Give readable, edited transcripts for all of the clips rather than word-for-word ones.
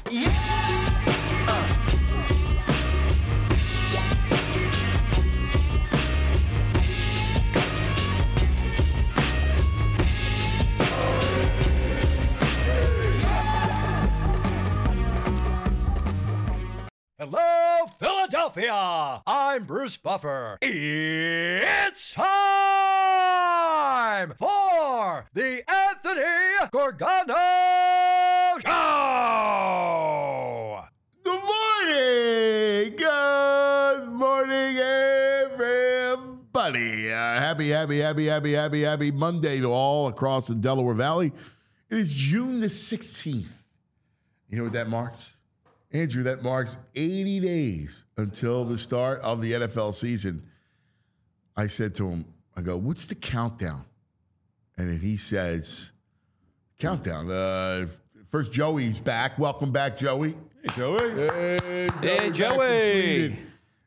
Hello, Philadelphia! I'm Bruce Buffer. It's time for the Anthony Gorgano Show! Good morning, everybody. Happy Monday to all across the Delaware Valley. It is June the 16th. You know what that marks? Andrew, that marks 80 days until the start of the NFL season. I said to him, I go, what's the countdown? And then he says, countdown. First, Joey's back. Welcome back, Joey. Hey, Joey. Hey, Joey.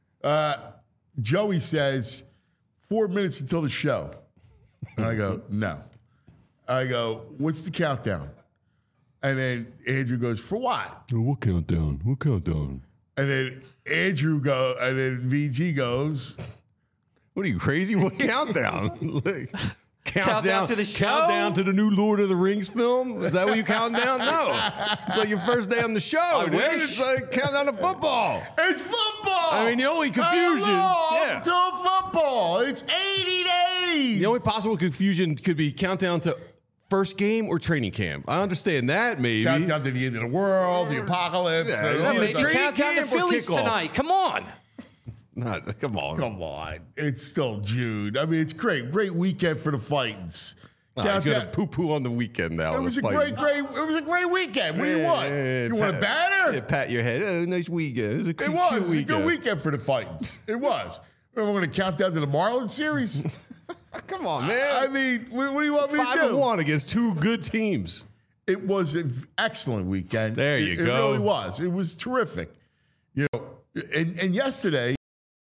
Joey says, 4 minutes until the show. And I go, no. I go, what's the countdown? And then Andrew goes, for what? Oh, what countdown? What countdown? And then Andrew goes, and then VG goes, what are you, crazy? What countdown? Countdown to the show? Countdown to the new Lord of the Rings film? Is that what you count down? No. It's like your first day on the show. I wish. It's like countdown to football. it's football. I mean, the only confusion. Hello to football. It's 80 days. The only possible confusion could be countdown to first game or training camp. I understand that, maybe. Countdown to the end of the world, the apocalypse. Yeah, Maybe countdown to camp or Phillies kickoff? tonight. Come on. Come on. Come on. It's still June. I mean, it's great. Great weekend for the Fightins. He's going to poo-poo on the weekend now. It was a great weekend. What do you want? You want a banner? Yeah, pat your head. Oh, nice weekend. It was a cute It was a weekend. good weekend for the Fightins. It was. We're going to count down to the Marlins series. Come on, man. I mean, what do you want me to do? 5-1 against two good teams. It was an excellent weekend. There you go. It really was. It was terrific. You know, and yesterday,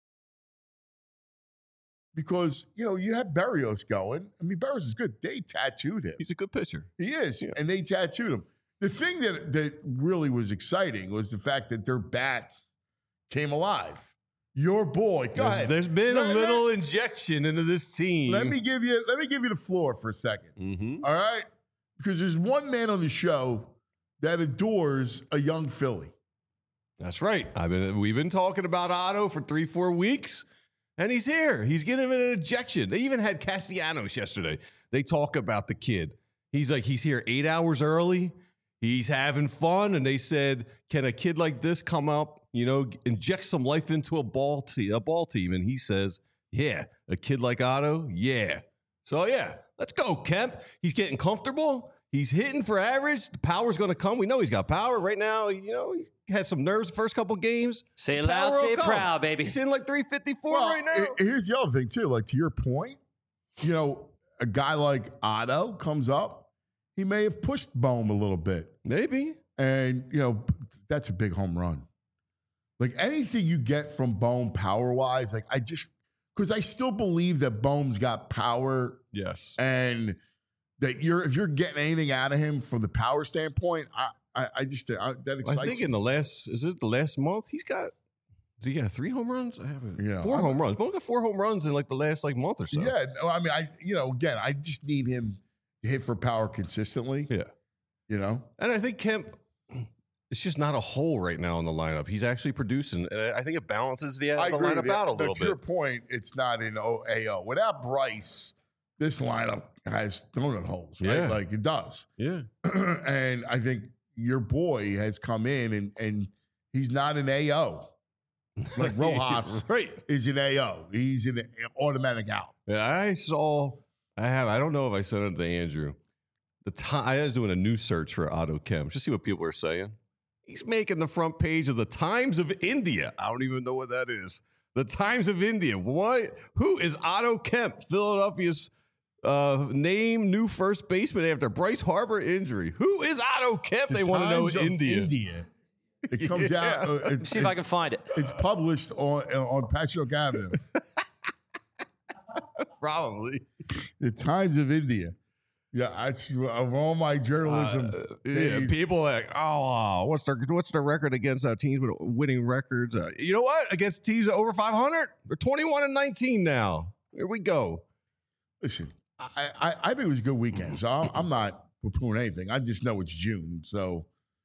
because, you know, you had Berrios going. I mean, Berrios is good. They tattooed him. He's a good pitcher. He is. Yeah. And they tattooed him. The thing that really was exciting was the fact that their bats came alive. Your boy. Go ahead. There's been a little injection into this team. Let me give you the floor for a second. Mm-hmm. All right? Because there's one man on the show that adores a young Philly. That's right. We've been talking about Otto for 3-4 weeks, and he's here. He's getting an injection. They even had Castellanos yesterday. They talk about the kid. He's here 8 hours early. He's having fun, and they said, can a kid like this come up, inject some life into a ball team? And he says, yeah, a kid like Otto, yeah. So, yeah, let's go, Kemp. He's getting comfortable. He's hitting for average. The power's going to come. We know he's got power right now. He had some nerves the first couple games. Say it loud, say it proud, baby. He's hitting like 354 right now. Here's the other thing, too. Like, to your point, a guy like Otto comes up. He may have pushed Bohm a little bit. Maybe. And, that's a big home run. Like, anything you get from Bohm power-wise, because I still believe that Bohm's got power. Yes. And that if you're getting anything out of him from the power standpoint, that excites me. I think in the last month, he got 3 home runs? I haven't. Yeah. 4 home runs. Bohm got 4 home runs in like the last month or so. Yeah. No, I mean, again, I just need him to hit for power consistently. Yeah. And I think Kemp, it's just not a hole right now in the lineup. He's actually producing. And I think it balances the lineup out a little bit. To your point, it's not in AO. Without Bryce, this lineup has donut holes, right? Yeah. Like it does. Yeah. And I think your boy has come in and he's not an AO. Like Rojas is an AO. He's an automatic out. Yeah, I don't know if I sent it to Andrew. I was doing a news search for Otto Kemp. Just see what people are saying. He's making the front page of the Times of India. I don't even know what that is. The Times of India. What? Who is Otto Kemp? Philadelphia's name new first baseman after Bryce Harper injury. Who is Otto Kemp? They want to know in India. It comes out. See if I can find it. It's published on Patchogue Avenue. Probably. The Times of India. Yeah, of all my journalism. days, people are like, what's their record against teams with winning records? You know what? Against teams over 500, they're 21-19 now. Here we go. listen, I think it was a good weekend. So I'm not poo-pooing anything. I just know it's June. So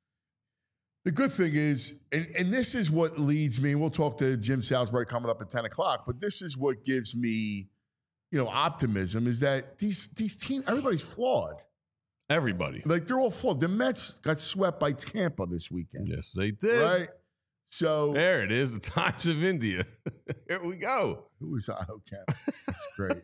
the good thing is, and this is what leads me, we'll talk to Jim Salisbury coming up at 10 o'clock, but this is what gives me, optimism, is that these teams, everybody's flawed. Everybody. Like, they're all flawed. The Mets got swept by Tampa this weekend. Yes, they did. Right? So There it is, the Times of India. Here we go. who was Otto Kemp? That's great.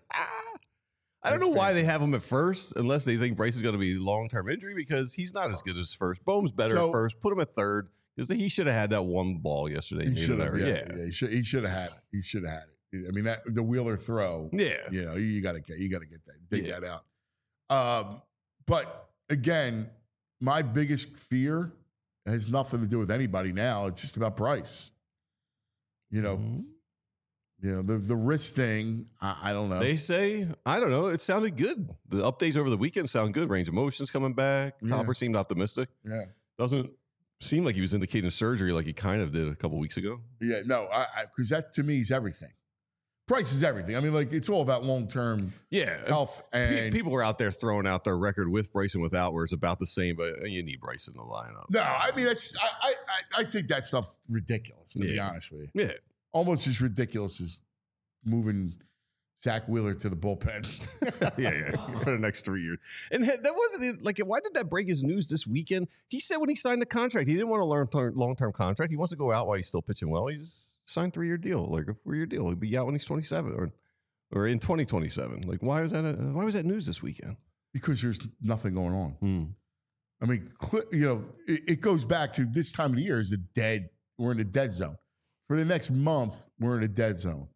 I don't know why they have him at first, unless they think Bryce is going to be long-term injury, because he's not as good as first. Bohm's better at first. Put him at third, because he should have had that one ball yesterday. He should have. Yeah. He should have had it. He should have had it. I mean, the Wheeler throw. Yeah. You got to get that, dig that out. But again, my biggest fear has nothing to do with anybody now. It's just about Bryce. Mm-hmm. The wrist thing. I don't know. They say, I don't know. It sounded good. The updates over the weekend sound good. Range of motion's coming back. Yeah. Topper seemed optimistic. Yeah. Doesn't seem like he was indicating surgery like he kind of did a couple weeks ago. Yeah. No. Because that to me is everything. Price is everything. I mean, like, it's all about long-term health. And people were out there throwing out their record with Bryce and without, where it's about the same, but you need Bryce in the lineup. no, I mean, I think that stuff's ridiculous, to be honest with you. Yeah. Almost as ridiculous as moving Zach Wheeler to the bullpen. yeah, for the next 3 years. And that wasn't like, why did that break his news this weekend? He said when he signed the contract, he didn't want a long-term contract. He wants to go out while he's still pitching well. He just signed a 3-year deal, like a 4-year deal. He'll be out when he's 27 or in 2027. Like, why was that news this weekend? Because there's nothing going on. I mean, it goes back to this time of the year we're in a dead zone. For the next month, we're in a dead zone.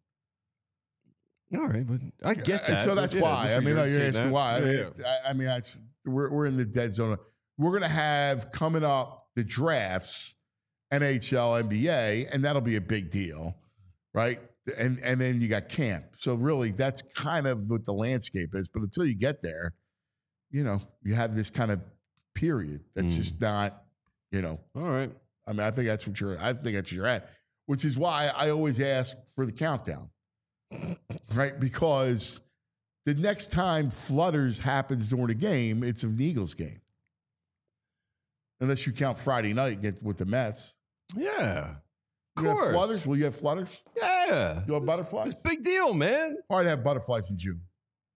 All right, but I get that. So that's why. I mean, you're asking why. I mean, we're in the dead zone. We're going to have coming up the drafts, NHL, NBA, and that'll be a big deal, right? And then you got camp. So really, that's kind of what the landscape is. But until you get there, you have this kind of period that's just not, All right. I mean, I think that's what you're at, which is why I always ask for the countdown, right? Because the next time Flutters happens during a game, it's an Eagles game. Unless you count Friday night with the Mets. Yeah. Of You have course. flutters? Will you have flutters? Yeah. You have butterflies? It's a big deal, man. Hard to have butterflies in June.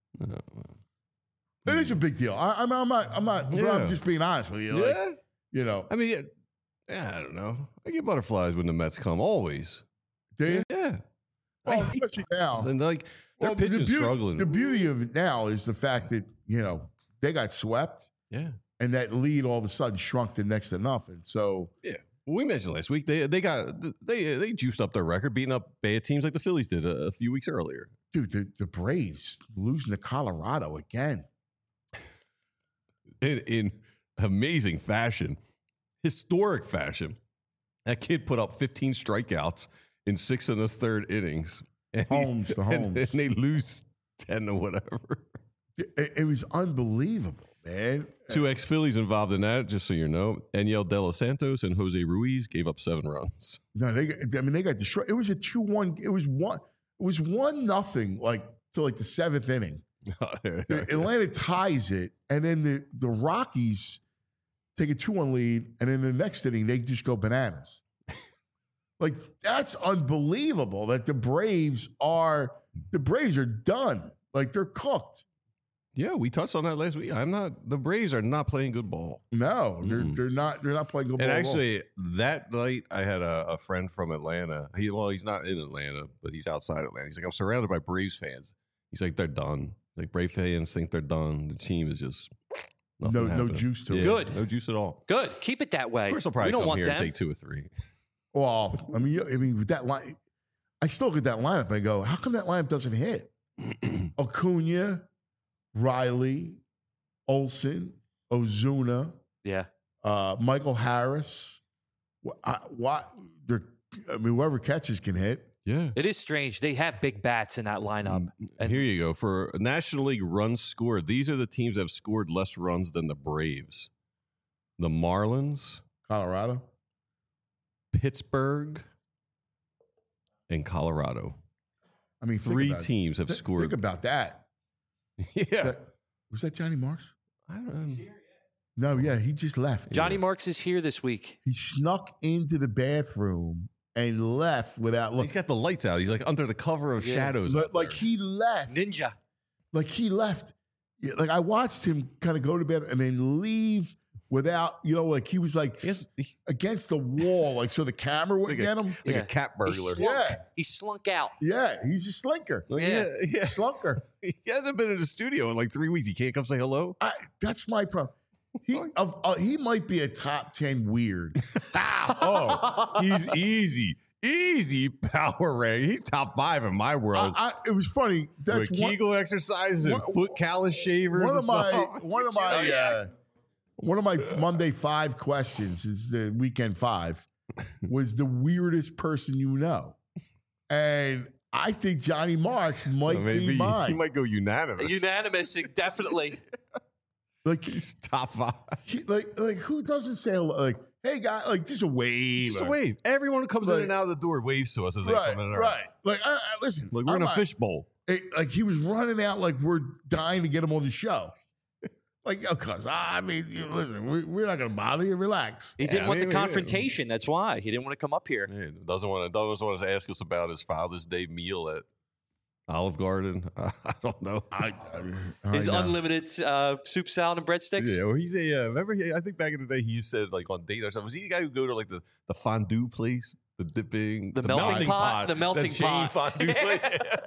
It is a big deal. I'm not. I'm just being honest with you. Yeah. I mean, I don't know. I get butterflies when the Mets come. Always. Do you? Yeah. Well, especially now. And like their pitching struggling. The beauty of it now is the fact that they got swept. Yeah. And that lead all of a sudden shrunk to next to nothing. So yeah. Well, we mentioned last week they juiced up their record, beating up bad teams like the Phillies did a few weeks earlier. Dude, the Braves losing to Colorado again. In amazing fashion, historic fashion. That kid put up 15 strikeouts in 6 1/3 innings. And they lose 10 to whatever. It was unbelievable, man. 2 ex-Phillies involved in that, just so you know. Aniel De Los Santos and Jose Ruiz gave up 7 runs. No, they got destroyed. It was a 2-1. It was 1-0, like to the 7th inning. Atlanta ties it, and then the Rockies take a 2-1 lead, and in the next inning they just go bananas. Like, that's unbelievable that the Braves are done. Like, they're cooked. Yeah, we touched on that last week. The Braves are not playing good ball. No, they're not playing good ball. And actually, that night I had a friend from Atlanta. He's not in Atlanta, but he's outside Atlanta. He's like, I'm surrounded by Braves fans. He's like, they're done. Like, Brave fans think they're done. The team is just no juice to it. Good. No juice at all. Good. Keep it that way. Of course, I'll probably we don't come want here them. and take 2 or 3. Well, I mean, with that line, I still get that lineup. I go, how come that lineup doesn't hit? Acuna, Riley, Olsen, Ozuna, Michael Harris. Whoever catches can hit. Yeah. It is strange. They have big bats in that lineup. And here you go. For National League runs scored, these are the teams that have scored less runs than the Braves. The Marlins, Colorado. Pittsburgh, and Colorado. I mean, Three teams have scored. Think about that. Yeah. Was that Johnny Marks? I don't know. No, yeah, he just left. Johnny Marks is here this week. He snuck into the bathroom and left without He's got the lights out. He's like under the cover of shadows. Like he left. Ninja. Like he left. Yeah, like I watched him kind of go to bed and then leave without, like he was like against the wall, like so the camera wouldn't get him. Like a cat burglar. He slunk out. Yeah, he's a slinker. Yeah. Slunker. He hasn't been in the studio in like 3 weeks. He can't come say hello. That's my problem. He might be a top 10 weird. He's easy power rank. He's top 5 in my world. It was funny. That's With Kegel exercises and foot callus shavers. One of my Monday 5 questions is the weekend 5 was the weirdest person you know, and I think Johnny Marks might be mine. He might go unanimous. Unanimous, definitely. Like He's top 5. like who doesn't say like, hey guy, like just a wave, Just a wave. Everyone who comes in and out of the door waves to us as they come in and out. Right. Like listen, Like we're in a fishbowl. Like he was running out like we're dying to get him on the show. Like, cuz listen, we're not gonna bother you. Relax. He didn't want the confrontation. That's why he didn't want to come up here. Yeah, doesn't want to ask us about his Father's Day meal at Olive Garden. I don't know. His unlimited soup, salad, and breadsticks. Yeah, or he's remember? I think back in the day he said like on date or something. Was he the guy who go to like the fondue place, the dipping, the melting pot, the melting pot fondue place?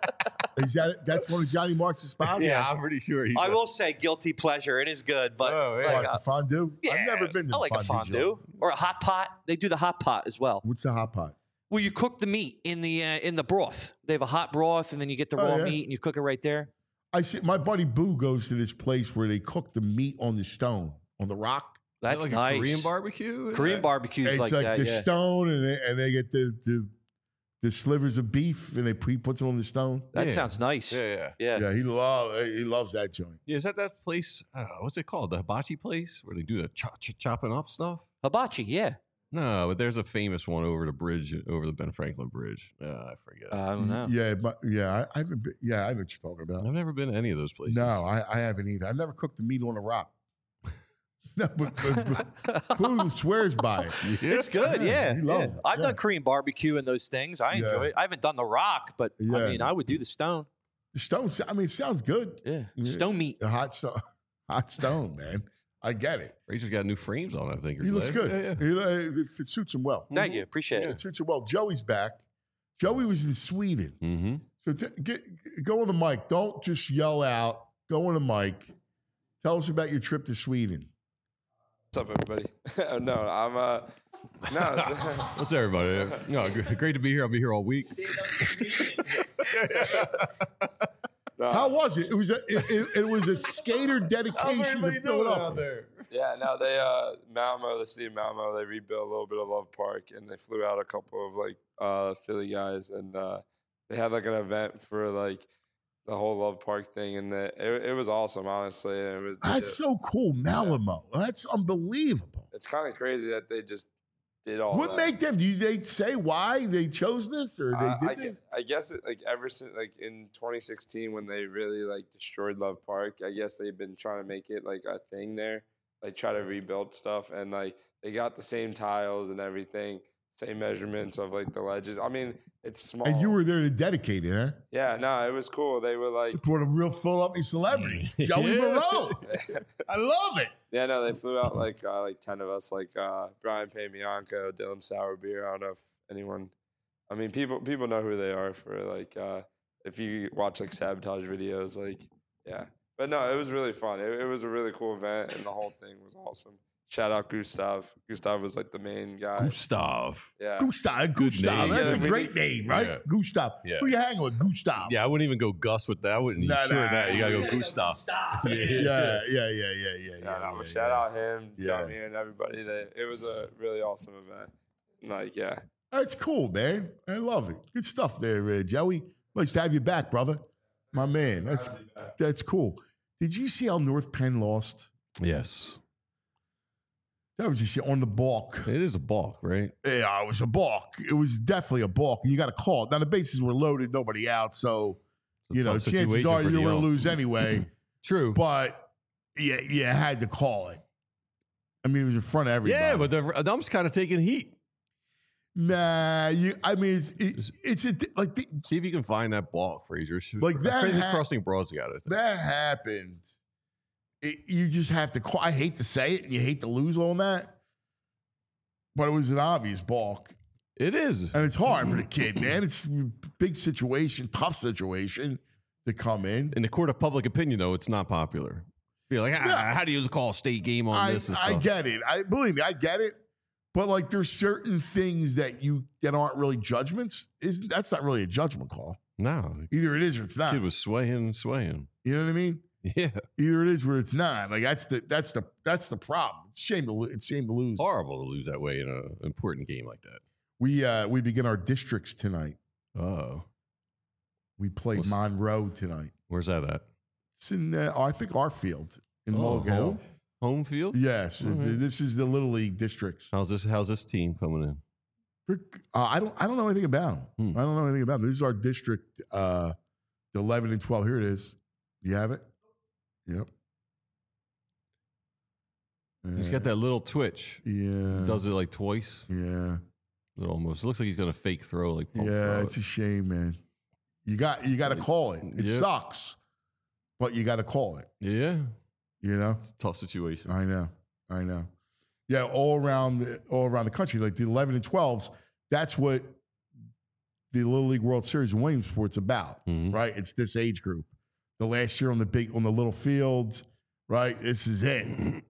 That's one of Johnny Marks' spots? Yeah, I'm pretty sure. I will say guilty pleasure. It is good, but the fondue. Yeah, I've never been to I like a fondue or a hot pot. They do the hot pot as well. What's the hot pot? Well, you cook the meat in the broth. They have a hot broth, and then you get the raw meat, and you cook it right there. I see. My buddy Boo goes to this place where they cook the meat on the stone, on the rock. That's like nice. A Korean barbecue. Korean barbecues It's like that. The stone, and they get the slivers of beef, and he puts them on the stone. That sounds nice. Yeah. Yeah, he loves that joint. Yeah, is that place? What's it called? The hibachi place where they do the chopping up stuff? Hibachi, yeah. No, but there's a famous one over the bridge, over the Ben Franklin Bridge. I forget. I don't know. I haven't been, I know what you're talking about. I've never been to any of those places. No, I haven't either. I've never cooked the meat on a rock. No, but who swears by it? It's good, yeah. He loves it. I've done Korean barbecue and those things. I enjoy it. I haven't done the rock, but I mean, I would do the stone. The stone, it sounds good. Yeah, stone meat. The hot stone, man. I get it. Rachel's got new frames on, I think. He looks good. Yeah. It suits him well. Thank you. Appreciate It suits him well. Joey's back. Joey was in Sweden. Mm-hmm. So go on the mic. Don't just yell out. Go on the mic. Tell us about your trip to Sweden. What's up, everybody? No, I'm no. What's everybody? No, great to be here. I'll be here all week. How was it? It was a skater dedication to Philadelphia. Yeah, no, they Malmo, the city of Malmo, they rebuilt a little bit of Love Park, and they flew out a couple of like Philly guys, and they had like an event for like the whole Love Park thing, and it was awesome, honestly. And That's so cool, Malmo. That's unbelievable. It's kind of crazy that they just did all. What made them? Do they say why they chose this, or they did it? I guess it, like ever since like in 2016 when they really like destroyed Love Park, I guess they've been trying to make it like a thing there, like try to rebuild stuff, and like they got the same tiles and everything, same measurements of like the ledges. I mean, it's small. And you were there to dedicate it, huh? Yeah, no, it was cool. They were like for a real Philadelphia celebrity, Joey Moreau. I love it. Yeah, no, they flew out like 10 of us, like Brian Paymianco, Dylan Sourbeer. I don't know if anyone, I mean, people know who they are for like if you watch like Sabotage videos, like yeah. But no, it was really fun. It was a really cool event, and the whole thing was awesome. Shout out Gustav. Gustav was like the main guy. Gustav. Yeah. Gustav. name. That's a Yeah, great name, right? Yeah. Gustav. Yeah. Who you hanging with? Gustav. Yeah, I wouldn't even go Gus with that. I wouldn't. Nah, Sure, nah. that you gotta go Gustav. Yeah. Shout out him, Yeah. Johnny, and everybody. It was a really awesome event. Like, yeah. That's cool, man. I love it. Good stuff there, Joey. Nice to have you back, brother. My man. That's cool. Did you see how North Penn lost? Yes. That was just on the balk. It is a balk, right? Yeah, it was a balk. It was definitely a balk. You got to call it. Now, the bases were loaded, nobody out. So, tough chances situation are for you were going DL. to lose anyway. True. But you had to call it. I mean, it was in front of everybody. Yeah, but the ump's kind of taking heat. Nah, it's like See if you can find that balk, Frazier. Like that Crazy ha- crossing broads got it. that happened. You just have to call. I hate to say it, and you hate to lose on that, but it was an obvious balk, It is. and it's hard for the kid, man. It's a big situation, tough situation to come in. In the court of public opinion, though, it's not popular. Be like, Yeah. how do you call a state game on this and stuff? I get it. Believe me, I get it. But like, there's certain things that aren't really judgments. That's not really a judgment call. No. Either it is or it's not. Kid was swaying. You know what I mean? Yeah. Either it is or it's not. Like that's the problem. It's shame to lose. Horrible to lose that way in an important game like that. We begin our districts tonight. Oh. We play Monroe tonight. Where's that at? It's in I think our field in Mulligan. Home field? Yes, this is the Little League districts. How's this team coming in? I don't know anything about them. I don't know anything about them. This is our district, the 11 and 12. Here it is. You have it? Yep. He's got that little twitch. Yeah. Does it like twice. Yeah. It almost looks like he's gonna fake throw. Like pump throw It's it. a shame, man. You got to call it. It Yep. sucks, but you got to call it. Yeah. You know. It's a tough situation. I know. Yeah, all around the country, like the 11 and 12s. That's what the Little League World Series in Williamsport's about, Mhm. right? It's this age group. The last year on the little field, right? This is it,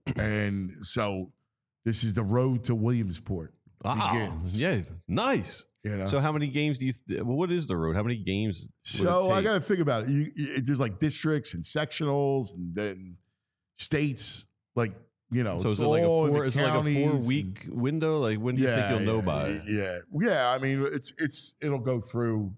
and so this is the road to Williamsport. Begins. Yeah, nice. You know? So how many games do you? What is the road? How many games? would it So I take? got to think about it. There's like districts and sectionals, and then states. Like So is it like all in the a 4 counties week window? Like when do you think you'll know by it? Yeah. I mean, it'll go through,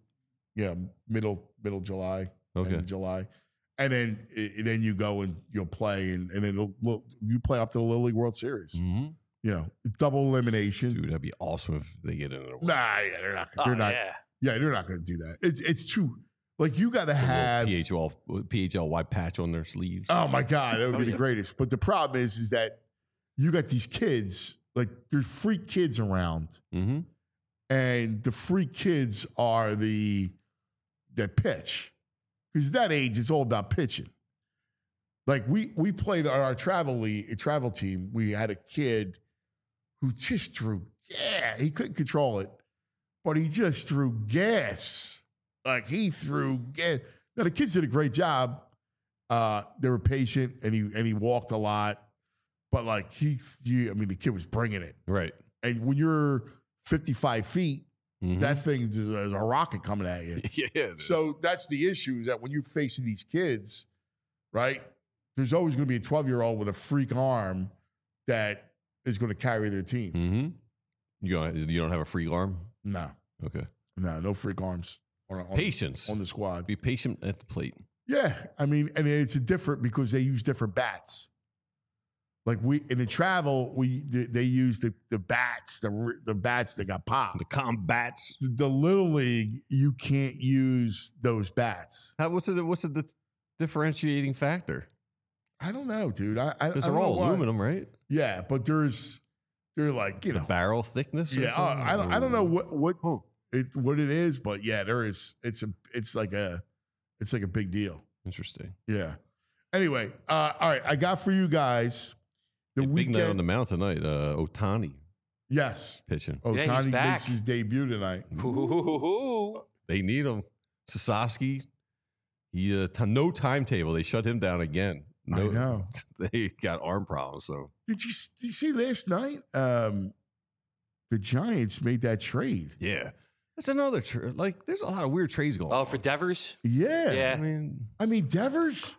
middle July, Okay. end of July, and then you go and you'll play, and then you play up to the Little League World Series. Mm-hmm. Double elimination. Dude, that'd be awesome if they get in. Nah, yeah, they're not. They're not. Yeah. Yeah, they're not going to do that. It's too. Like you got to have. PHL white patch on their sleeves. Oh my God, that would be the greatest. But the problem is that you got these kids, like there's freak kids around, Mm-hmm. and the freak kids are that pitch. Because at that age, it's all about pitching. Like we played on our travel team. We had a kid who just threw. Yeah, he couldn't control it, but he just threw gas. Like he threw gas. Now the kids did a great job. They were patient, and he walked a lot. But like the kid was bringing it. Right. And when you're 55 feet, Mhm. that thing is a rocket coming at you. Yeah. it is. So that's the issue, is that when you're facing these kids, right, there's always going to be a 12-year-old with a freak arm that is going to carry their team. Mm-hmm. You don't have a free arm? No, Okay. no freak arms on Patience. on the squad. Be patient at the plate. Yeah, I mean, and it's different because they use different bats. Like in the travel, they use the bats, the bats that got popped. The combats. The Little League, you can't use those bats. What's the differentiating factor? I don't know, dude. I Because don't they're all know why. aluminum, right? Yeah, but they're like The barrel thickness. Or Yeah, something? I don't know what it is, but yeah, there is. It's like a big deal. Interesting. Yeah. Anyway, all right, I got for you guys the Big weekend. night on the mound tonight. Otani Yes, pitching. Yeah, he's Otani back. makes his debut tonight. Ooh. They need him. Sasaki. He no timetable. They shut him down again. No, I know. They got arm problems. So Did you see last night? The Giants made that trade. yeah, that's another there's a lot of weird trades going. Oh, for Devers? Yeah. Yeah. I mean, Devers.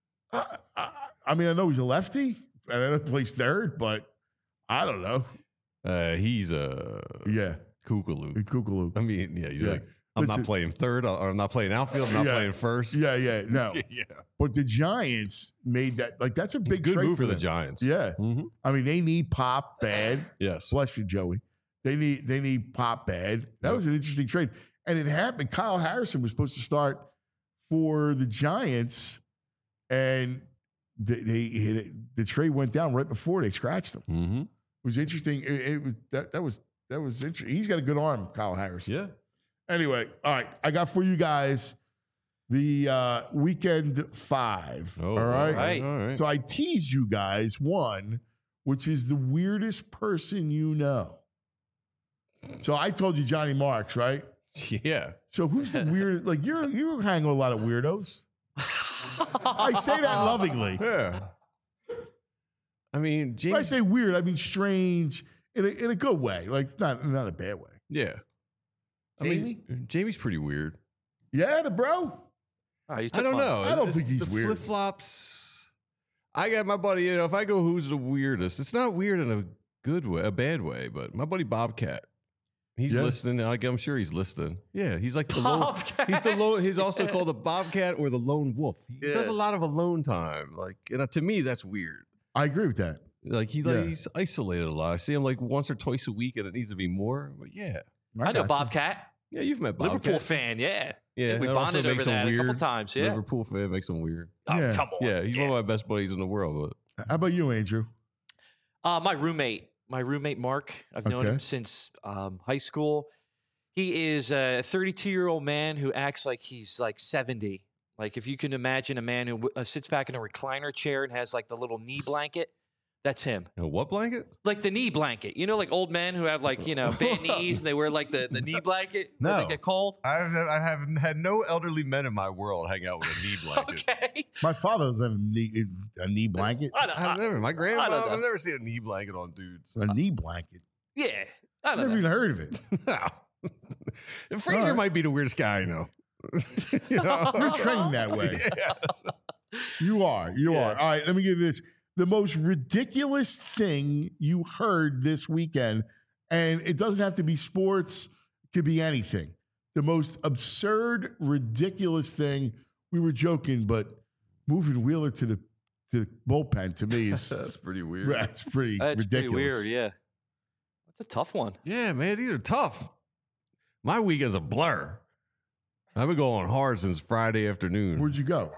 I mean, I know he's a lefty. I know he plays third, but I don't know. He's Yeah. Kukulu. Kukulu. I mean, yeah, he's Yeah. like, I'm Listen- not playing third, or I'm not playing outfield, I'm not Yeah. playing first. Yeah, no. yeah. But the Giants made that, like, that's a big Good trade move for the them. Giants. Yeah. Mhm. I mean, they need Pop bad. Yes. Bless you, Joey. They need Pop bad. That was an interesting trade. And it happened. Kyle Harrison was supposed to start for the Giants, and the trade went down right before they scratched him. Mm-hmm. It was interesting. That was interesting. He's got a good arm, Kyle Harrison. Yeah. Anyway, all right. I got for you guys the weekend 5. Oh, all right? right. All right. So I teased you guys one, which is the weirdest person you know. So I told you Johnny Marks, right? Yeah. So who's the weirdest? Like you hang with a lot of weirdos. I say that lovingly. Yeah. I mean, When I James. say weird, I mean strange in a good way. Like it's not a bad way. Yeah. I mean, Jamie's pretty weird. Yeah, the bro. Oh, you I took don't mine. know. I don't think he's the weird. Flip flops. I got my buddy. If I go, who's the weirdest? It's not weird in a good way, a bad way. But my buddy Bobcat, he's Yeah. listening. I'm sure he's listening. Yeah, he's like the lone. Bobcat. He's the lone. He's also called the Bobcat or the lone wolf. He Yeah. does a lot of alone time. Like, to me, that's weird. I agree with that. Like Yeah. he's isolated a lot. I see him like once or twice a week, and it needs to be more. But yeah, I know got you. Bobcat. yeah, you've met Bobcat. Liverpool fan, yeah. Yeah, we that also bonded makes over him that a couple weird. times, yeah. Liverpool fan makes him weird. Oh, Yeah. come on. Yeah, he's one of my best buddies in the world. But How about you, Andrew? My roommate Mark. I've known Okay. him since high school. He is a 32-year-old man who acts like he's like 70. Like if you can imagine a man who sits back in a recliner chair and has like the little knee blanket, that's him. what blanket? Like the knee blanket. You know, like old men who have like, bad knees and they wear like the knee blanket when No. they get cold. I haven't had no elderly men in my world hang out with a knee blanket. Okay. My father does have a knee blanket. I've never. My I don't grandma. know. I've never seen a knee blanket on dudes. A knee blanket. Yeah. I I've don't never know. even heard of it. Frazier All right. might be the weirdest guy I know. You know? You're trained that way. Yeah. You are. You Yeah. are. All right, let me give you this. The most ridiculous thing you heard this weekend, and it doesn't have to be sports, it could be anything. The most absurd, ridiculous thing, we were joking, but moving Wheeler to the bullpen to me is That's pretty weird. that's pretty That's ridiculous. pretty weird, yeah. That's a tough one. Yeah, man, these are tough. My weekend's a blur. I've been going hard since Friday afternoon. Where'd you go?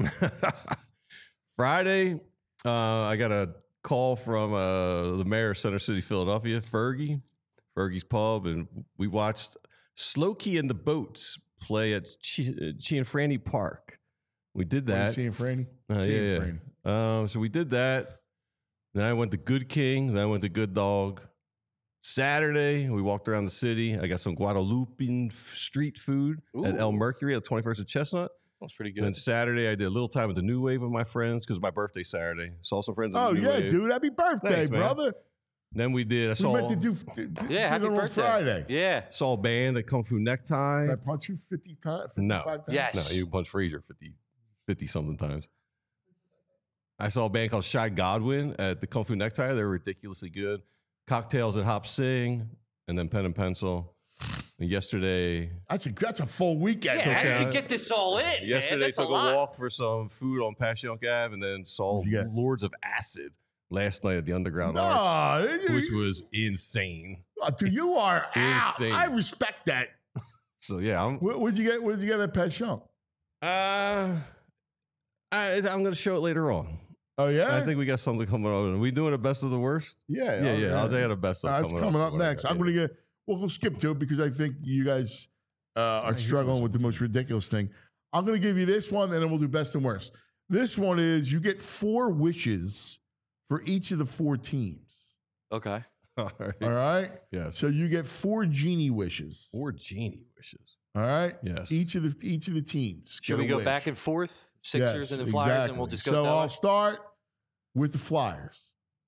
Friday, I got a call from the mayor of Center City, Philadelphia, Fergie's Pub, and we watched Slowkey and the Boats play at Cianfrani Park. We did What are you that. seeing Franny? Yeah, Seeing yeah. Franny. So we did that. Then I went to Good King. Then I went to Good Dog. Saturday, we walked around the city. I got some Guadalupean street food at El Ooh. Mercury at 21st and Chestnut. Sounds pretty And then good. Saturday, I did a little time at the New Wave with my friends because my birthday Saturday. Saw some friends. At Oh the New yeah, Wave. dude! Happy birthday, Thanks, man. brother. Then we did. I We saw meant to do Yeah, happy it on birthday. Friday. Yeah. saw a band at Kung Fu Necktie. Did I punch you 50 times? No. 55 times? Yes. No, you punched Frazier 50 something times. I saw a band called Shy Godwin at the Kung Fu Necktie. They were ridiculously good. Cocktails at Hop Sing, and then Pen and Pencil. And yesterday, That's a full weekend. Yeah, how did okay. you get this all in, man? yesterday That's took a lot. walk for some food on Passyunk Ave, and then saw What'd you get? Lords of Acid last night at the Underground Arts, No, which was insane. dude, you are out. Insane. I respect that. So yeah, What'd you get? What'd you get at Passyunk? I'm going to show it later on. Oh yeah, I think we got something coming up. Are we doing a best of the worst? yeah, Yeah. I'll tell you the best stuff It's coming up next. I'm gonna get. Well, we'll skip to it because I think you guys are struggling with the most ridiculous thing. I'm gonna give you this one, and then we'll do best and worst. This one is you get 4 wishes for each of the 4 teams. Okay. All right. All right. Yes. So you get 4 genie wishes. Or genie wishes. All right. Yes. Each of the teams. Should get we a go wish. back and forth? Sixers Yes, and the Flyers, exactly. and we'll just go So that I'll way? start with the Flyers.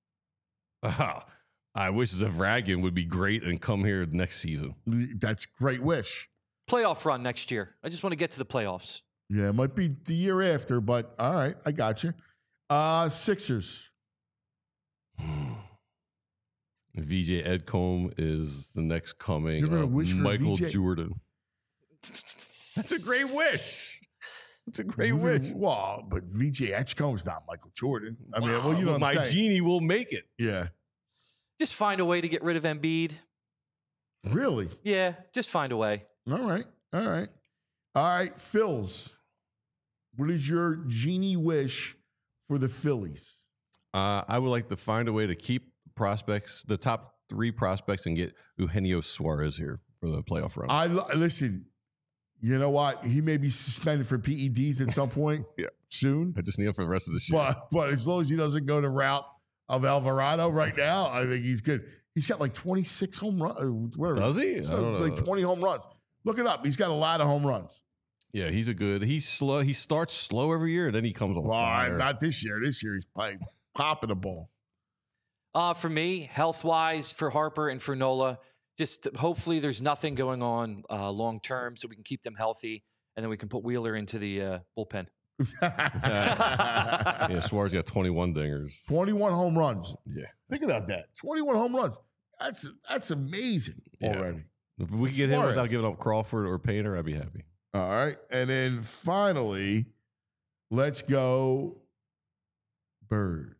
I wish Zavragian would be great and come here next season. That's a great wish. Playoff run next year. I just want to get to the playoffs. Yeah, it might be the year after, but all right, I got you. Sixers. VJ Edcombe is the next coming You're gonna of wish for Michael VJ? Jordan. That's a great wish. That's a great wish. Well, but VJ Edgecombe's not Michael Jordan. I mean, well, you know what my I'm saying. genie will make it. Yeah. Just find a way to get rid of Embiid. Really? Yeah, just find a way. All right. All right. All right, Phils. What is your genie wish for the Phillies? I would like to find a way to keep prospects, the top 3 prospects, and get Eugenio Suarez here for the playoff run. Listen, you know what? He may be suspended for PEDs at some point soon. I just need him for the rest of this year. But as long as he doesn't go the route of Alvarado right now, I think he's good. He's got like 26 home runs. Does he? I don't like know. 20 home runs. Look it up. He's got a lot of home runs. Yeah, he's slow. He starts slow every year, and then he comes on fire. Not this year. This year he's popping the ball. For me, health-wise, for Harper and for Nola, just hopefully there's nothing going on long term, so we can keep them healthy, and then we can put Wheeler into the bullpen. Yeah, Suarez got 21 dingers. 21 home runs. Yeah. Think about that. 21 home runs. That's amazing already. If we could get him Suarez. without giving up Crawford or Painter, I'd be happy. All right. And then finally, let's go Birds.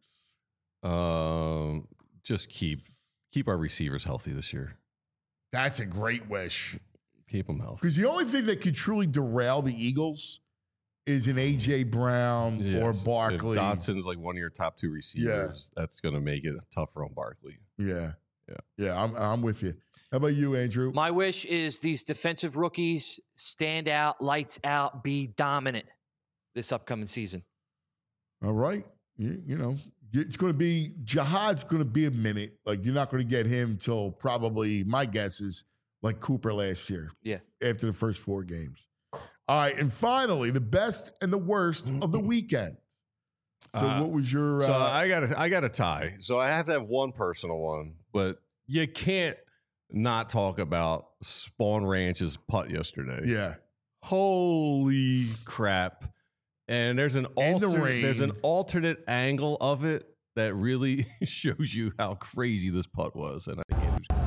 Just keep our receivers healthy this year. That's a great wish. Keep them healthy. Because the only thing that could truly derail the Eagles is an A.J. Brown or Yes. Barkley. If Dotson's like one of your top 2 receivers, that's going to make it tougher on Barkley. Yeah. Yeah. Yeah, I'm with you. How about you, Andrew? My wish is these defensive rookies stand out, lights out, be dominant this upcoming season. All right. You know, it's going to be Jihad's going to be a minute. Like, you're not going to get him till probably, my guess is like Cooper last year. Yeah. After the first 4 games. All right. And finally, the best and the worst of the weekend. So what was your So I got a tie. So I have to have one personal one, but you can't not talk about Spawn Ranch's putt yesterday. yeah. Holy crap. And there's an In the rain. there's an alternate angle of it that really shows you how crazy this putt was. And I can't do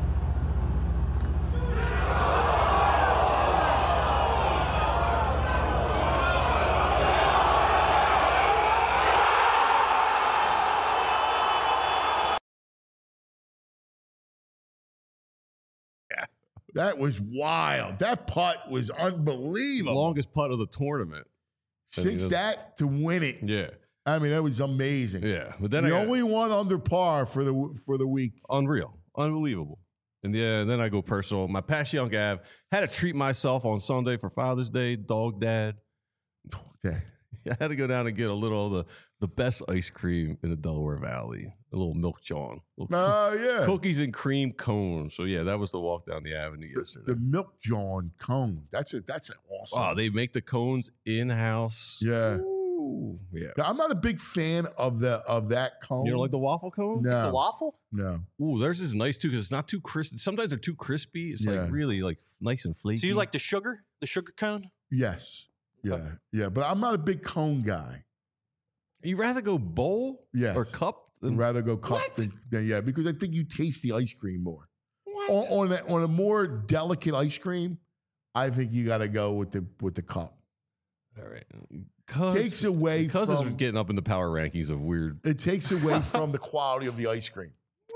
That was wild. That putt was unbelievable. longest putt of the tournament. Six that to win it. Yeah. I mean, that was amazing. Yeah. But then The I got only one under par for the week. unreal. Unbelievable. And yeah, then I go personal. My Passyunk Ave had to treat myself on Sunday for Father's Day, dog dad. Okay. I had to go down and get a little of the best ice cream in the Delaware Valley, a little Milk John. Oh, yeah. Cookies and cream cone. So yeah, that was the walk down the avenue yesterday. The Milk John cone. That's an awesome. Wow, they make the cones in-house. Yeah. Ooh, yeah. I'm not a big fan of that cone. You don't like the waffle cone? No. The waffle? No. Ooh, theirs is nice too because it's not too crisp. Sometimes they're too crispy. It's Yeah. like really like nice and flaky. So you like the sugar cone? Yes. Yeah. Yeah. But I'm not a big cone guy. You rather go bowl Yes. or cup? I'd rather go cup than yeah, because I think you taste the ice cream more. What? On a more delicate ice cream, I think you got to go with the cup. All right. Takes away because it's from getting up in the power rankings of weird. it takes away from the quality of the ice cream.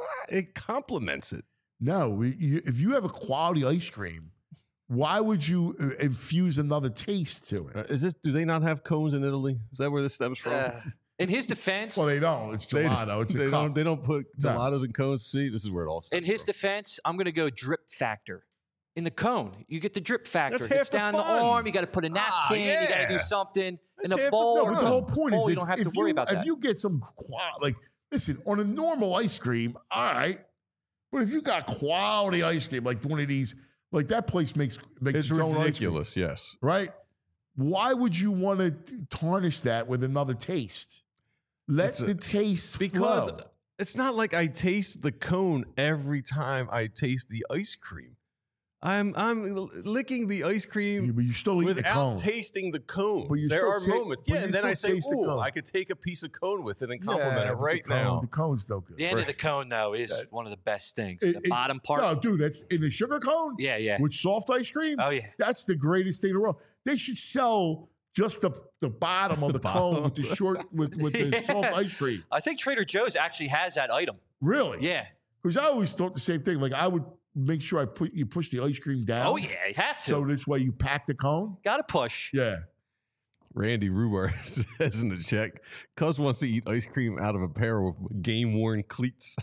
It complements it. No, if you have a quality ice cream, why would you infuse another taste to it? Is this? Do they not have cones in Italy? Is that where this stems from? In his defense, Well, they don't. It's gelato. It's a cup. They don't put No. gelatos in cones. See, this is where it all starts. in his defense, I'm going to go drip factor. In the cone, you get the drip factor. That's It half gets the down the fun. arm. You got to put a napkin. You got to do yeah. something. That's in a half the bowl, fun. No, but the whole point is you don't have to worry about that. If you get some like, listen, on a normal ice cream, all right. But if you got quality ice cream, like one of these, like that place makes It's its own ice ridiculous. Yes. cream, right? Why would you want to tarnish that with another taste? Let the taste Because flow. it's not like I taste the cone every time I taste the ice cream. I'm licking the ice cream but you still eat the without cone. tasting the cone. But you there still are ta- moments. but Yeah, you and then I still say, taste the ooh, cone. I could take a piece of cone with it and compliment it but right the cone, now. The cone's still good. The end of the cone, though, is one of the best things. The bottom part. No, dude, that's in the sugar cone. Yeah. With soft ice cream. Oh, yeah. That's the greatest thing in the world. They should sell just the bottom of the cone with the the soft ice cream. I think Trader Joe's actually has that item. Really? Yeah. Because I always thought the same thing. Like I would make sure you push the ice cream down. Oh, yeah, you have to. So this way you pack the cone. Got to push. Yeah. Randy Ruber says in the check, Cuz wants to eat ice cream out of a pair of game-worn cleats.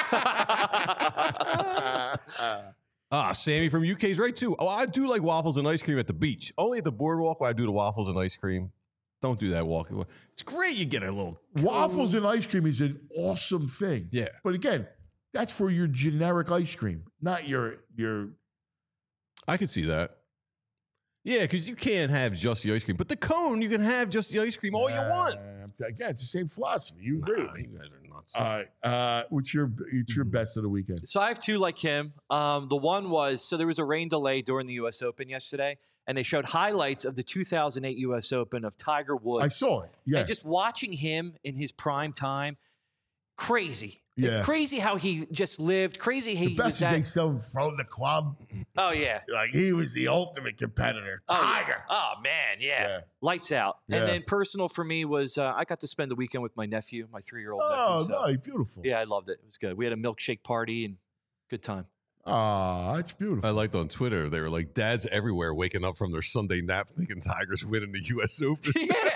Sammy from UK's right, too. Oh, I do like waffles and ice cream at the beach. Only at the boardwalk where I do the waffles and ice cream. Don't do that walking. It's great you get a little... Waffles and ice cream is an awesome thing. Yeah. But again, that's for your generic ice cream, not your I could see that. Yeah, because you can't have just the ice cream. But the cone, you can have just the ice cream all you want. Again, it's the same philosophy. You agree with me. You guys are nuts. All right. What's your best of the weekend? So I have two like him. The one was, so there was a rain delay during the U.S. Open yesterday, and they showed highlights of the 2008 U.S. Open of Tiger Woods. I saw it. Yeah. And just watching him in his prime time, crazy. Yeah. Crazy how he just lived. Crazy how The he best was is that. they sell from the club. Oh, yeah. Like he was the ultimate competitor. Tiger. Oh, man, yeah. Lights out. Yeah. And then personal for me was I got to spend the weekend with my nephew, my 3-year-old Oh, nephew. So, no, beautiful. yeah, I loved it. It was good. We had a milkshake party and good time. Ah, that's beautiful. I liked on Twitter, they were like, dads everywhere waking up from their Sunday nap thinking Tigers winning the U.S. Open.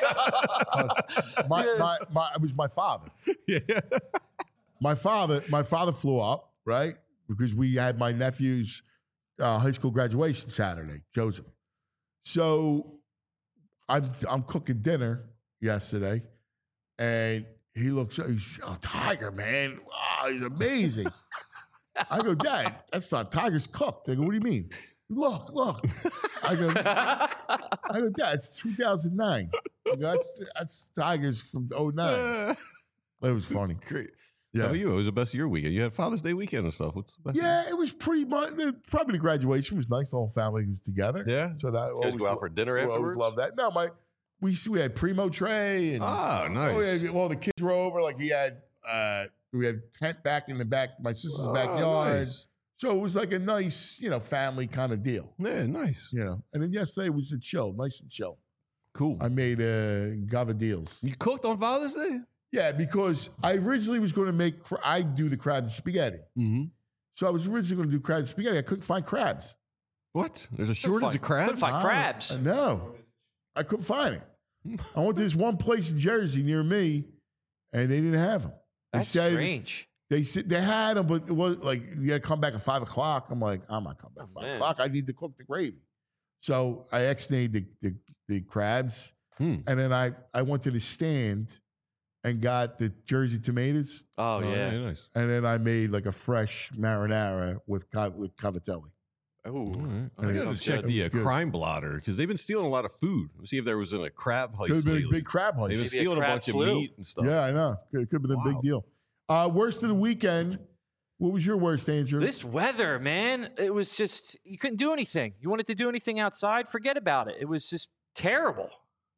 It was my father. Yeah. My father flew up, right? Because we had my nephew's high school graduation Saturday, Joseph. So I'm cooking dinner yesterday, and he's Tiger, man. Wow, he's amazing. I go, Dad, that's not Tiger's cooked. I go, what do you mean? Look. I go, Dad, it's 2009. I go, that's Tigers from 09. That was funny. Great. Yeah. How about you? It was the best of your weekend. You had Father's Day weekend and stuff. What's the best? Yeah, it was pretty much. Probably the graduation was nice. The whole family was together. Yeah. So that You guys go out for dinner I afterwards? always love that. No, we had Primo Tray and nice. well, the kids were over. Like we had tent back in the back, my sister's backyard. Nice. So it was like a nice, family kind of deal. Yeah, nice. And then yesterday was a chill, nice and chill. Cool. I made gavadils. You cooked on Father's Day? Yeah, because I originally was going to make. I do the crab and spaghetti. Mm-hmm. So I was originally going to do crab and spaghetti. I couldn't find crabs. What? There's a shortage of crabs? Couldn't find crabs. No, I couldn't find it. I went to this one place in Jersey near me, and they didn't have them. That's strange. They said they had them, but it was like you had to come back at 5 o'clock. I'm like, I'm not coming back at 5 o'clock. I need to cook the gravy. So I ex-nayed the crabs, and then I went to the stand and got the Jersey tomatoes. Oh, yeah. Nice. And then I made like a fresh marinara with cavatelli. Oh, Right. And I it got to sounds check good. the It was good. crime blotter because they've been stealing a lot of food. Let's see if there was a crab heist. Could have been a lately. big crab They've been heist. Maybe a stealing a crab bunch flu. of meat and stuff. Yeah, I know. It could have been a Wow. big deal. Worst of the weekend. What was your worst, Andrew? This weather, man, it was just, you couldn't do anything. You wanted to do anything outside, forget about it. It was just terrible.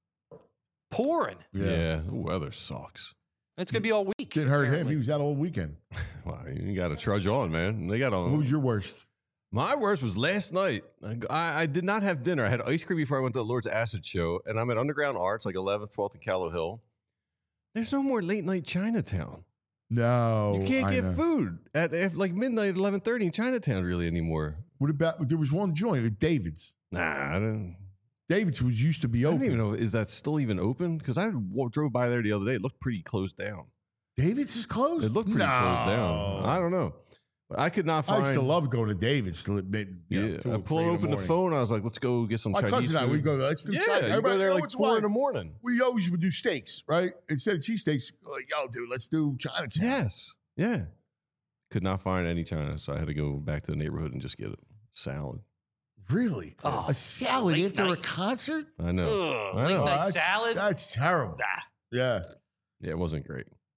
Pouring. Yeah, the weather sucks. It's going to be all week. Didn't hurt him. apparently. He was out all weekend. Well, you got to trudge on, man. They got on. What was your worst? My worst was last night. I did not have dinner. I had ice cream before I went to the Lord's Acid show, and I'm at Underground Arts, like 11th, 12th, and Callow Hill. There's no more late night Chinatown. No. You can't I get know. food at like midnight, 11:30 in Chinatown really anymore. What about, there was one joint at David's. Nah, I don't David's was used to be open. even know. Is that still even open? Because I drove by there the other day. It looked pretty closed down. David's is closed? It looked pretty closed down. I don't know. But I could not I find. used to love going to David's till Yeah, 2 I or pulled 3 in open the morning. phone. I was like, let's go get some My Chinese cousin and I, food. we go, let's do Yeah, China. you go Everybody, there you know like what's 4 in the why? morning. We always would do steaks, right? Instead of cheesesteaks, like, yo, dude, let's do Chinatown. Yes. Yeah. Could not find any China, so I had to go back to the neighborhood and just get a salad. Really? Oh, a salad late after a night. concert? I know. Ugh, I late know. night that's, salad? That's terrible. Ah, Yeah. Yeah, it wasn't great.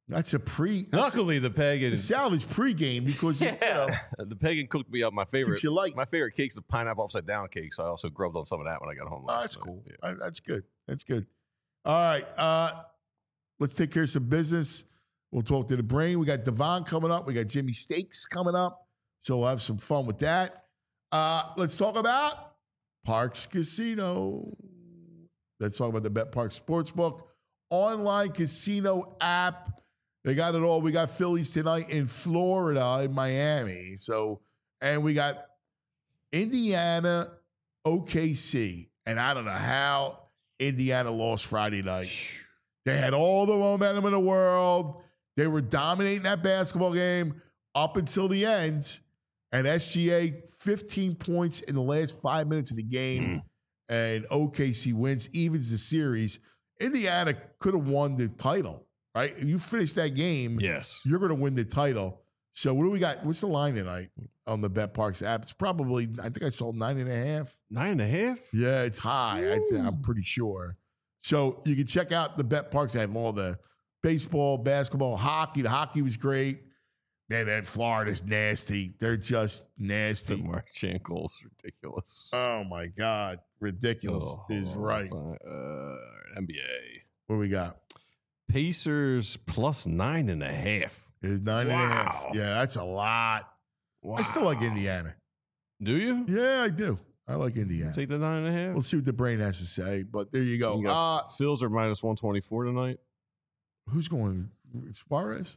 That's a Luckily, the pagan the salad is pregame because the pagan cooked me up my favorite. Keeps you light. My favorite cake's the pineapple upside down cake. So I also grubbed on some of that when I got home. That's night. cool. Yeah. That's good. That's good. All right. Let's take care of some business. We'll talk to the brain. We got Devon coming up. We got Jimmy Steaks coming up. So we'll have some fun with that. Let's talk about Parx Casino. Let's talk about the BetParx Sportsbook online casino app. They got it all. We got Phillies tonight in Florida, in Miami. And we got Indiana, OKC. And I don't know how Indiana lost Friday night. They had all the momentum in the world. They were dominating that basketball game up until the end. And SGA, 15 points in the last 5 minutes of the game. And OKC wins, evens the series. Indiana could have won the title, right? If you finish that game, Yes. you're going to win the title. So what do we got? What's the line tonight on the BetParx app? It's probably, I think I saw 9.5. 9.5? Yeah, it's high. I'm pretty sure. So you can check out the BetParx. They have all the baseball, basketball, hockey. The hockey was great. Man, that Florida's nasty. They're just The nasty. Mark Jankel's ridiculous. Oh, my God. Ridiculous is right. NBA. What do we got? Pacers plus 9.5. It's 9.5. Wow. Yeah, that's a lot. I still like Indiana. Do you? Yeah, I do. I like Indiana. Take the 9.5? We'll see what the brain has to say. But there you go. You got Phils are minus 124 tonight. Who's going? Suarez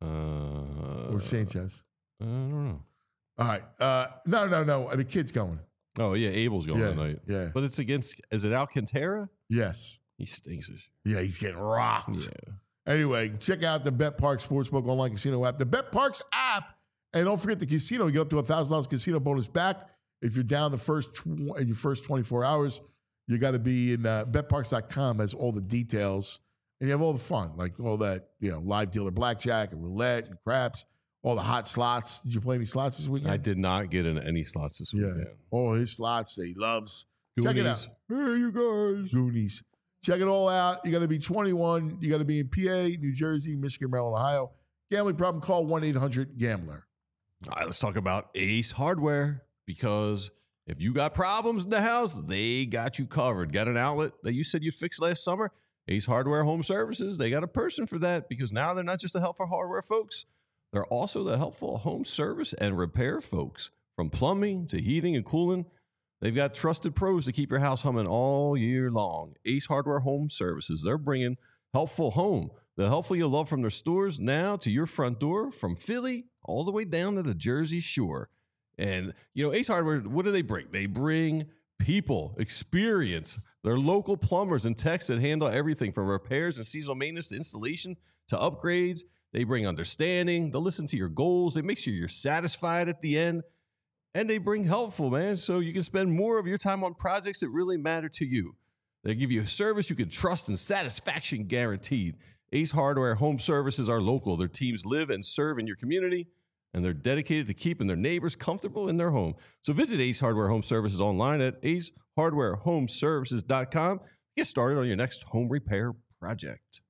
or Sanchez? I don't know. All right. No. The kid's going. Oh, yeah. Abel's going tonight. Yeah. But it's against, is it Alcantara? Yes. He stinks. Yeah, he's getting rocked. Yeah. Anyway, check out the BetParx Sportsbook online casino app. The BetParx app. And don't forget the casino. You get up to $1,000 casino bonus back. If you're down in your first 24 hours, you got to be in betparx.com has all the details. And you have all the fun, like all that, live dealer blackjack and roulette and craps, all the hot slots. Did you play any slots this weekend? I did not get in any slots this weekend. All his slots that he loves. Goonies. Check it out. Hey, you guys. Goonies. Check it all out. You got to be 21. You got to be in PA, New Jersey, Michigan, Maryland, Ohio. Gambling problem, call 1-800-GAMBLER. All right, let's talk about Ace Hardware, because if you got problems in the house, they got you covered. Got an outlet that you said you'd fix last summer? Ace Hardware Home Services, they got a person for that, because now they're not just the helpful hardware folks. They're also the helpful home service and repair folks. From plumbing to heating and cooling, they've got trusted pros to keep your house humming all year long. Ace Hardware Home Services, they're bringing helpful home. The helpful you love from their stores now to your front door, from Philly all the way down to the Jersey Shore. And, Ace Hardware, what do they bring? They bring people, experience. They're local plumbers and techs that handle everything from repairs and seasonal maintenance to installation to upgrades. They bring understanding. They'll listen to your goals. They make sure you're satisfied at the end. And they bring helpful, man, so you can spend more of your time on projects that really matter to you. They give you a service you can trust and satisfaction guaranteed. Ace Hardware Home Services are local. Their teams live and serve in your community, and they're dedicated to keeping their neighbors comfortable in their home. So visit Ace Hardware Home Services online at acehardwarehomeservices.com. Get started on your next home repair project.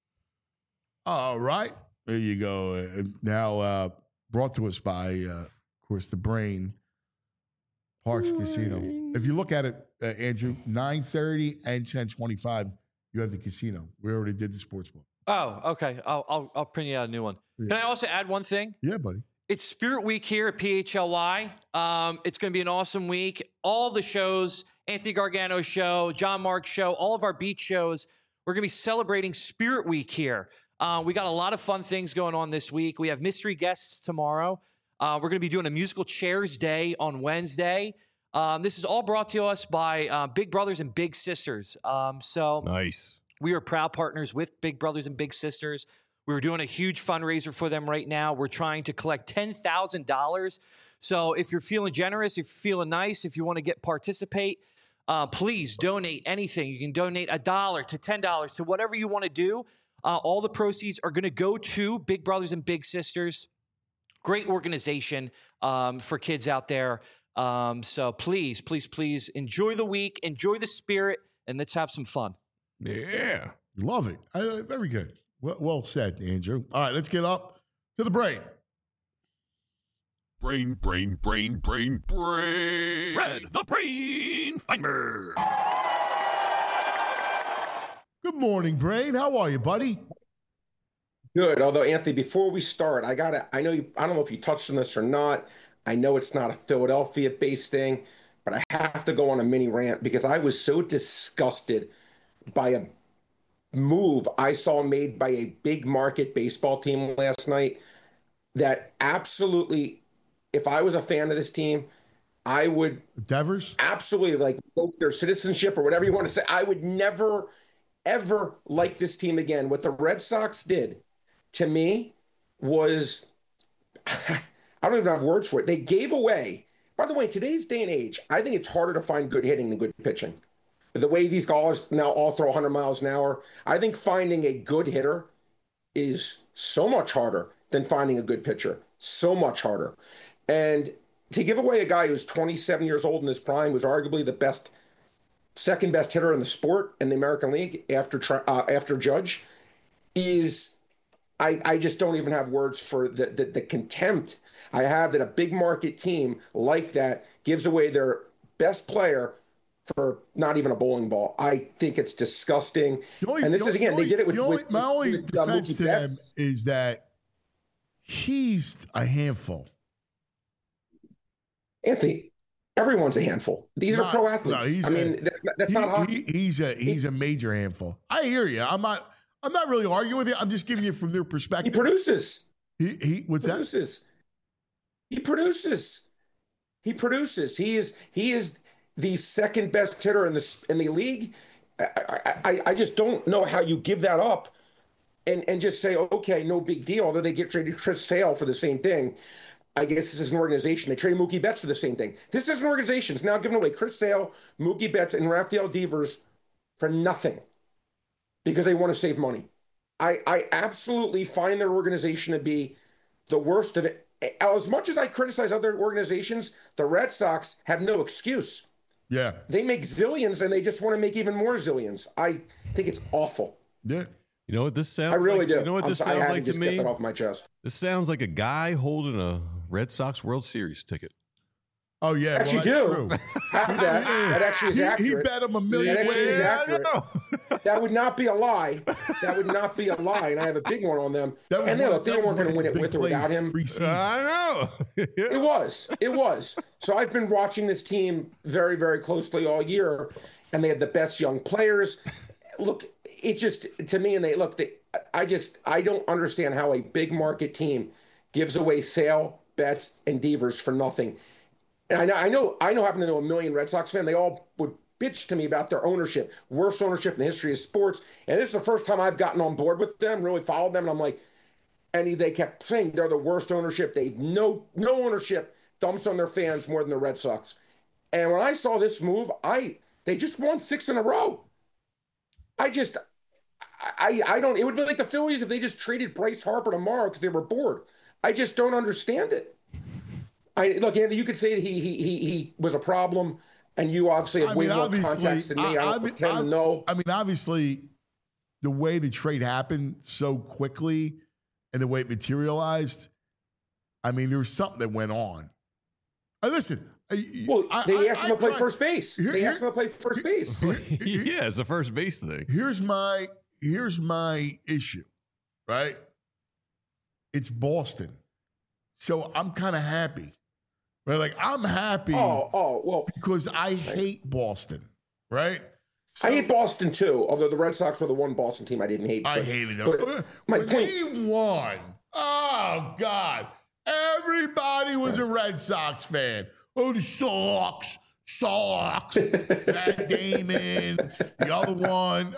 All right. There you go. Now brought to us by, of course, the Brain, Parx Casino. If you look at it, Andrew, 9:30 and 10:25, you have the casino. We already did the sportsbook. Oh, okay. I'll print you out a new one. Yeah. Can I also add one thing? Yeah, buddy. It's Spirit Week here at PHLY. It's going to be an awesome week. All the shows, Anthony Gargano show, John Mark show, all of our beach shows, we're going to be celebrating Spirit Week here. We got a lot of fun things going on this week. We have mystery guests tomorrow. We're going to be doing a musical chairs day on Wednesday. This is all brought to us by Big Brothers and Big Sisters. So Nice. we are proud partners with Big Brothers and Big Sisters. We're doing a huge fundraiser for them right now. We're trying to collect $10,000. So if you're feeling generous, if you're feeling nice, if you want to participate, please donate anything. You can donate $1 to $10 to whatever you want to do. All the proceeds are going to go to Big Brothers and Big Sisters. Great organization for kids out there. So please, please, please enjoy the week, enjoy the spirit, and let's have some fun. Yeah. Love it. Very good. Well said, Andrew. All right, let's get up to the brain. Brain. Red the Brain Finder. Good morning, Brain. How are you, buddy? Good. Although, Anthony, before we start, I don't know if you touched on this or not. I know it's not a Philadelphia-based thing, but I have to go on a mini rant because I was so disgusted by a move I saw made by a big market baseball team last night that absolutely, if I was a fan of this team, I would Devers? absolutely revoke their citizenship or whatever you want to say. I would never, ever like this team again. What the Red Sox did to me was, I don't even have words for it. They gave away, by the way, today's day and age, I think it's harder to find good hitting than good pitching. The way these guys now all throw 100 miles an hour, I think finding a good hitter is so much harder than finding a good pitcher. So much harder. And to give away a guy who's 27 years old in his prime, was arguably the second best hitter in the sport in the American League after Judge, is, I just don't even have words for the contempt I have that a big market team like that gives away their best player for not even a bowling ball. I think it's disgusting. And this is, again, they did it with my only defense Mookie to them Betts. is that he's a handful. Anthony, everyone's a handful. These are pro athletes. That's not hockey. He's a major handful. I hear you. I'm not really arguing with you. I'm just giving you from their perspective. He produces. What's that? He produces. He is the second best hitter in the league. I just don't know how you give that up and just say, okay, no big deal. Although they get traded Chris Sale for the same thing. I guess this is an organization. They traded Mookie Betts for the same thing. This is an organization. It's now giving away Chris Sale, Mookie Betts, and Rafael Devers for nothing because they want to save money. I absolutely find their organization to be the worst of it. As much as I criticize other organizations, the Red Sox have no excuse. Yeah. They make zillions and they just want to make even more zillions. I think it's awful. Yeah. You know what this sounds I really like? do. You know what this sounds like to just me? get that off my chest. This sounds like a guy holding a Red Sox World Series ticket. Oh, yeah. Actually, well, do. That actually is accurate. He bet him $1 million. That actually is accurate. I That would not be a lie. That would not be a lie. And I have a big one on them. And they weren't going to win it with or without him. I know. It was. So I've been watching this team very, very closely all year, and they have the best young players. Look, it just, to me, and I don't understand how a big market team gives away Sale, Betts, and Devers for nothing. And I know, happen to know a million Red Sox fans. They all would bitch to me about their ownership, worst ownership in the history of sports. And this is the first time I've gotten on board with them, really followed them. And I'm like, and they kept saying they're the worst ownership. They no ownership dumps on their fans more than the Red Sox. And when I saw this move, they just won 6 in a row. I don't. It would be like the Phillies if they just traded Bryce Harper tomorrow because they were bored. I just don't understand it. Look, Andy, you could say that he was a problem, and you obviously have way more context than me. I don't pretend to know. I mean, obviously, the way the trade happened so quickly and the way it materialized, I mean, there was something that went on. Listen. Well, they asked him to play first base. They asked him to play first base. Yeah, it's a first base thing. Here's my issue, right? It's Boston. So I'm kind of happy. Right? Like, I'm happy well, because I hate Boston, right? So, I hate Boston too, although the Red Sox were the one Boston team I didn't hate. I hated them. But my when point, they won, oh, God, everybody was a Red Sox fan. Oh, the Sox. Matt Damon, the other one,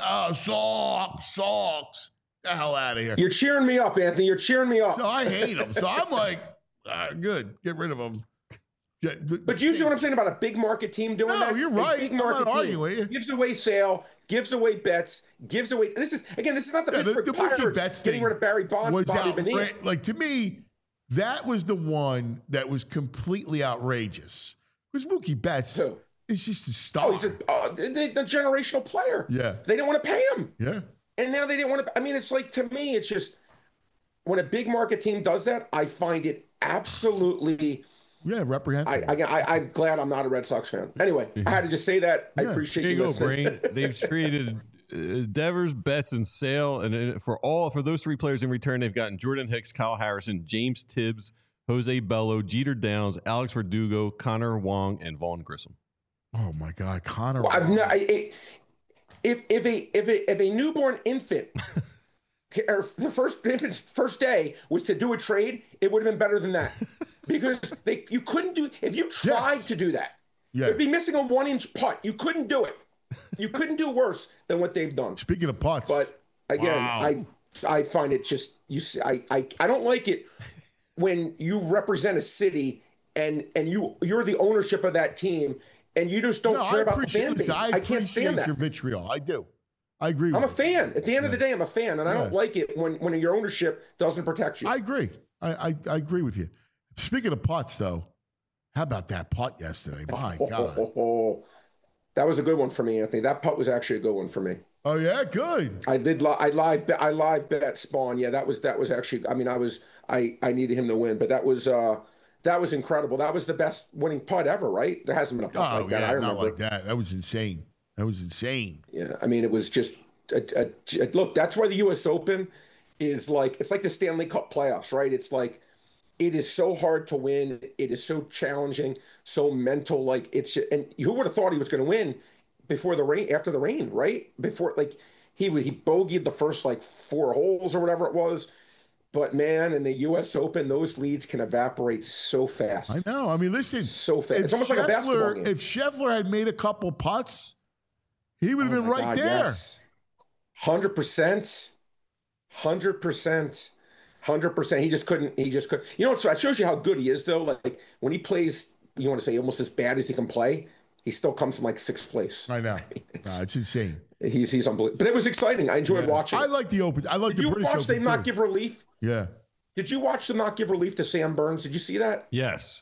Sox. The hell out of here. You're cheering me up, Anthony. You're cheering me up. So I hate them. So I'm like, good, get rid of them. Yeah, but you see what I'm saying about a big market team doing that? No, you're right. A big market team gives away Sale, gives away Betts, gives away. This is not the Pittsburgh Pirates getting rid of Barry Bonds, Bobby Bonilla. Like, to me, that was the one that was completely outrageous. Because Mookie Betts is just a star. Oh, he's the generational player. Yeah. They don't want to pay him. Yeah. And now they didn't want to. I mean, it's like, to me, it's just when a big market team does that, I find it absolutely. Yeah, reprehensible. I'm glad I'm not a Red Sox fan. Anyway, I had to just say that. I appreciate Here you you go, listening. Brain. They've traded Devers, Betts, and Sale, and for those 3 players in return, they've gotten Jordan Hicks, Kyle Harrison, James Tibbs, Jose Bello, Jeter Downs, Alex Verdugo, Connor Wong, and Vaughn Grissom. Oh my God, Connor. Well, if a newborn infant or the infant's first day was to do a trade, it would have been better than that, because you couldn't do, if you tried to do that, it'd be missing a 1-inch putt. You couldn't do it. You couldn't do worse than what they've done. Speaking of putts, but again, I find it just, I don't like it when you represent a city and you're the ownership of that team and you just don't care about the fan base. I can't stand that. Your vitriol. I do. I agree. I'm a fan. At the end of the day, I'm a fan, and I don't like it when your ownership doesn't protect you. I agree. I agree with you. Speaking of putts, though, how about that putt yesterday? My God. That was a good one for me, Anthony. That putt was actually a good one for me. Oh yeah, good. I live bet Spawn. Yeah, that was actually. I mean, I needed him to win, but that was incredible. That was the best winning putt ever, right? There hasn't been a putt like that. I remember. Not like that. That was insane. Yeah, I mean, it was just look. That's why the U.S. Open is like, it's like the Stanley Cup playoffs, right? It's like, it is so hard to win. It is so challenging, so mental. Like, it's, and who would have thought he was going to win before the rain, after the rain, right? Before, like, he bogeyed the first like 4 holes or whatever it was. But man, in the U.S. Open, those leads can evaporate so fast. I know. I mean, listen, so fast. It's almost like a basketball game. If Scheffler had made a couple putts, he would have been right there. Yes. 100%. 100%. He just couldn't. You know, so it shows you how good he is, though. Like, when he plays, you want to say almost as bad as he can play, he still comes in like 6th place. I know. It's insane. He's unbelievable. But it was exciting. I enjoyed watching. I like the Open. I like the British Open. Did you watch them not give relief? Yeah. Did you watch them not give relief to Sam Burns? Did you see that? Yes.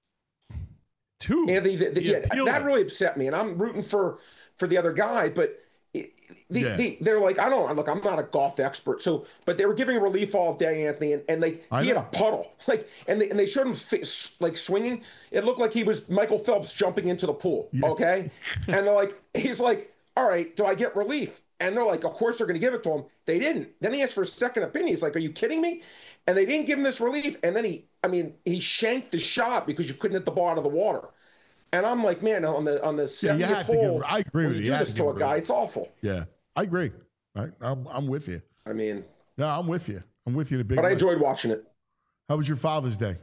2. Anthony, that really upset me, and I'm rooting for the other guy, but they're like, I'm not a golf expert, but they were giving relief all day, Anthony, and he had a puddle, like, and they showed him like swinging. It looked like he was Michael Phelps jumping into the pool. Yeah. Okay, and he's like, all right, do I get relief? And they're like, of course they're going to give it to him. They didn't. Then he asked for a second opinion. He's like, are you kidding me? And they didn't give him this relief. And then he shanked the shot because you couldn't hit the ball out of the water. And I'm like, man, on the 70th hole, I agree with you. You do this to a guy, it's awful. Yeah, I agree. I'm with you. I mean, no, I'm with you. I'm with you in a big way. But I enjoyed watching it. How was your Father's Day?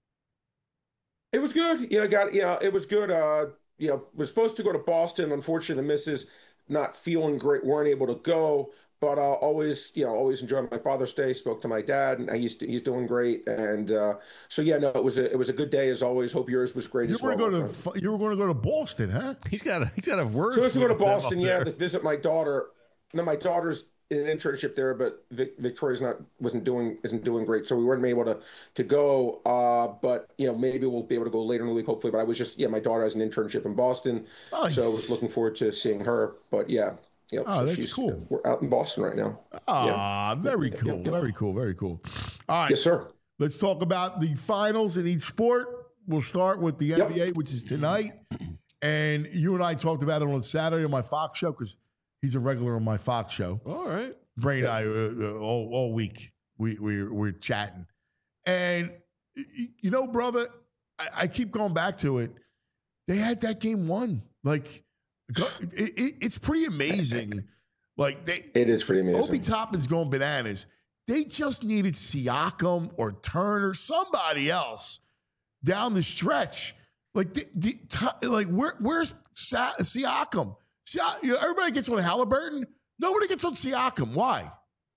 It was good. It was good. Was supposed to go to Boston. Unfortunately, the missus not feeling great, weren't able to go. But always enjoyed my Father's Day. Spoke to my dad, and he's doing great. And it was a good day as always. Hope yours was great as well. You were going to go to Boston, huh? He's got a word. So I was to go to Boston, to visit my daughter. No, my daughter's in an internship there, but Victoria's isn't doing great, so we weren't able to go. But maybe we'll be able to go later in the week, hopefully. But I was just my daughter has an internship in Boston, nice. So I was looking forward to seeing her. But so that's cool. We're out in Boston right now. Very cool. Very cool. Very cool. All right. Yes, sir. Let's talk about the finals in each sport. We'll start with the NBA, which is tonight. And you and I talked about it on Saturday on my Fox show because he's a regular on my Fox show. All right. Bray and I, all week, we're chatting. And, brother, I keep going back to it. They had that game won. Like, it's pretty amazing. It is pretty amazing. Obi Toppin's going bananas. They just needed Siakam or Turner, somebody else down the stretch. Where's Siakam? Everybody gets on Halliburton. Nobody gets on Siakam. Why?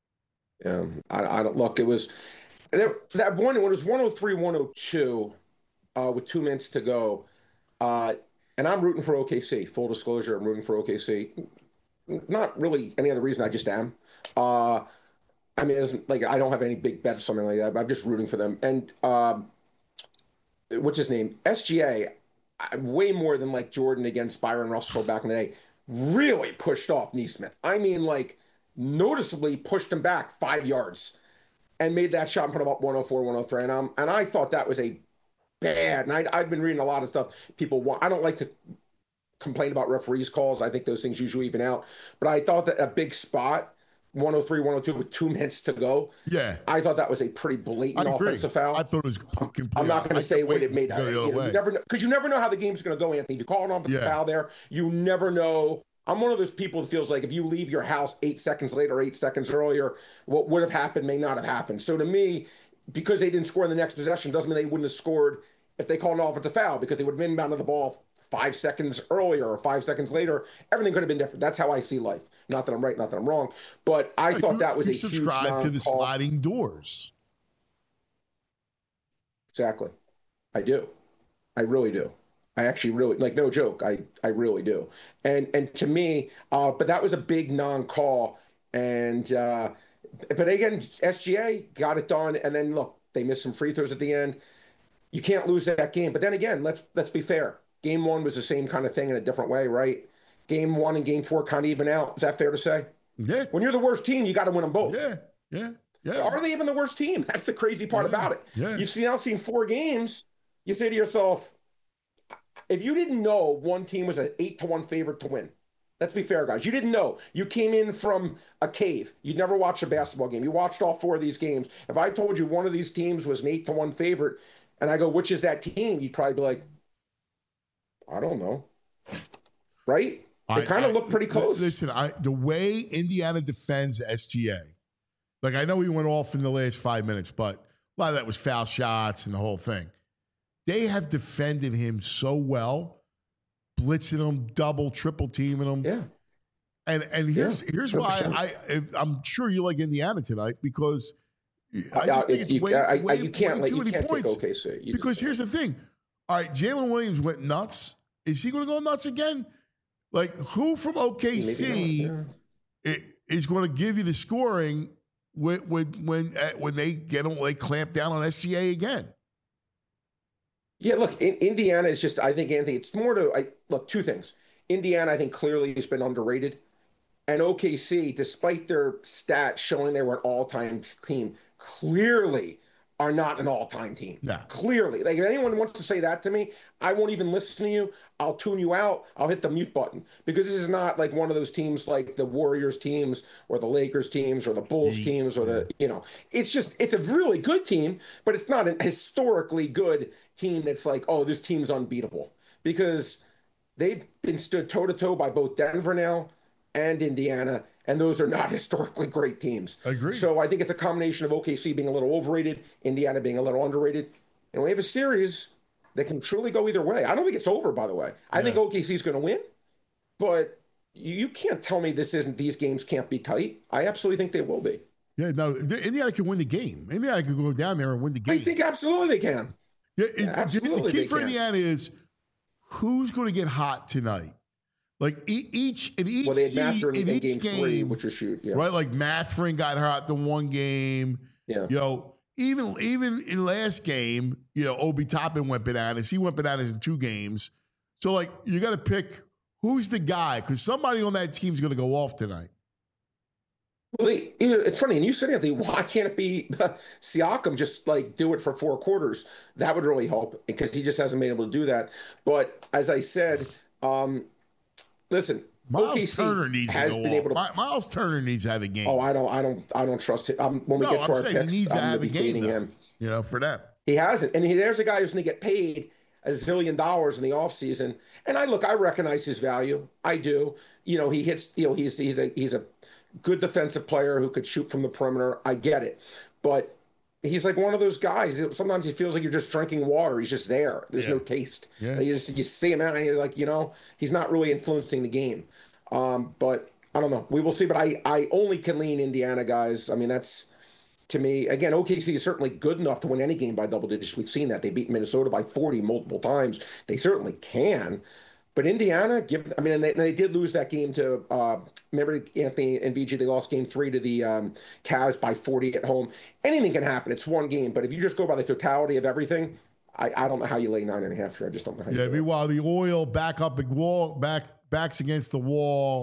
I don't look. It was that one. When it was 103-102 with 2 minutes to go. And I'm rooting for OKC. Full disclosure, I'm rooting for OKC. Not really any other reason. I just am. I mean, it isn't like I don't have any big bets or something like that. I'm just rooting for them. And what's his name? SGA, way more than like Jordan against Byron Russell back in the day, really pushed off Neesmith. I mean, like noticeably pushed him back 5 yards and made that shot and put him up 104, 103. And I thought that was a bad, and I've been reading a lot of stuff. I don't like to complain about referees' calls. I think those things usually even out. But I thought that a big spot, 103, 102 with 2 minutes to go. Yeah. I thought that was a pretty blatant offensive foul. I thought it was complete. I'm not going to say what it made. You never know, because you never know how the game's going to go, Anthony. If you call an offensive foul there, you never know. I'm one of those people that feels like if you leave your house 8 seconds later, 8 seconds earlier, what would have happened may not have happened. So to me, because they didn't score in the next possession doesn't mean they wouldn't have scored if they called an offensive foul, because they would have inbounded the ball 5 seconds earlier or 5 seconds later. Everything could have been different. That's how I see life. Not that I'm right, not that I'm wrong, but I thought that was a huge subscribe to the sliding doors. Exactly. I do. I really do. I actually really, like, no joke. I really do. And to me, but that was a big non-call. And but again, SGA got it done. And then look, they missed some free throws at the end. You can't lose that game. But then again, let's be fair. Game 1 was the same kind of thing in a different way, right? Game 1 and game 4 kind of even out. Is that fair to say? Yeah. When you're the worst team, you got to win them both. Yeah. Are they even the worst team? That's the crazy part about it. Yeah. You've now seen 4 games. You say to yourself, if you didn't know one team was an 8-1 favorite to win, let's be fair, guys. You didn't know. You came in from a cave. You'd never watched a basketball game. You watched all 4 of these games. If I told you one of these teams was an 8-1 favorite, and I go, which is that team? You'd probably be like, I don't know. Right? They kind of look pretty close. Listen, the way Indiana defends SGA, like, I know he went off in the last 5 minutes, but a lot of that was foul shots and the whole thing. They have defended him so well, blitzing him, double, triple teaming him. Yeah. And here's why I'm sure you like Indiana tonight, because I just think it's you can't take OKC. Because here's the thing. All right, Jalen Williams went nuts. Is he going to go nuts again? Like, who from OKC is going to give you the scoring when they clamp down on SGA again? Yeah, look, Indiana is just, I think, Anthony, it's more to, look, 2 things. Indiana, I think, clearly has been underrated. And OKC, despite their stats showing they were an all-time team, clearly are not an all-time team. No. Clearly. Like, if anyone wants to say that to me, I won't even listen to you. I'll tune you out. I'll hit the mute button. Because this is not like one of those teams like the Warriors teams or the Lakers teams or the Bulls teams or it's a really good team, but it's not a historically good team that's like, oh, this team's unbeatable. Because they've been stood toe-to-toe by both Denver now and Indiana, and those are not historically great teams. Agreed. So I think it's a combination of OKC being a little overrated, Indiana being a little underrated, and we have a series that can truly go either way. I don't think it's over, by the way. I think OKC is going to win, but you can't tell me these games can't be tight. I absolutely think they will be. Yeah, no, Indiana can win the game. Indiana can go down there and win the game. I think absolutely they can. Absolutely, the key for Indiana is who's going to get hot tonight. Like each well, they had Mathurin in game 3, which was right. Like Mathurin got hot the one game. Yeah, even in last game, Obi Toppin went bananas. He went bananas in 2 games. So like you got to pick who's the guy, because somebody on that team is going to go off tonight. Well, it's funny, and you said, Anthony, why can't it be Siakam just like do it for 4 quarters? That would really help, because he just hasn't been able to do that. But as I said, listen, Miles Turner needs has to been go able off. to. Miles Turner needs to have a game. Oh, I don't trust him. When we get to our picks, I'm going to be fading him. For that. He hasn't, and there's a guy who's going to get paid $1 zillion in the offseason. And I recognize his value. I do. He hits. He's a good defensive player who could shoot from the perimeter. I get it, but he's like one of those guys. Sometimes he feels like you're just drinking water. He's just there. There's no taste. Yeah. You see him out, and you're like, he's not really influencing the game. But I don't know. We will see. But I only can lean Indiana, guys. I mean, that's, to me, again, OKC is certainly good enough to win any game by double digits. We've seen that. They beat Minnesota by 40 multiple times. They certainly can. But Indiana, and they did lose that game to, remember, Anthony and VG, they lost game 3 to the Cavs by 40 at home. Anything can happen. It's one game. But if you just go by the totality of everything, I don't know how you lay 9.5 here. I just don't know how you do it. Meanwhile, the Oil backs against the wall.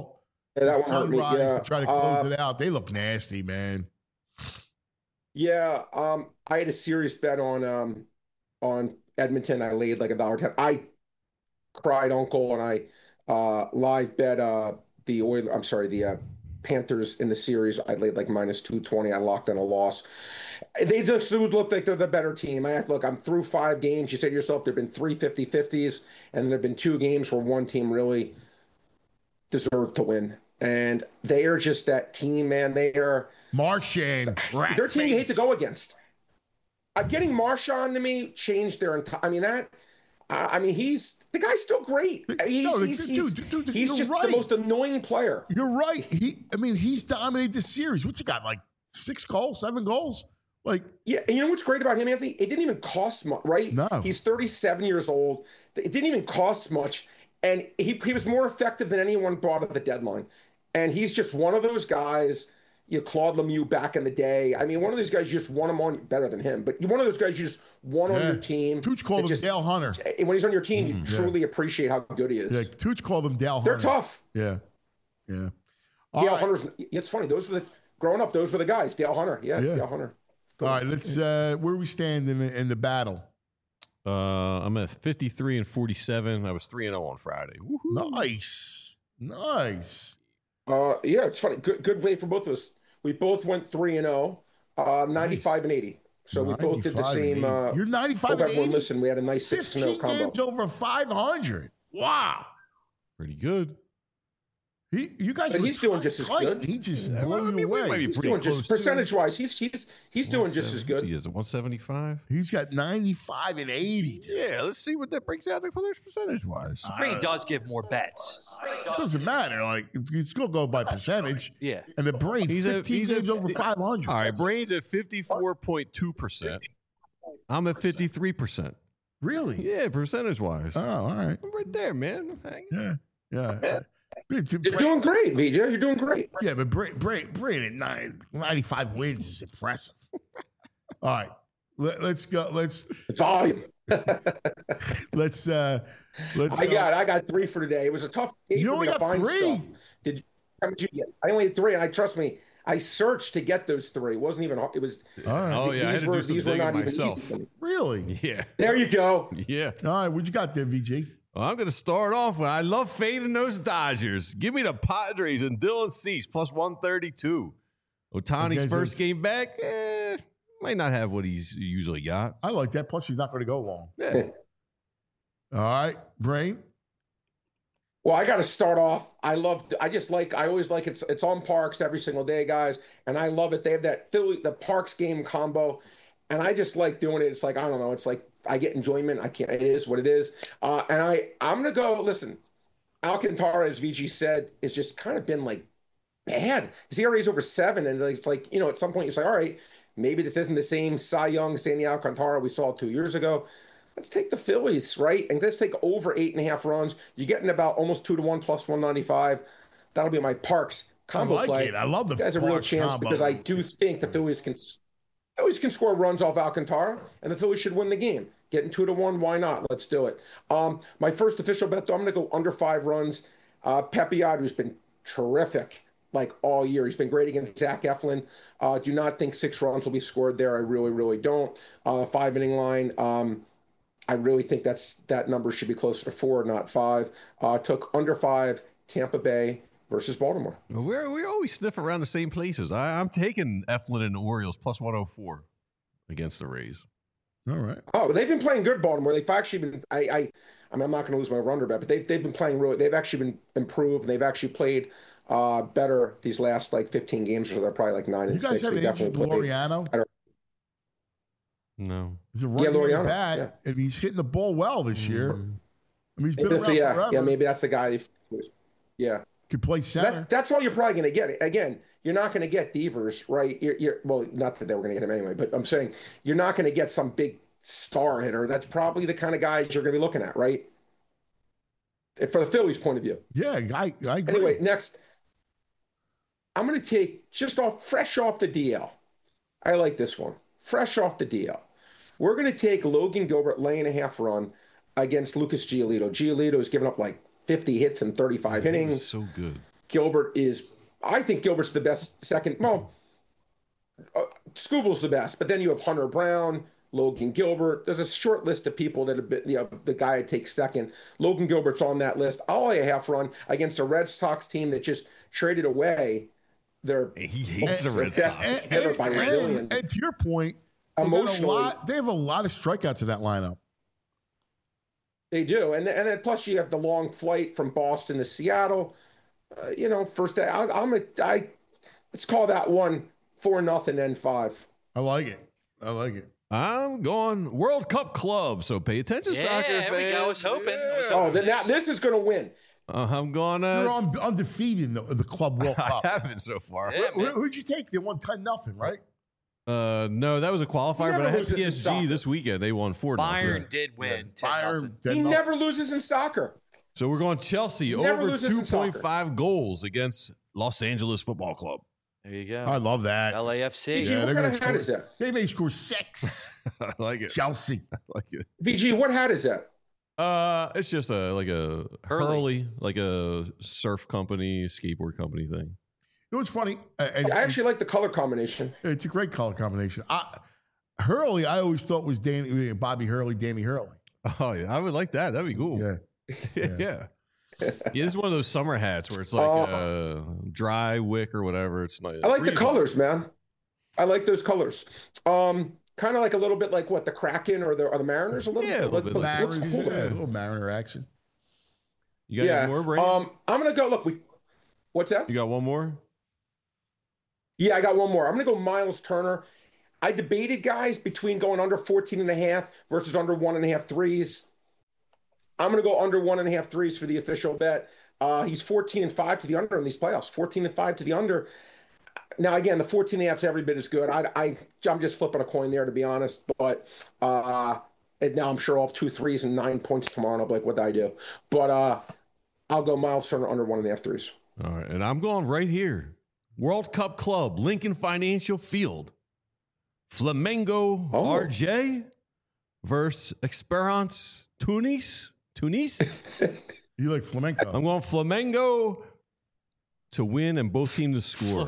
Yeah, that one hurt me. Sunrise Yeah. to try to close it out. They look nasty, man. Yeah. I had a serious bet on Edmonton. I laid like $1.10. I cried uncle, and I live bet the Oilers. I'm sorry, the Panthers in the series. I laid like -220. I locked in a loss. They just look like they're the better team. Look, I'm through 5 games. You say to yourself, there've been 3 50-50s, and there've been 2 games where one team really deserved to win. And they are just that team, man. They are Marchand. their team you hate to go against. Getting Marchand to me changed their entire. He's the guy's still great. He's just right. the most annoying player. You're right. He's dominated this series. What's he got? Like 6 goals, 7 goals? Like, yeah, and you know what's great about him, Anthony? It didn't even cost much, right? No. He's 37 years old. It didn't even cost much, and he was more effective than anyone brought at the deadline. And he's just one of those guys. Claude Lemieux back in the day. One of those guys you just want him on, better than him, but one of those guys you just want on your team. Tooch called him Dale Hunter. When he's on your team, you truly appreciate how good he is. Yeah, Tooch called him Dale Hunter. They're tough. Yeah. Dale Hunter's. It's funny. Growing up, those were the guys. Dale Hunter. Yeah. Dale Hunter. All right, let's. Where we stand in the battle? I'm at 53 and 47. I was 3-0 on Friday. Woo-hoo. Nice. Yeah, it's funny. Good way for both of us. We both went 3-0, 95 and 80. So we both did the same. You're 95 and 80. Everyone listen, we had a nice 6-0 combo. Games over 500. Wow. Pretty good. You guys, but he's doing just as good. He just blew you away. He's doing just percentage-wise. He's doing just as good. He is 175. He's got 95 and 80. Dude. Yeah, let's see what that brings out the players percentage-wise. Brain does give more bets. It doesn't matter. Like, you still go by percentage. Yeah. And the Brain, he's 15 games over 500. All right, Brain's at 54.2%. I'm at 53%. Really? Yeah, percentage-wise. Oh, all right. I'm right there, man. Yeah. You're doing great, VJ. You're doing great. Yeah, but Brain at 95 wins is impressive. All right. Let's go. It's volume. Let's. I got 3 for today. It was a tough day for me to find 3. stuff. How much did you get? I only had 3, and trust me, I searched to get those 3. It wasn't even. It was. All right. Oh yeah, these were not myself. even easy. Really? Yeah. There you go. Yeah. All right. What you got there, VG? Well, I'm going to start off with I love fading those Dodgers. Give me the Padres and Dylan Cease plus 132. Otani's first game back, might not have what he's usually got. I like that. Plus, he's not going to go long. Yeah. All right, Brain. Well, I got to start off. I always like it's on Parks every single day, guys, and I love it. They have the Parks game combo, and I just like doing it. It's like, I don't know. It's like I get enjoyment. It is what it is. And I'm going to go, listen, Alcantara, as VG said, has just kind of been like bad. His ERA is over 7. And it's like, at some point you say, all right, maybe this isn't the same Cy Young, Sandy Alcantara we saw 2 years ago. Let's take the Phillies, right? And let's take over 8.5 runs. You're getting about almost 2-1 plus 195. That'll be my Parks combo play. I love the There's a real chance combo. Because I do think the Phillies can score runs off Alcantara, and the Phillies should win the game. Getting 2-1, why not? Let's do it. My first official bet, though, I'm going to go under 5 runs. Pepiot, who's been terrific like all year. He's been great against Zach Eflin. Do not think 6 runs will be scored there. I really, really don't. 5-inning line. I really think that number should be closer to 4, not 5. Took under 5, Tampa Bay versus Baltimore. We always sniff around the same places. I'm taking Eflin and the Orioles plus 104 against the Rays. All right. Oh, they've been playing good, Baltimore. They've actually been. I'm not going to lose my runner bet, but they've been playing really. They've actually been improved. They've actually played better these last 15 games, or so they're probably 9 and 6. You guys have Laureano? No. He's a Laureano bat, and he's hitting the ball well this year. He's been around forever. Yeah, maybe that's the guy. Yeah. Could play center. That's all you're probably going to get. Again, you're not going to get Devers, right? Well, not that they were going to get him anyway, but I'm saying you're not going to get some big star hitter. That's probably the kind of guys you're going to be looking at, right? For the Phillies' point of view. Yeah, I agree. Anyway, next, I'm going to take fresh off the DL. I like this one. Fresh off the DL. We're going to take Logan Gilbert laying a half run against Lucas Giolito. Giolito has given up 50 hits in 35 innings. So good. I think Gilbert's the best second. Well, Scooble's the best, but then you have Hunter Brown, Logan Gilbert. There's a short list of people that have been, the guy I'd take second. Logan Gilbert's on that list. I'll lay a half run against a Red Sox team that just traded away He hates the Red Sox. And to your point, emotionally, they have a lot of strikeouts in that lineup. They do, and then plus you have the long flight from Boston to Seattle. First day, let's call that one 4-0 N5. I like it. I'm going World Cup Club, so pay attention, soccer fans. There we go. I was hoping. Then now this is going to win. I'm going. You're undefeated in the Club World Cup. I haven't so far. Yeah, Who'd you take? They won 10-0, right? No, that was a qualifier, but I had loses in PSG soccer. this weekend. They won 4-0. Bayern did win. 10-0. He never loses in soccer. So we're going Chelsea never over loses in soccer. 2.5 goals against Los Angeles Football Club. There you go. I love that. LAFC. VG, what kind of hat is that? They may score 6. I like it. Chelsea. I like it. VG, what hat is that? It's just a Hurley, like a surf company, skateboard company thing. You know what's funny? I actually like the color combination. It's a great color combination. Hurley, I always thought was Bobby Hurley, Danny Hurley. Oh yeah, I would like that. That'd be cool. Yeah. Yeah. Yeah, this is one of those summer hats where it's like dry wick or whatever. It's nice. I like the colors, man. I like those colors. Kind of like a little bit like what the Kraken or the Mariners a little bit. A little bit Mariners, looks cool. a little Mariner action. You got any more, Brandon? I'm gonna go. Look, what's that? You got one more? Yeah, I got one more. I'm gonna go Miles Turner. I debated guys between going under 14.5 versus under 1.5 threes. I'm going to go under 1.5 threes for the official bet. He's 14-5 to the under in these playoffs. 14-5 to the under. Now, again, the 14.5's every bit as good. I'm just flipping a coin there, to be honest. But and now I'm sure I'll have 2 threes and 9 points tomorrow, and I'll be like, what'd I do? But I'll go Miles Turner under 1.5 threes. All right, and I'm going right here. World Cup Club, Lincoln Financial Field. Flamengo RJ versus Esperance Tunis. You like flamenco? I'm going Flamengo to win and both teams to score.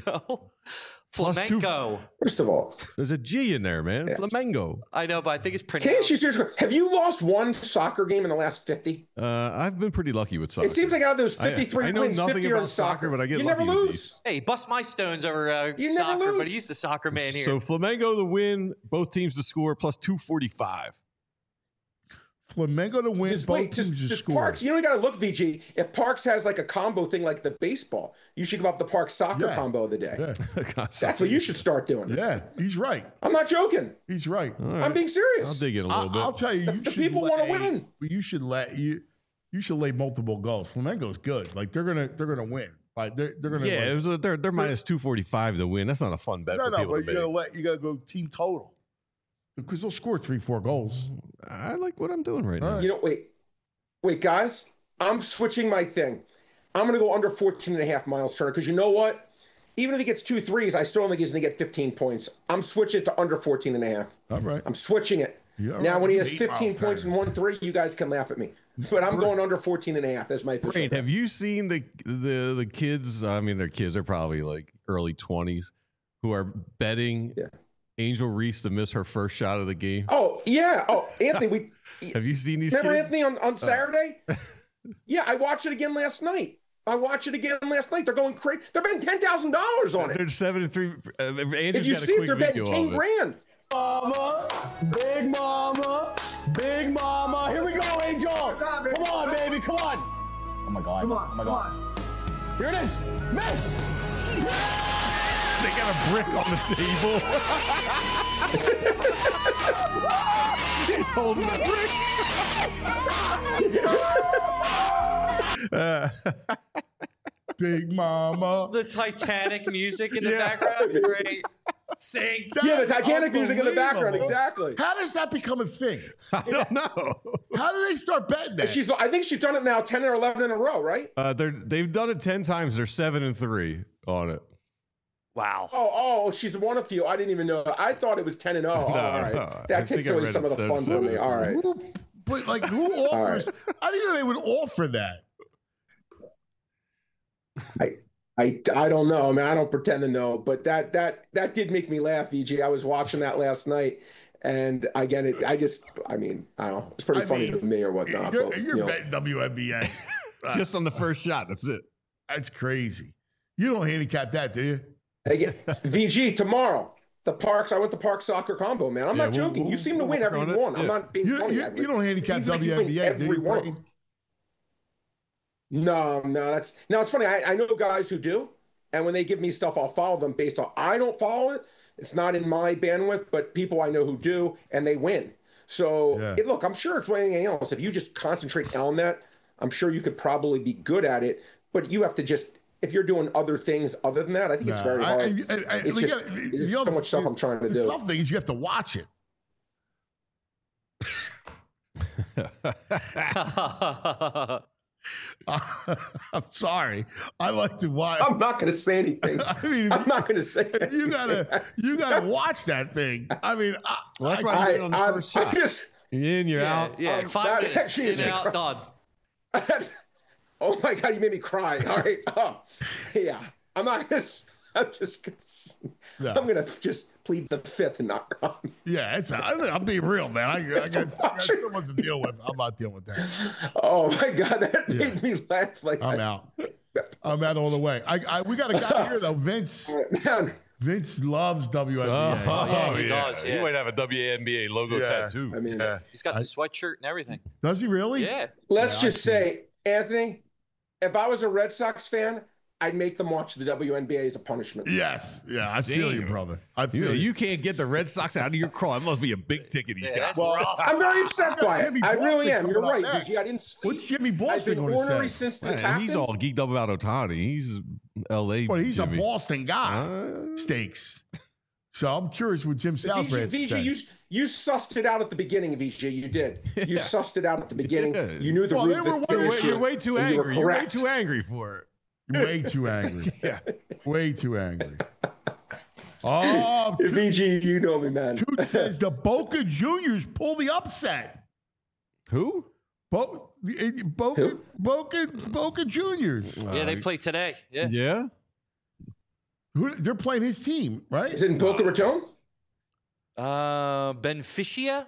Flamenco. First of all, there's a G in there, man. Yeah. Flamengo. I know, but I think it's Can't pronounced. you seriously? Have you lost one soccer game in the last 50? I've been pretty lucky with soccer. It seems like out of those 53 I know wins, nothing 50 are about in soccer, but I get you lucky never with lose. these. Hey, bust my stones over You soccer, never lose. but he's the soccer man here. So Flamengo to win, both teams to score, plus 245. Flamengo to win, both teams to score. Parks, you only got to look, VG. If Parks has like a combo thing like the baseball, you should give up the Parks soccer combo of the day. Yeah. That's what you should start doing. Yeah, he's right. I'm not joking. He's right. I'm being serious. I'll dig in a little bit. I'll tell you, The people want to win. You should lay multiple goals. Flamengo's good. Like they're gonna win. Like they're gonna. Yeah, they're minus 245 to win. That's not a fun bet for people. But you gotta go team total because they'll score 3-4 goals. I like what I'm doing right now. You know, wait, guys. I'm switching my thing. I'm going to go under 14.5 Miles Turner because you know what? Even if he gets 2 threes, I still don't think he's going to get 15 points. I'm switching it to under 14.5. All right. I'm switching it. Now, when he has 15 points and 1 3, you guys can laugh at me. But I'm going under 14.5. That's my official bet. Have you seen the kids? I mean, their kids are probably like early 20s who are betting Angel Reese to miss her first shot of the game. Oh, yeah. Oh, Anthony, have you seen these remember kids? Anthony on Saturday? Yeah, I watched it again last night. They're going crazy. They're betting $10,000 on it. They're 7-3. If you see it, they're betting 10 grand. Big mama. Here we go, Angel. Come on, baby. Come on. Oh my God. Oh my God. Here it is. Miss. They got a brick on the table. He's holding the brick. Big mama. The Titanic music in the background is great. Sing. Yeah, the Titanic music in the background. Exactly. How does that become a thing? I don't know. How do they start betting that? I think she's done it now 10 or 11 in a row, right? They've done it 10 times. They're 7-3 on it. Wow. Oh, she's won a few. I didn't even know. I thought it was 10 and 0. All right. No. That takes away some of the fun for me. All right. Who offers? I didn't know they would offer that. I don't know. I mean, I don't pretend to know, but that did make me laugh, VG. I was watching that last night, and again, I don't know. It's pretty funny to me or whatnot. You're betting WNBA. Just on the first shot. That's it. That's crazy. You don't handicap that, do you? Again, VG, tomorrow, the Parks. I went to Park Soccer Combo, man. I'm not joking. You seem to win every one. I'm not being funny. You don't handicap WNBA, do you, Brayton? No, it's funny. I know guys who do, and when they give me stuff, I'll follow them based on. I don't follow it. It's not in my bandwidth, but people I know who do, and they win. So look, I'm sure it's like anything else. If you just concentrate on that, I'm sure you could probably be good at it. But you have to just, if you're doing other things other than that, I think it's very hard. It's so much stuff I'm trying to do. The tough thing is you have to watch it. I'm sorry. I like to watch. I'm not going to say anything. I'm not going to say anything. You gotta watch that thing. I mean, that's why I on the first shot. You're in, you're out. Yeah, 5 minutes. In and out, done. Oh my God, you made me cry. All right. Yeah. I'm just plead the fifth and not cry. Yeah, I'm being real, man. I got someone to deal with. I'm not dealing with that. Oh my God, that made me laugh. I'm out. I'm out all the way. We got a guy here though, Vince. Man. Vince loves WNBA. Yeah, he does. Yeah. He might have a WNBA logo tattoo. I mean, he's got the sweatshirt and everything. Does he really? Yeah. Let's just say, Anthony, if I was a Red Sox fan, I'd make them watch the WNBA as a punishment. Yes. Yeah, I feel you, brother. I feel you. You can't get the Red Sox out of your craw. It must be a big ticket he's got. I'm very upset by it. I really am. You're right, Vicky. I didn't sleep. What's Jimmy Boston I've been ornery since this happened. He's all geeked up about Ohtani. He's L.A. Well, he's Jimmy. a Boston guy. Stakes. So I'm curious what Jim Salisbury has to say. You sussed it out at the beginning, VJ. You did. You sussed it out at the beginning. Yeah. You knew the root. You're way too angry. You're way too angry for it. Way too angry. Yeah. Way too angry. Oh, VG, you know me, man. Toot says the Boca Juniors pull the upset. Who? Boca Juniors. Yeah, they play today. Yeah. Yeah. They're playing his team, right? Is it in Boca Raton? Benfica.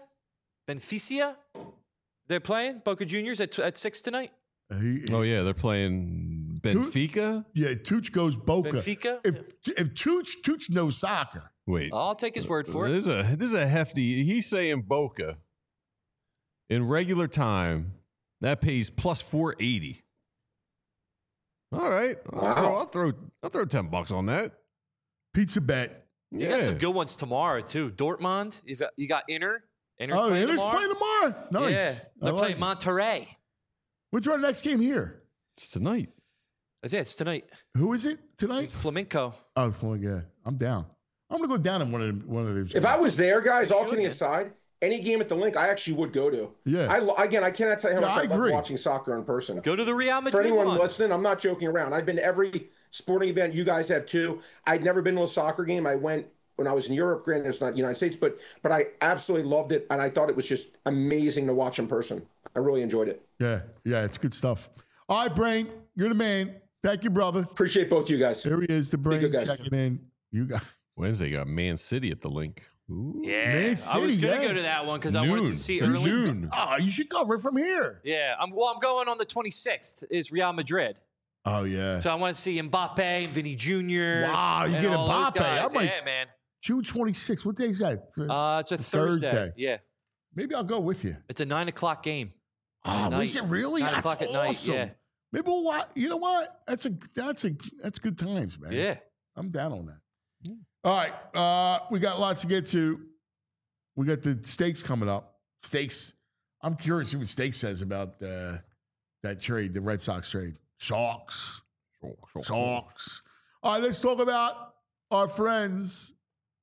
They're playing Boca Juniors at 6 tonight. Yeah, they're playing Benfica. Tooch goes Boca. Benfica. If Tooch knows soccer. Wait, I'll take his word for it. This is a hefty. He's saying Boca in regular time that pays plus 480. All right, I'll throw $10 on that. Pizza bet. You got some good ones tomorrow too. Dortmund. You got Inter. Inter's playing tomorrow. Nice. Yeah, they're playing Monterrey. What's our next game here? It's tonight. Yeah, it's tonight. Who is it tonight? Flamenco. Oh, Flamenco. Yeah, I'm down. I'm gonna go down in one of those. If I was there, guys, all kidding aside, any game at the Link, I actually would go to. Yeah. I cannot tell you how much I love watching soccer in person. Go to the Real Madrid. For anyone listening, I'm not joking around. I've been to every sporting event. You guys have too. I'd never been to a soccer game. I went when I was in Europe. Granted, it's not the United States, but I absolutely loved it, and I thought it was just amazing to watch in person. I really enjoyed it. Yeah, it's good stuff. All right, Brain, you're the man. Thank you, brother. Appreciate both you guys. Here he is, the Brain checking in. You got Wednesday. Got Man City at the Link. Ooh. Yeah, Man City, I was going to go to that one because I wanted to see early. June. Oh, you should go right from here. Yeah, I'm going on the 26th. Is Real Madrid. Oh yeah. So I want to see Mbappe and Vinny Jr. Wow, you get Mbappe. Yeah, man. June 26th. What day is that? It's a Thursday. Yeah. Maybe I'll go with you. It's a 9:00 game. Oh, is it really? 9 o'clock at night. Yeah. Maybe we'll watch. You know what? That's good times, man. Yeah. I'm down on that. All right. We got lots to get to. We got the stakes coming up. Stakes. I'm curious what Stakes says about that trade, the Red Sox trade. Sox. All right, let's talk about our friends.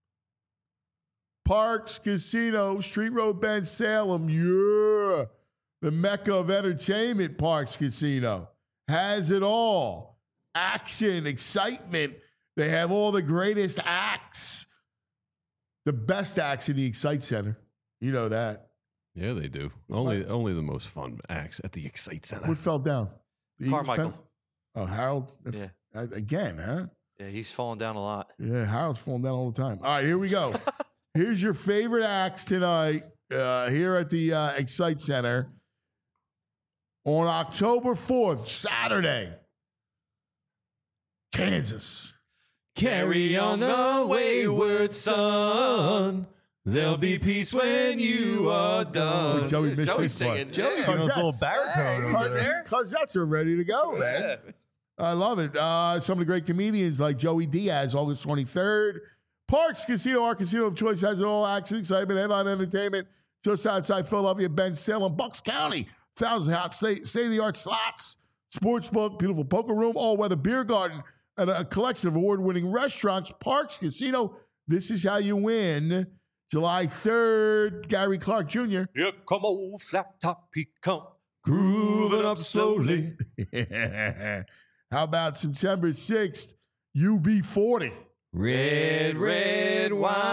Parks Casino, Street Road Bend, Salem. Yeah. The mecca of entertainment, Parks Casino. Has it all. Action, excitement. They have all the greatest acts. The best acts in the Excite Center. You know that. Yeah, they do. Only the most fun acts at the Excite Center. What fell down? Carmichael. Oh, Harold. Yeah. Again, huh? Yeah, he's falling down a lot. Yeah, Harold's falling down all the time. All right, here we go. Here's your favorite acts tonight here at the Excite Center on October 4th, Saturday. Kansas. Carry on the wayward son. There'll be peace when you are done. Joey missed Joey's his singing. part. Joey, Got a little baritone over there. Cosettes are ready to go, man. I love it. Some of the great comedians like Joey Diaz, August 23rd. Parks Casino, our casino of choice, has it all. Action, excitement, headline entertainment. Just outside Philadelphia, Ben Salem, Bucks County. 1,000 hot state-of-the-art slots, sportsbook, beautiful poker room, all-weather beer garden, and a collection of award-winning restaurants. Parks Casino, this is how you win. July 3rd, Gary Clark Jr. Here come old flat top, he come. Grooving up slowly. How about September 6th, UB40? Red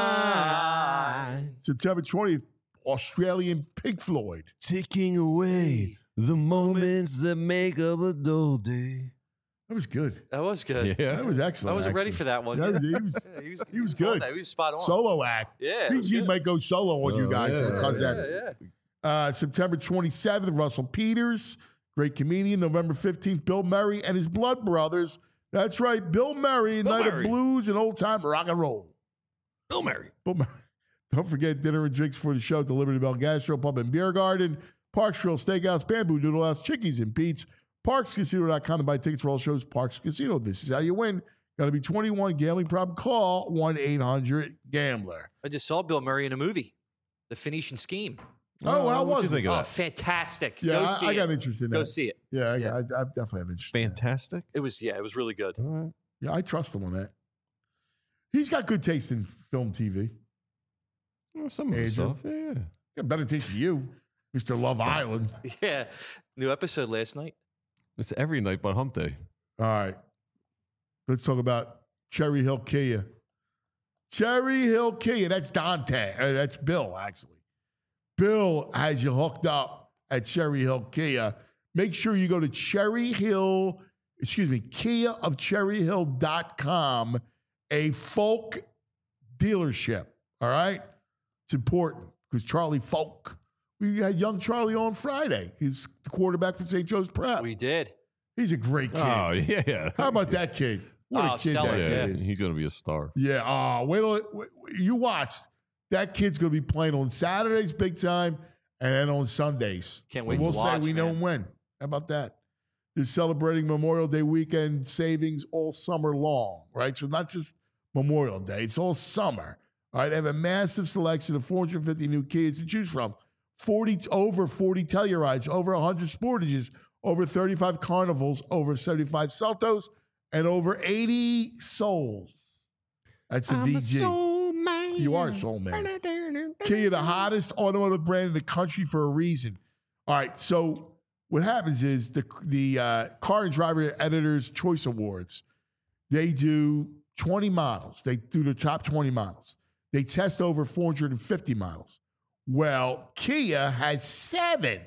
wine. September 20th, Australian Pink Floyd. Ticking away the moments that make up a dull day. That was good. That was good. Yeah. That was excellent. I wasn't ready actually. for that one. That was- Yeah, he was on good. that. He was spot on. Solo act. Yeah, it He was good. might go solo on you guys yeah, because yeah, that's September 27th, Russell Peters, great comedian. November 15th, Bill Murray and his Blood Brothers. That's right, Bill Murray, Bill Night Murray. of Blues and Old Time Rock and Roll. Bill Murray. Bill Murray. Don't forget dinner and drinks for the show at the Liberty Bell Gastro Pub and Beer Garden, Parks Grill Steakhouse, Bamboo Noodle House, Chickies and Pete's, ParksCasino.com to buy tickets for all shows. Parks Casino, this is how you win. Got to be 21, gambling problem, call 1-800-GAMBLER. I just saw Bill Murray in a movie, The Phoenician Scheme. Oh, how what'd was you it? think of Oh, that? fantastic. Yeah, Go see I got it. interested in Go that. see it. Yeah, Yeah. I definitely have interest. in that. Fantastic. It was really good. All right. Yeah, I trust him on that. He's got good taste in film, TV. Well, some of the Andrew? stuff, yeah. Got better taste than you, Mr. Love Island. Yeah. New episode last night. It's every night but hump day. All right. Let's talk about Cherry Hill Kia. Cherry Hill Kia. That's Dante. That's Bill, actually. Bill has you hooked up at Cherry Hill Kia. Make sure you go to Kia of cherryhill.com, a folk dealership. All right? It's important because Charlie Folk, we had young Charlie on Friday. He's the quarterback for St. Joe's Prep. We did. He's a great kid. Oh, yeah. How about that kid? What Oh, a kid stellar, that Yeah, kid is. he's going to be a star. Yeah. Oh, wait till you watch. That kid's going to be playing on Saturdays big time and then on Sundays. Can't wait And we'll to say watch, we know man. when. How about that? They're celebrating Memorial Day weekend savings all summer long, right? So not just Memorial Day, it's all summer. All right, they have a massive selection of 450 new Kias to choose from. Over 40 Tellurides, over 100 Sportages, over 35 Carnivals, over 75 Celtos, and over 80 Souls. That's a VG. You are a soul man. Kia, the hottest automotive brand in the country for a reason. All right, so what happens is the Car and Driver Editor's Choice Awards, they do 20 models. They do the top 20 models. They test over 450 models. Well, Kia has 7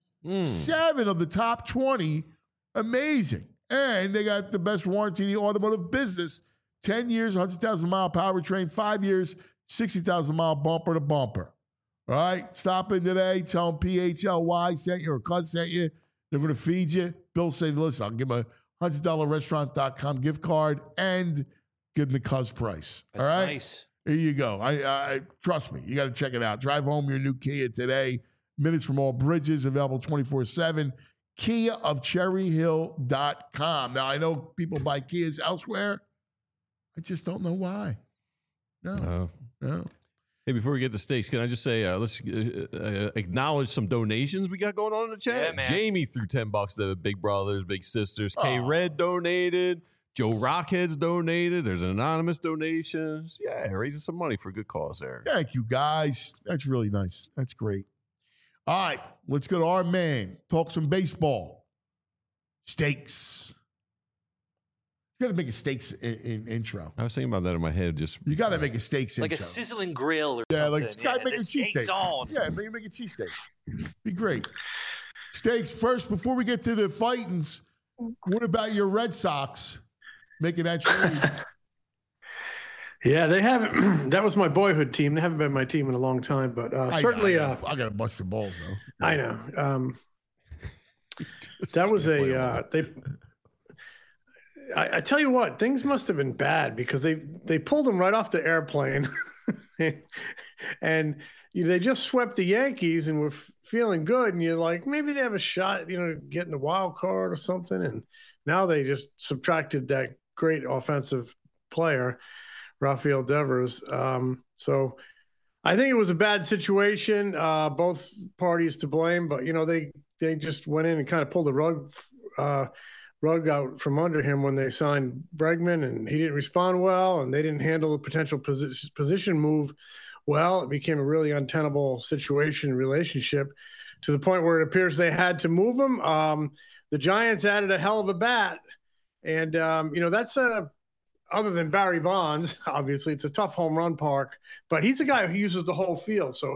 of the top 20. Amazing. And they got the best warranty in the automotive business. 10 years, 100,000 mile powertrain, 5 years, 60,000 mile bumper to bumper. All right, stop in today. Tell them PHLY sent you or Cuz sent you. They're going to feed you. Bill said, listen, I'll give them a $100 restaurant.com gift card and give them the Cuz price. That's all right? nice. Here you go. I trust me. You got to check it out. Drive home your new Kia today. Minutes from all bridges, available 24/7. Kia of cherryhill.com. Now, I know people buy Kias elsewhere. I just don't know why. No. Hey, before we get to steaks, can I just say, let's acknowledge some donations we got going on in the chat. Yeah, man. Jamie threw $10 to Big Brothers, Big Sisters. K Red donated. Joe Rockheads donated. There's an anonymous donations. Yeah, raising some money for a good cause there. Thank you, guys. That's really nice. That's great. All right, let's go to our man. Talk some baseball. Steaks. You got to make a steaks in intro. I was thinking about that in my head. You got to make a steaks Like a intro. sizzling grill or Yeah, something. like Sky make a the steak's cheesesteak. on. Yeah, make a cheesesteak. Be great. Steaks first. Before we get to the fightings, What about your Red Sox making that trade? Yeah, they haven't. That was my boyhood team. They haven't been my team in a long time, but certainly. I got a bunch of balls though. I know. That was I tell you what, things must have been bad because they pulled them right off the airplane, and they just swept the Yankees and were feeling good. And you're like, maybe they have a shot, getting the wild card or something. And now they just subtracted that great offensive player, Rafael Devers. So I think it was a bad situation. Both parties to blame, but they just went in and kind of pulled the rug out from under him when they signed Bregman, and he didn't respond well, and they didn't handle the potential position move well. It became a really untenable relationship to the point where it appears they had to move him. The Giants added a hell of a bat, and that's other than Barry Bonds, obviously, it's a tough home run park, but he's a guy who uses the whole field. So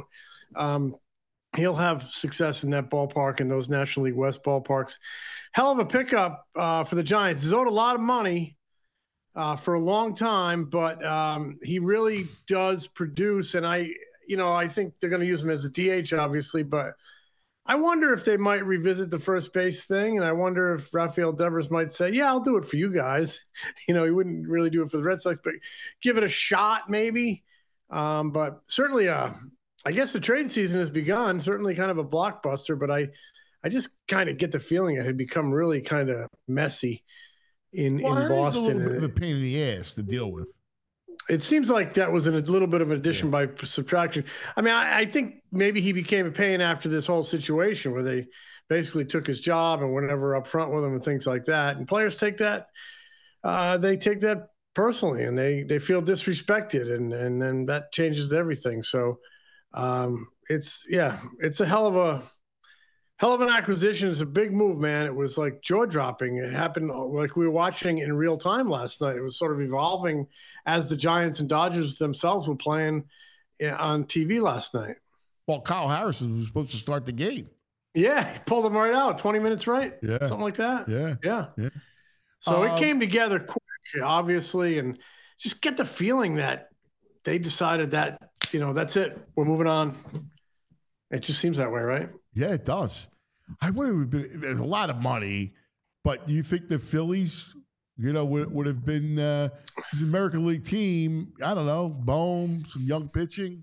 he'll have success in that ballpark and those National League West ballparks. Hell of a pickup for the Giants. He's owed a lot of money for a long time, but he really does produce. And I think they're going to use him as a DH, obviously, but I wonder if they might revisit the first base thing. And I wonder if Rafael Devers might say, yeah, I'll do it for you guys. He wouldn't really do it for the Red Sox, but give it a shot maybe. But certainly, I guess the trade season has begun, certainly kind of a blockbuster, but I just kind of get the feeling it had become really kind of messy in Boston. It's a little bit of a pain in the ass to deal with. It seems like that was a little bit of an addition by subtraction. I mean, I think maybe he became a pain after this whole situation where they basically took his job and went never up front with him and things like that. And players take that, they take that personally, and they feel disrespected, and then that changes everything. So it's a hell of an acquisition. It's a big move, man. It was like jaw-dropping. It happened like we were watching in real time last night. It was sort of evolving as the Giants and Dodgers themselves were playing on TV last night. Well, Kyle Harrison was supposed to start the game. Yeah, he pulled him right out. 20 minutes right? Yeah. Something like that? Yeah. So it came together quick, obviously, and just get the feeling that they decided that, that's it. We're moving on. It just seems that way, right? Yeah, it does. I would have been. There's a lot of money, but do you think the Phillies, would have been his American League team? I don't know, Bohm, some young pitching.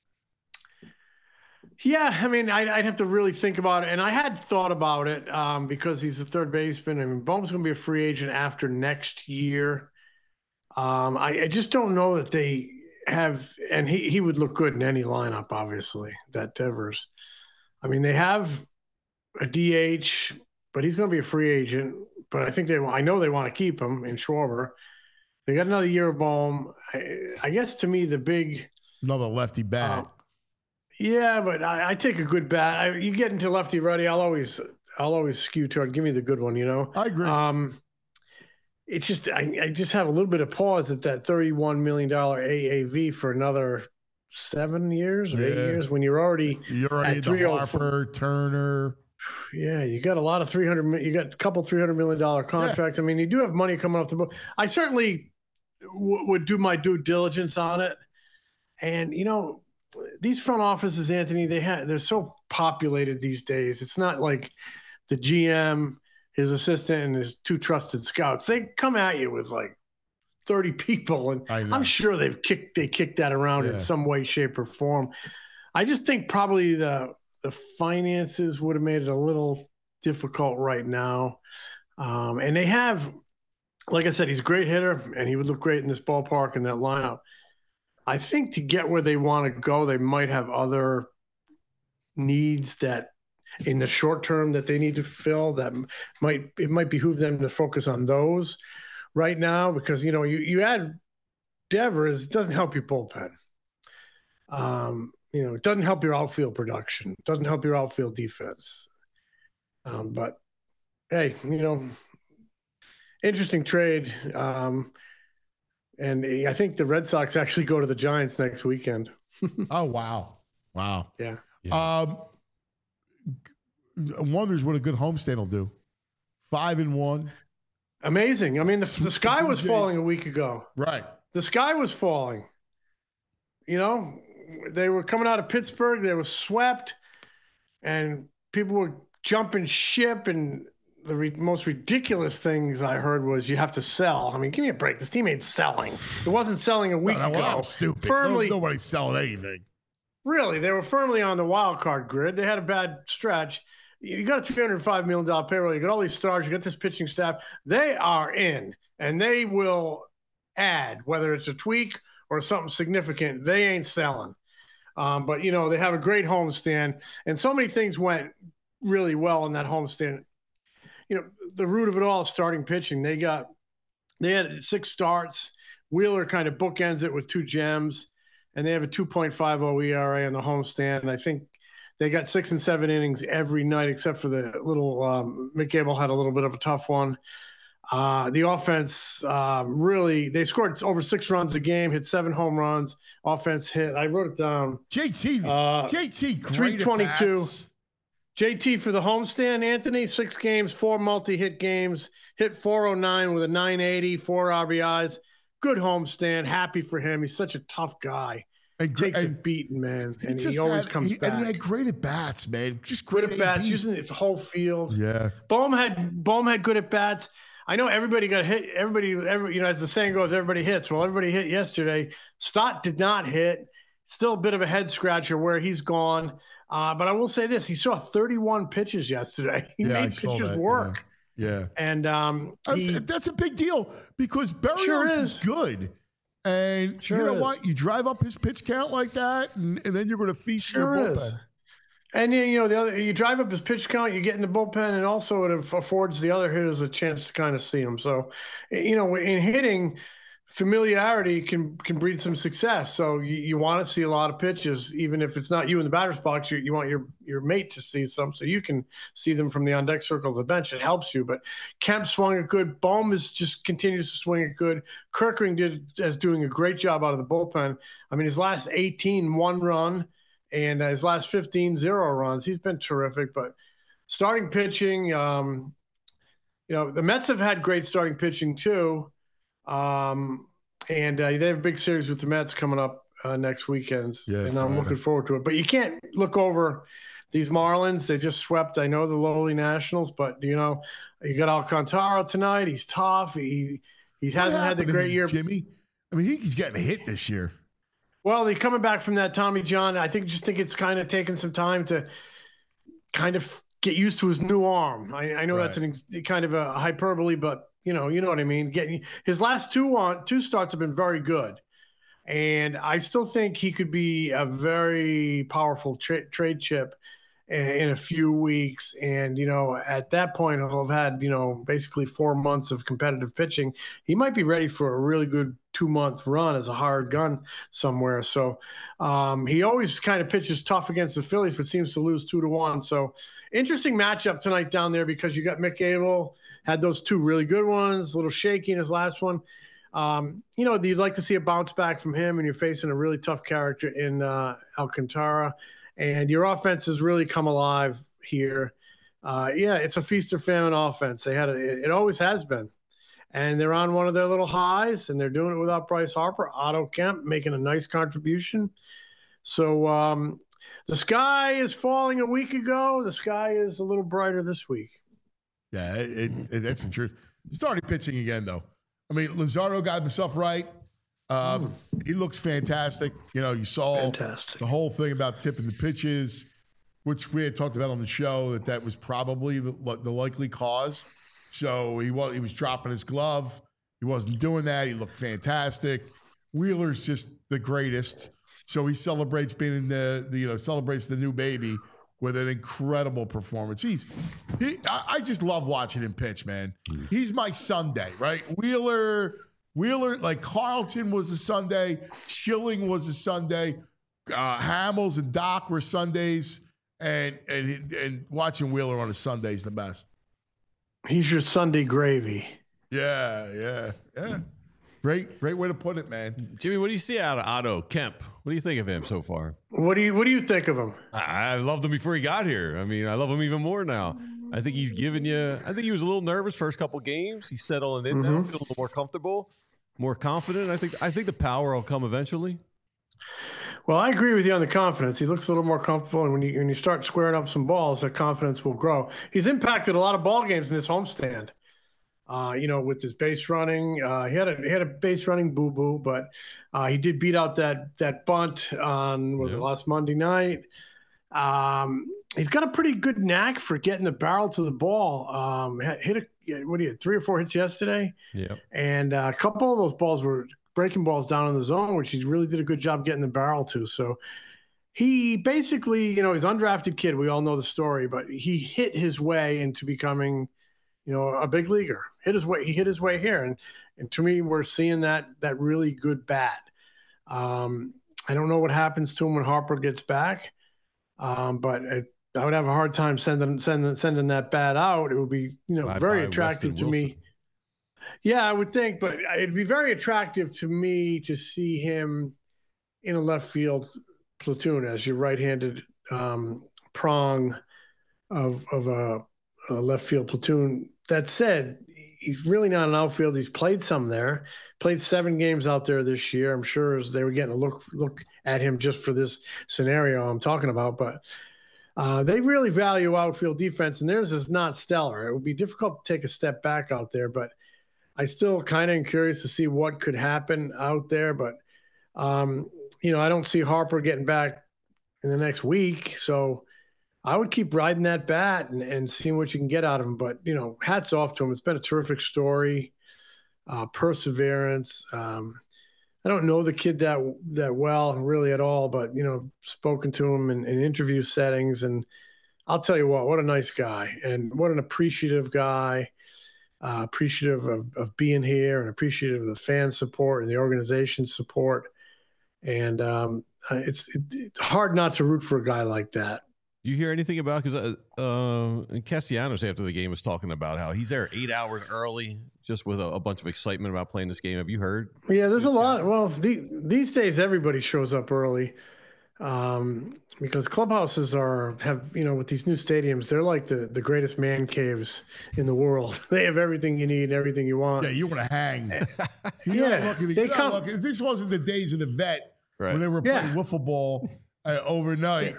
Yeah, I mean, I'd have to really think about it, and I had thought about it because he's a third baseman. I mean, Bohm's going to be a free agent after next year. I just don't know that they have, and he would look good in any lineup, obviously, that Devers. I mean, they have a DH, but he's going to be a free agent. But I know they want to keep him in Schwarber. They got another year of Bohm. I guess to me, another lefty bat. Yeah, but I take a good bat. You get into lefty righty, I'll always skew toward give me the good one. I agree. It's just I just have a little bit of pause at that $31 million AAV for another 7 years or 8 years when you're already at Harper, Turner. Yeah, you got a lot of you got a couple $300 million contracts. Yeah. I mean, you do have money coming off the book. I certainly would do my due diligence on it. And these front offices, Anthony, they're so populated these days. It's not like the GM, his assistant, and his two trusted scouts. They come at you with like 30 people, and I'm sure they kicked that around in some way, shape, or form. I just think probably the finances would have made it a little difficult right now. And they have, like I said, he's a great hitter, and he would look great in this ballpark and that lineup. I think to get where they want to go, they might have other needs that in the short term that they need to fill that it might behoove them to focus on those right now, because you add Devers, it doesn't help your bullpen. It doesn't help your outfield production. It doesn't help your outfield defense. But hey, interesting trade. And I think the Red Sox actually go to the Giants next weekend. Oh, wow. Yeah. Wonders what a good homestand will do 5-1. Amazing. I mean, the sky was falling a week ago. Right. The sky was falling. You know, they were coming out of Pittsburgh. They were swept, and people were jumping ship. And the most ridiculous things I heard was you have to sell. I mean, give me a break. This team ain't selling. It wasn't selling a week ago. That was stupid. Firmly, Nobody's selling anything. Really, they were firmly on the wild card grid. They had a bad stretch. You got a $305 million payroll. You got all these stars. You got this pitching staff. They are in, and they will add, whether it's a tweak or something significant. They ain't selling. But, you know, they have a great homestand, and so many things went really well in that homestand. You know, the root of it all is starting pitching. They had 6 starts. Wheeler kind of bookends it with 2 gems, and they have a 2.50 ERA on the homestand. And I think they got 6 and 7 innings every night, except for the little Mick Gable had a little bit of a tough one. The offense really, they scored over 6 runs a game, hit 7 home runs. Offense hit, I wrote it down. JT, great 322. JT for the homestand, Anthony, 6 games, 4 multi-hit games, hit 409 with a 980, 4 RBIs. Good homestand. Happy for him. He's such a tough guy. Takes a beating, man, and he always comes back. And he had great at bats, man. Just great at bats, using the whole field. Yeah. Bohm had good at bats. I know everybody got hit. Everybody, you know, as the saying goes, everybody hits. Well, everybody hit yesterday. Stott did not hit. Still a bit of a head scratcher where he's gone. But I will say this: he saw 31 pitches yesterday. He made pitchers work. Yeah. And that's a big deal because Berrios is good. And you know what? You drive up his pitch count like that, and then you're going to feast your bullpen. And you know, you drive up his pitch count, you get in the bullpen, and also it affords the other hitters a chance to kind of see him. So, you know, in hitting, familiarity can breed some success. So you want to see a lot of pitches, even if it's not you in the batter's box. You want your mate to see some, so you can see them from the on deck circle of the bench. It helps you. But Kemp swung it good. Bohm just continues to swing it good. Kerkering is doing a great job out of the bullpen. I mean, his last 18, 1 run, and his last 15, 0 runs. He's been terrific. But starting pitching, you know, the Mets have had great starting pitching too. And they have a big series with the Mets coming up next weekend, and I'm looking forward to it. But you can't look over these Marlins. They just swept, I know, the lowly Nationals, but, you know, you got Alcantara tonight. He's tough. He hasn't had the great year. Jimmy, I mean, he's getting hit this year. Well, he's coming back from that Tommy John. I think it's kind of taken some time to kind of get used to his new arm. I know that's kind of a hyperbole, but you know what I mean. Getting his last 2 starts have been very good, and I still think he could be a very powerful trade chip in a few weeks. And you know, at that point, he'll have had basically 4 months of competitive pitching. He might be ready for a really good 2-month run as a hired gun somewhere. So he always kind of pitches tough against the Phillies, but seems to lose 2-1. So interesting matchup tonight down there because you got Mick Gable. Had those 2 really good ones, a little shaky in his last one. You know, you'd like to see a bounce back from him, and you're facing a really tough character in Alcantara. And your offense has really come alive here. It's a feast or famine offense. It always has been. And they're on one of their little highs, and they're doing it without Bryce Harper. Otto Kemp making a nice contribution. So the sky is falling a week ago. The sky is a little brighter this week. Yeah, that's the truth. Starting pitching again, though. I mean, Luzardo got himself right. He looks fantastic. You know, you saw the whole thing about tipping the pitches, which we had talked about on the show, that was probably the likely cause. So he was dropping his glove. He wasn't doing that. He looked fantastic. Wheeler's just the greatest. So he celebrates celebrates the new baby with an incredible performance. I just love watching him pitch, man. He's my Sunday, right? Wheeler, like Carlton was a Sunday. Schilling was a Sunday. Hamels and Doc were Sundays. And watching Wheeler on a Sunday is the best. He's your Sunday gravy. Yeah. Great way to put it, man. Jimmy, what do you see out of Otto Kemp? What do you think of him so far? What do you think of him? I loved him before he got here. I mean, I love him even more now. I think he's given you. I think he was a little nervous first couple games. He's settling in now, feeling a little more comfortable, more confident. I think the power will come eventually. Well, I agree with you on the confidence. He looks a little more comfortable, and when you start squaring up some balls, that confidence will grow. He's impacted a lot of ball games in this homestand. With his base running, he had a base running boo-boo, but he did beat out that bunt on it last Monday night. He's got a pretty good knack for getting the barrel to the ball. He had 3 or 4 hits yesterday. Yeah, and a couple of those balls were breaking balls down in the zone, which he really did a good job getting the barrel to. So he basically, he's an undrafted kid. We all know the story, but he hit his way into becoming, a big leaguer. He hit his way here. And to me, we're seeing that really good bat. I don't know what happens to him when Harper gets back. But I would have a hard time sending that bat out. It would be, very attractive to me. Yeah, I would think, but it'd be very attractive to me to see him in a left field platoon as your right-handed prong of a left field platoon. That said, he's really not an outfield. He's played some there, played 7 games out there this year. I'm sure they were getting a look at him just for this scenario I'm talking about, but they really value outfield defense, and theirs is not stellar. It would be difficult to take a step back out there, but I still kind of am curious to see what could happen out there. But, I don't see Harper getting back in the next week. So I would keep riding that bat and seeing what you can get out of him. But, hats off to him. It's been a terrific story, perseverance. I don't know the kid that well really at all, but, spoken to him in interview settings. And I'll tell you what a nice guy and what an appreciative guy. Appreciative of being here and appreciative of the fan support and the organization support. And it's hard not to root for a guy like that. You hear anything about, because Castellanos after the game was talking about how he's there 8 hours early just with a bunch of excitement about playing this game. Have you heard? Yeah, there's a lot. Well, these days everybody shows up early. Because clubhouses have with these new stadiums, they're like the greatest man caves in the world. They have everything you need, everything you want. Yeah, you want to hang. They if this wasn't the days of the vet when they were playing wiffle ball overnight,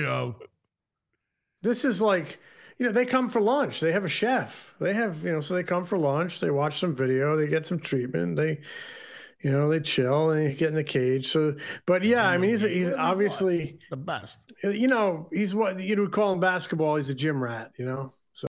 This is like, they come for lunch. They have a chef. They have, so they come for lunch. They watch some video. They get some treatment. They chill and they get in the cage. So, but yeah, I mean, he's obviously the best. He's what you would call in basketball. He's a gym rat, So,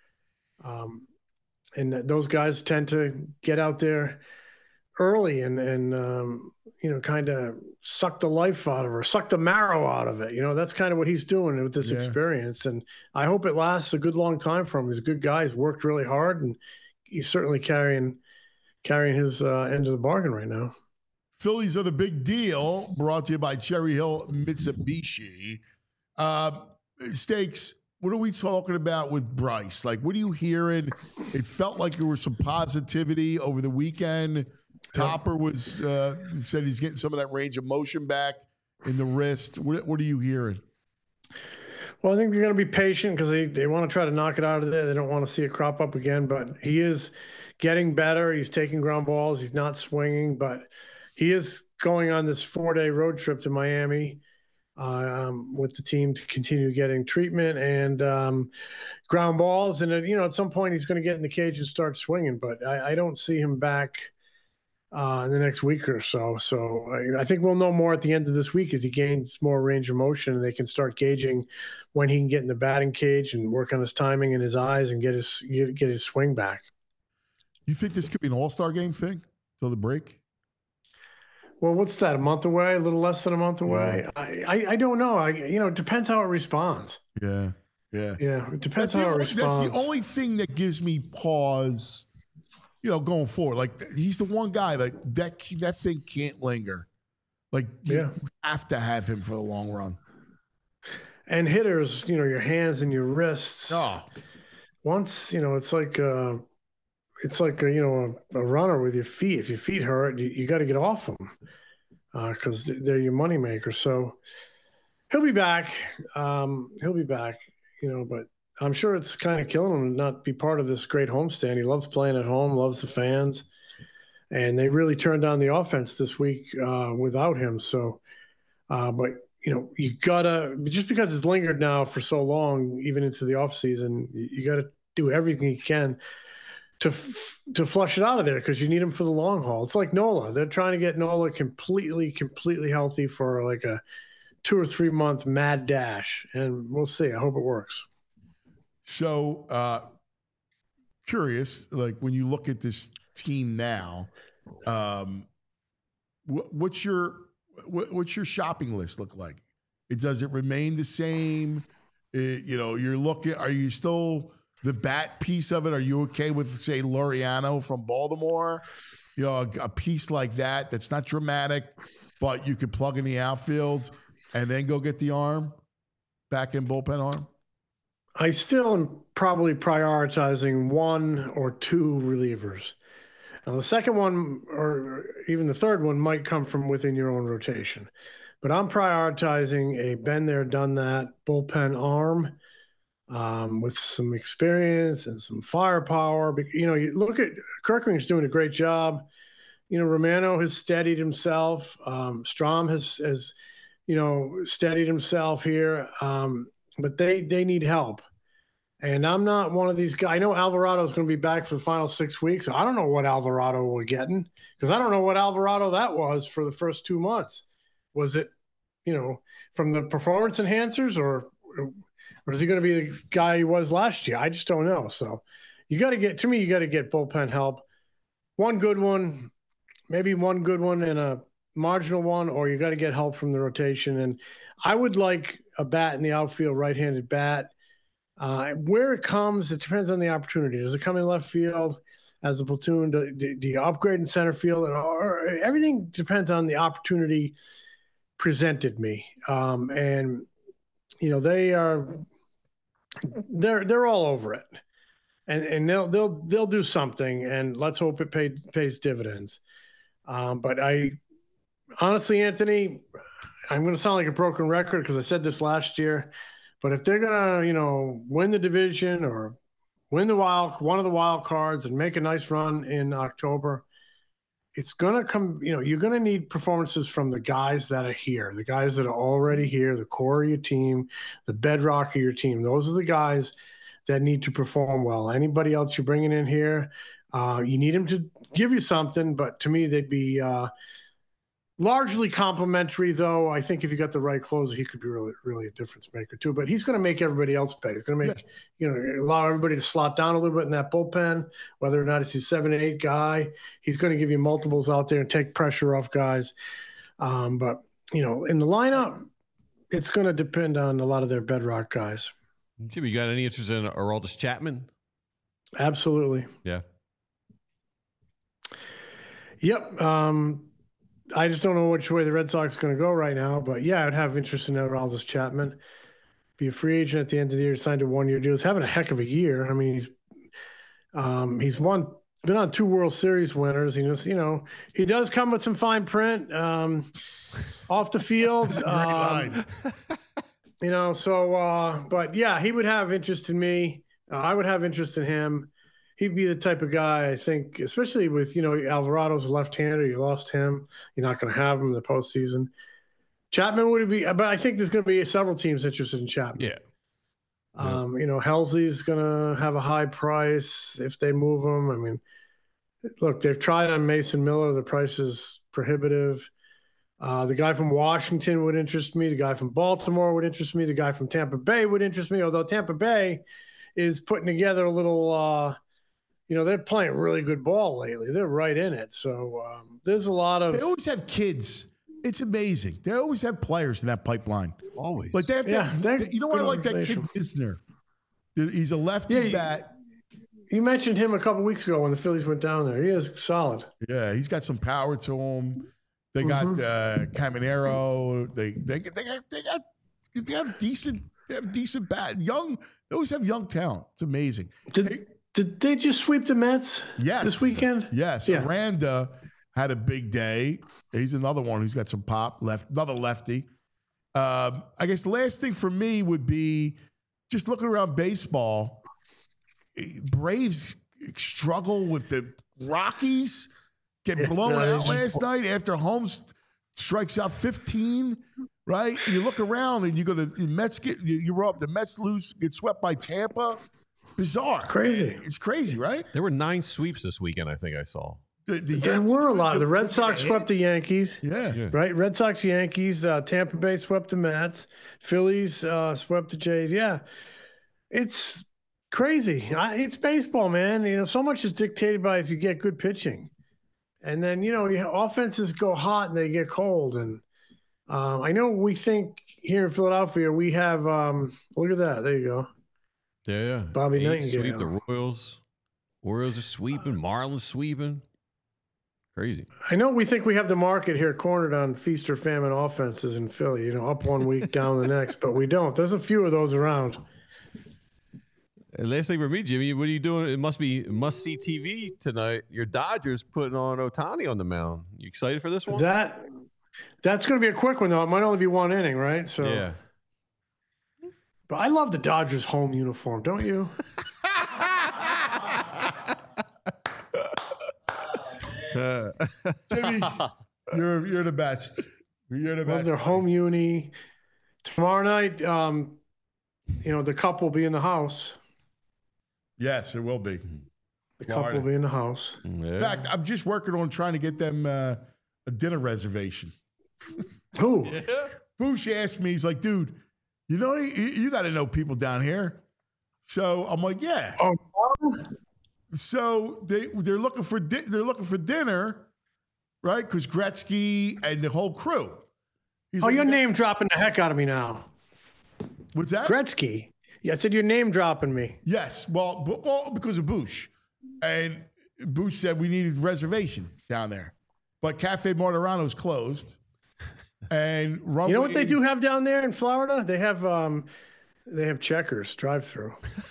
and those guys tend to get out there early and kind of suck the life out of her, suck the marrow out of it. That's kind of what he's doing with this experience. And I hope it lasts a good long time for him. He's a good guy. He's worked really hard, and he's certainly carrying his end of the bargain right now. Phillies are the big deal, brought to you by Cherry Hill Mitsubishi. Stakes, what are we talking about with Bryce? Like, what are you hearing? It felt like there was some positivity over the weekend. Topper was said he's getting some of that range of motion back in the wrist. What are you hearing? Well, I think they're going to be patient because they want to try to knock it out of there. They don't want to see it crop up again, but he is getting better. He's taking ground balls. He's not swinging, but he is going on this 4-day road trip to Miami with the team to continue getting treatment and ground balls. And, at some point he's going to get in the cage and start swinging, but I don't see him back in the next week or so. So I think we'll know more at the end of this week as he gains more range of motion and they can start gauging when he can get in the batting cage and work on his timing and his eyes and get his swing back. You think this could be an all-star game thing till the break? Well, what's that, a month away, a little less than a month away? Yeah. I don't know. It depends how it responds. Yeah. It depends how it responds. That's the only thing that gives me pause, going forward. Like, he's the one guy that thing can't linger. Like, you have to have him for the long run. And hitters, your hands and your wrists. Oh. Once, it's like a runner with your feet. If your feet hurt, you got to get off them because they're your moneymaker. So he'll be back. But I'm sure it's kind of killing him to not be part of this great homestand. He loves playing at home, loves the fans, and they really turned on the offense this week without him. So, but you gotta, just because it's lingered now for so long, even into the offseason, you gotta do everything you can to flush it out of there, because you need him for the long haul. It's like Nola. They're trying to get Nola completely healthy for like a 2 or 3 month mad dash, and we'll see. I hope it works. So, curious, like when you look at this team now, what's your shopping list look like? Does it remain the same? You're looking. Are you still the bat piece of it? Are you okay with, say, Laureano from Baltimore? A piece like that that's not dramatic, but you could plug in the outfield and then go get the arm, back in bullpen arm? I still am probably prioritizing 1 or 2 relievers. Now, the second one or even the third one might come from within your own rotation. But I'm prioritizing a been there, done that bullpen arm with some experience and some firepower. You look at Kirkring's doing a great job. Romano has steadied himself. Strom has steadied himself here. But they need help. And I'm not one of these guys. I know Alvarado is going to be back for the final 6 weeks. I don't know what Alvarado we're getting, because I don't know what Alvarado that was for the first 2 months. Was it, from the performance enhancers, or is he going to be the guy he was last year? I just don't know. So you got to get bullpen help. One good one, maybe one good one and a marginal one, or you got to get help from the rotation. And I would like a bat in the outfield, right-handed bat. Where it comes, it depends on the opportunity. Does it come in left field as a platoon? Do you upgrade in center field? Or everything depends on the opportunity presented me. And they're all over it, and they'll do something, and let's hope it pays dividends. But I honestly, Anthony, I'm going to sound like a broken record because I said this last year. But if they're going to, win the division or win one of the wild cards and make a nice run in October, it's going to come, you're going to need performances from the guys that are here, the guys that are already here, the core of your team, the bedrock of your team. Those are the guys that need to perform well. Anybody else you're bringing in here, you need them to give you something. But to me, they'd be largely complimentary, though. I think if you got the right closer, he could be really, really a difference maker too. But he's going to make everybody else better. He's going to make, allow everybody to slot down a little bit in that bullpen, whether or not it's a 7-8 guy. He's going to give you multiples out there and take pressure off guys. But in the lineup, it's going to depend on a lot of their bedrock guys. Jimmy, you got any interest in Aroldis Chapman? Absolutely. Yeah. Yep. I just don't know which way the Red Sox are going to go right now. But, yeah, I'd have interest in Aroldis Chapman. Be a free agent at the end of the year, signed a 1-year deal. He's having a heck of a year. I mean, he's been on 2 World Series winners. He does come with some fine print off the field. But, yeah, he would have interest in me. I would have interest in him. He'd be the type of guy, I think, especially with, Alvarado's a left-hander. You lost him. You're not going to have him in the postseason. Chapman would be, but I think there's going to be several teams interested in Chapman. Yeah. Helsley's going to have a high price if they move him. I mean, look, they've tried on Mason Miller. The price is prohibitive. The guy from Washington would interest me. The guy from Baltimore would interest me. The guy from Tampa Bay would interest me, although Tampa Bay is putting together a little they're playing really good ball lately. They're right in it. So there's a lot of. They always have kids. It's amazing. They always have players in that pipeline. Always. Like they have you know what I like that kid Isner. He's a lefty bat. You mentioned him a couple weeks ago when the Phillies went down there. He is solid. Yeah, he's got some power to him. They got Caminero. They have decent bat. Young. They always have young talent. It's amazing. Did they just sweep the Mets this weekend? Yes. Yeah. Aranda had a big day. He's another one who's got some pop, another lefty. I guess the last thing for me would be just looking around baseball, Braves struggle with the Rockies, get blown out last night after Holmes strikes out 15, right? You look around and you go to the Mets you're up, the Mets lose, get swept by Tampa. Bizarre. Crazy. It's crazy, right? There were 9 sweeps this weekend, I think I saw. There were a lot. The Red Sox swept the Yankees. Yeah. Right? Red Sox, Yankees. Tampa Bay swept the Mets. Phillies swept the Jays. Yeah. It's crazy. It's baseball, man. You know, so much is dictated by if you get good pitching. And then, you know, offenses go hot and they get cold. And I know we think here in Philadelphia, we have, look at that. There you go. Yeah. Bobby Nightingale. Sweep the Royals. Orioles are sweeping. Marlins sweeping. Crazy. I know we think we have the market here cornered on feast or famine offenses in Philly, you know, up one week, down the next, but we don't. There's a few of those around. And last thing for me, Jimmy, what are you doing? It must be must-see TV tonight. Your Dodgers putting on Ohtani on the mound. You excited for this one? That's going to be a quick one, though. It might only be one inning, right? So yeah. But I love the Dodgers home uniform, don't you? Jimmy, you're the best. You're the best. Love their home uni. Tomorrow night, you know, the cup will be in the house. Yes, it will be. The cup will be in the house. Yeah. In fact, I'm just working on trying to get them a dinner reservation. Who? Bush asked me, he's like, dude, you know, you got to know people down here. So I'm like, yeah. Oh, so they're looking for dinner, right? Because Gretzky and the whole crew. He's like, you're name dropping the heck out of me now. What's that? Gretzky. Yeah, I said you're name dropping me. Yes. Well, because of Bush. And Bush said we needed reservation down there. But Cafe Martirano's closed. And you know what they do have down there in Florida? They have Checkers drive-through.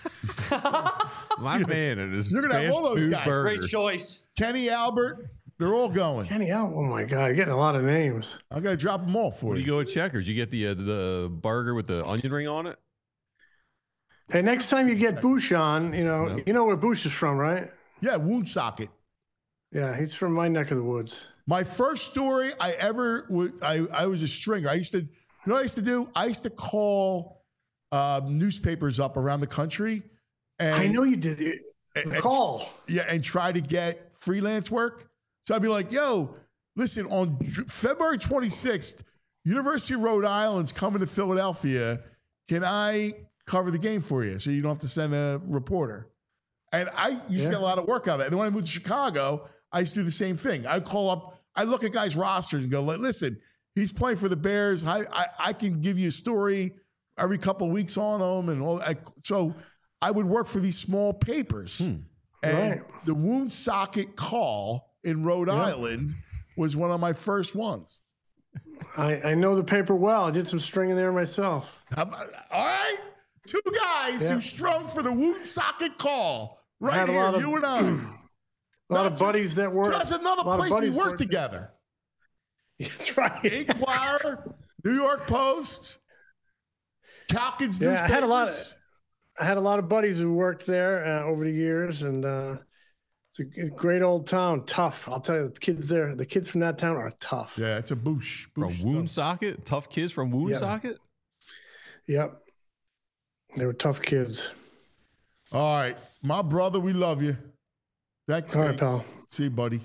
My man, it is. You're gonna have all those guys. Great choice. Kenny Albert, they're all going. Kenny Albert. Oh my God, you're getting a lot of names. I gotta drop them all for What do you. you go with Checkers? You get the burger with the onion ring on it? Hey, next time you get Bush on, you know where Bush is from, right? Yeah, Woonsocket. Yeah, he's from my neck of the woods. My first story I ever was, I was a stringer. I used to, you know what I used to do? I used to call newspapers up around the country. And, I know you did it. Call. Yeah, and try to get freelance work. So I'd be like, yo, listen, on February 26th, University of Rhode Island's coming to Philadelphia. Can I cover the game for you so you don't have to send a reporter? And I used to get a lot of work out of it. And when I moved to Chicago, I used to do the same thing. I call up, I look at guys' rosters and go, listen, he's playing for the Bears. I can give you a story every couple of weeks on him. And all. So I would work for these small papers. And the Woonsocket Call in Rhode Island was one of my first ones. I know the paper well. I did some stringing there myself. All right. 2 guys who strung for the Woonsocket Call. Right here, you and I. A lot of buddies that work. That's another place we work together. That's right. Inquirer, New York Post, Calkins newspapers. I had a lot of buddies who worked there over the years, and it's a great old town. Tough, I'll tell you. The kids there, the kids from that town are tough. Yeah, it's a Bush From Woonsocket? Tough kids from Woonsocket? Yep. They were tough kids. All right, my brother, we love you. Thanks. All right, pal. See you, buddy.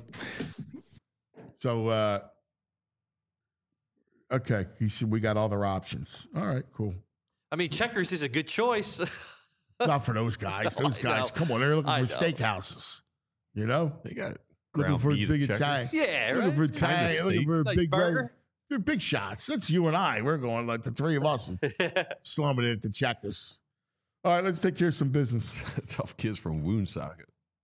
So, okay, he said we got other options. All right, cool. I mean, Checkers is a good choice. Not for those guys. Those guys, come on, they're looking for steakhouses. You know, They got looking ground for a beef big at Checkers. Italian. Yeah, Looking for right? Italian. Looking for a Nice big burger. They're big shots. That's you and I. We're going like the 3 of us slumming it at the Checkers. All right, let's take care of some business. Tough kids from Woonsocket.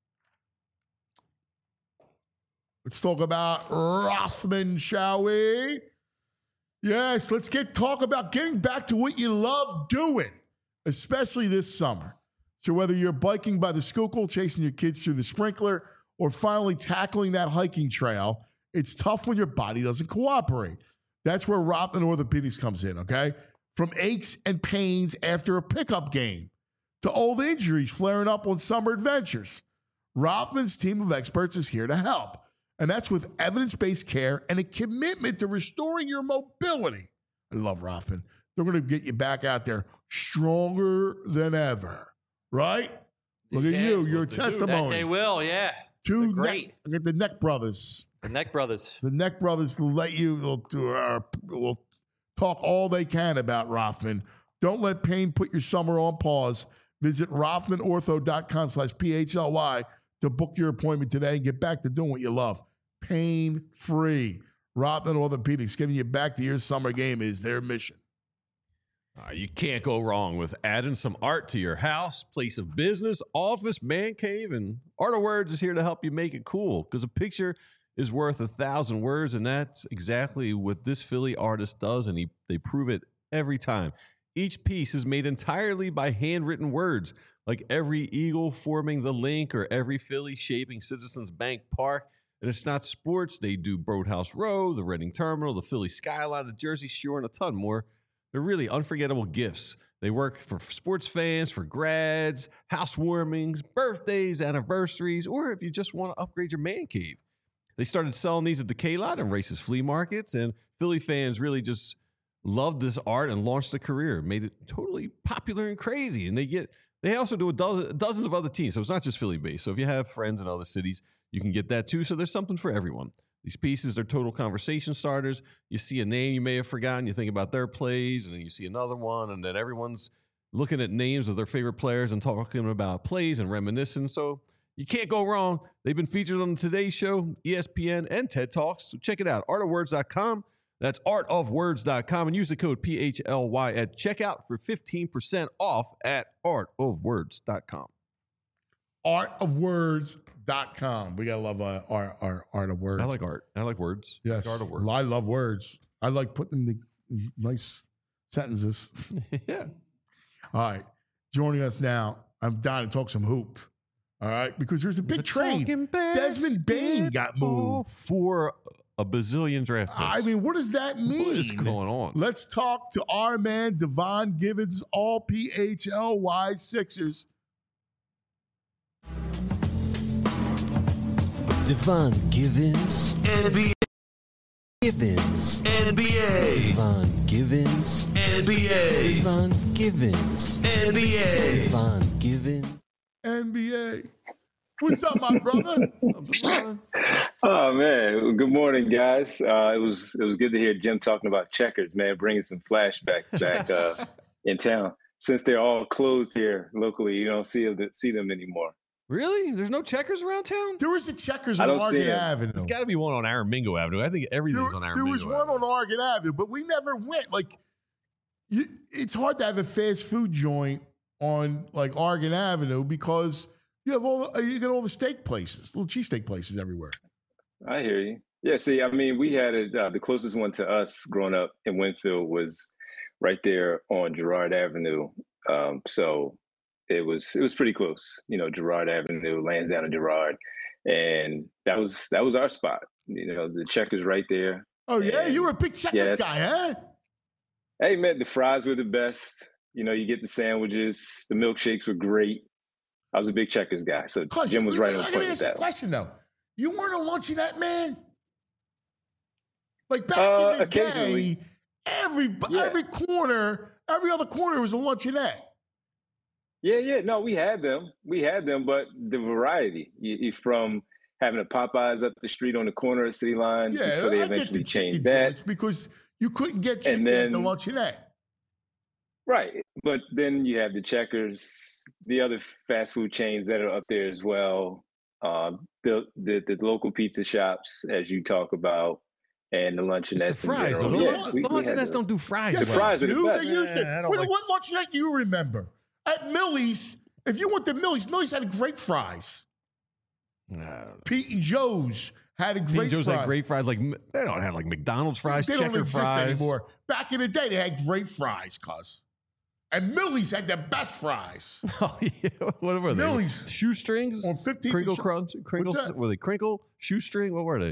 Let's talk about Rothman, shall we? Yes, let's talk about getting back to what you love doing, especially this summer. So whether you're biking by the Schuylkill, chasing your kids through the sprinkler, or finally tackling that hiking trail, it's tough when your body doesn't cooperate. That's where Rothman Orthopedics comes in, okay? From aches and pains after a pickup game to old injuries flaring up on summer adventures, Rothman's team of experts is here to help. And that's with evidence-based care and a commitment to restoring your mobility. I love Rothman. They're going to get you back out there stronger than ever, right? Look at you, your testimony. They will, yeah. Two great. Look at the Neck Brothers. The Neck Brothers. The Neck Brothers will let you, will talk all they can about Rothman. Don't let pain put your summer on pause. Visit RothmanOrtho.com/PHLY to book your appointment today and get back to doing what you love. Pain-free. Rothman Orthopedics, giving you back to your summer game is their mission. You can't go wrong with adding some art to your house, place of business, office, man cave, and Art of Words is here to help you make it cool because a picture is worth 1,000 words, and that's exactly what this Philly artist does, and they prove it every time. Each piece is made entirely by handwritten words, like every eagle forming the link or every Philly shaping Citizens Bank Park. And it's not sports. They do Boathouse Row, the Reading Terminal, the Philly Skyline, the Jersey Shore, and a ton more. They're really unforgettable gifts. They work for sports fans, for grads, housewarmings, birthdays, anniversaries, or if you just want to upgrade your man cave. They started selling these at the K-Lot and Races flea markets, and Philly fans really just loved this art and launched a career, made it totally popular and crazy. And they also do dozens of other teams, so it's not just Philly-based. So if you have friends in other cities, you can get that too. So there's something for everyone. These pieces are total conversation starters. You see a name you may have forgotten, you think about their plays, and then you see another one, and then everyone's looking at names of their favorite players and talking about plays and reminiscing. So you can't go wrong. They've been featured on the Today Show, ESPN, and TED Talks. So check it out, artofwords.com. That's artofwords.com, and use the code PHLY at checkout for 15% off at artofwords.com. Artofwords.com. We got to love art of words. I like art. I like words. Yes. Art of words. I love words. I like putting them in nice sentences. Yeah. All right. Joining us now, I'm dying to talk some hoop. All right. Because there's a big trade. Desmond Bain got moved for a bazillion draft picks. I mean, what does that mean? What is going on? Let's talk to our man, Devon Givens, all PHLY Sixers. Devon Givens. NBA. Givens. NBA. Devon Givens. NBA. Devon Givens. NBA. Devon Givens. NBA. What's up, my brother? Oh man, good morning, guys. It was good to hear Jim talking about checkers, man, bringing some flashbacks back in town. Since they're all closed here locally, you don't see them anymore. Really? There's no checkers around town? There was a checkers on Oregon Avenue. There's got to be one on Aramingo Avenue. I think everything's on Aramingo Avenue. There was one on Oregon Avenue, but we never went. Like, it's hard to have a fast food joint on like Oregon Avenue because you got all the steak places, little cheesesteak places everywhere. I hear you. Yeah, see, I mean, we had the closest one to us growing up in Winfield was right there on Girard Avenue. So it was pretty close, Girard Avenue, Lansdowne and Girard. And that was our spot. The checkers right there. Oh, yeah? And you were a big checkers guy, huh? Hey, man, the fries were the best. You get the sandwiches. The milkshakes were great. I was a big checkers guy. So Jim was right on point with that. Question, though. You weren't a luncheonette man? Like back in the day, every corner, every other corner was a luncheonette. Yeah. No, we had them, but the variety from having a Popeyes up the street on the corner of City Line before they eventually changed that. It's because you couldn't get chicken at the luncheonette. Right. But then you have the Checkers, the other fast food chains that are up there as well. The local pizza shops, as you talk about, and the luncheonettes. It's the fries. The luncheonettes don't do fries. Yeah, the fries are the best. They used it. What luncheonette do you remember? At Millie's, if you went to Millie's had great fries. Pete and Joe's had Pete and Joe's had great fries. Like they don't have like McDonald's fries, they don't exist fries anymore. Back in the day, they had great fries, and Millie's had the best fries. Oh yeah, what were they? Millie's shoestrings on 15 Crinkle Crunch, Crinkles. Were they crinkle shoestring? What were they?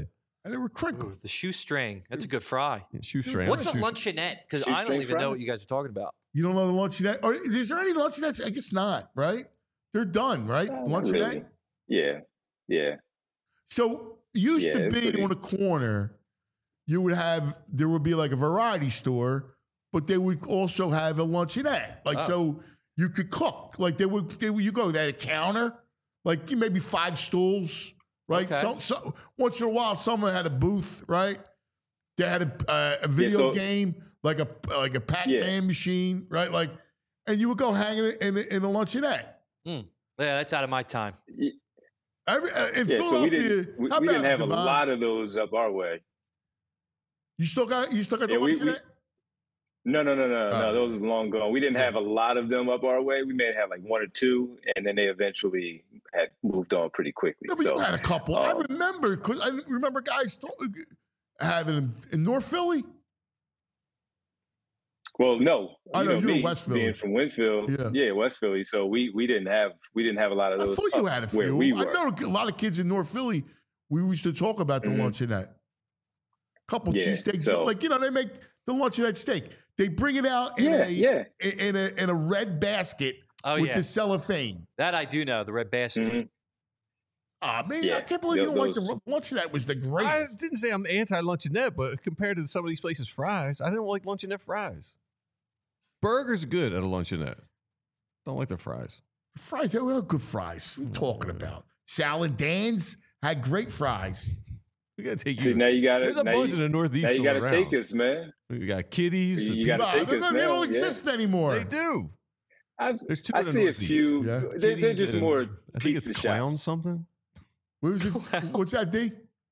and they were crinkled. Ooh, the shoestring. That's a good fry. Shoestring. What's a luncheonette? Because I don't Shoestring even know fry? what you guys are talking about. You don't know the luncheonette? Or is there any luncheonettes? I guess not, right? They're done, right? Not Luncheonette? really. Yeah. So used Yeah, to it's be pretty- on a corner, there would be like a variety store, but they would also have a luncheonette. Like, so you could cook. Like you go, they had a counter, like maybe 5 stools, right? Okay. So once in a while, someone had a booth, right? They had a video game, like a Pac-Man machine, right? Like, and you would go hang in a luncheonette. Yeah, that's out of my time. In So Philadelphia, we didn't how about have a Devon? lot of those up our way. You still got the Yeah, we- luncheonette? No. Those are long gone. We didn't have a lot of them up our way. We may have like 1 or 2, and then they eventually had moved on pretty quickly. No, but So you had a couple. I remember because I remember guys having them in North Philly. well, no, I know, you you're in me West Philly. being from Winfield, Yeah. West Philly. So we didn't have a lot of I those. thought you up had a where few. we I were. know a lot of kids in North Philly. We used to talk about the luncheonette. Couple Yeah, cheesesteaks, so- like they make the luncheonette steak. They bring it out in a red basket Oh, with yeah. the cellophane. That I do know, the red basket. Mhm. Man, Yeah, I can't believe you don't like those- the luncheonette. Was the I greatest. didn't say I'm anti-luncheonette, but compared to some of these places' fries, I didn't like luncheonette fries. Burgers good at a luncheonette. Don't like the fries. Fries, they were good fries. What are you talking about? Salad Dan's had great fries. We gotta take See, you. now you got to. There's a bunch in the Northeast. Now you got to around. take us, man. We got Kitties. You gotta take us They now, don't yeah. exist anymore. They do. I There's 2 in the see a Northeast. few. Yeah. They're Kitties just and- more I think pizza it's Clown shops. something. What was it? What's that, D?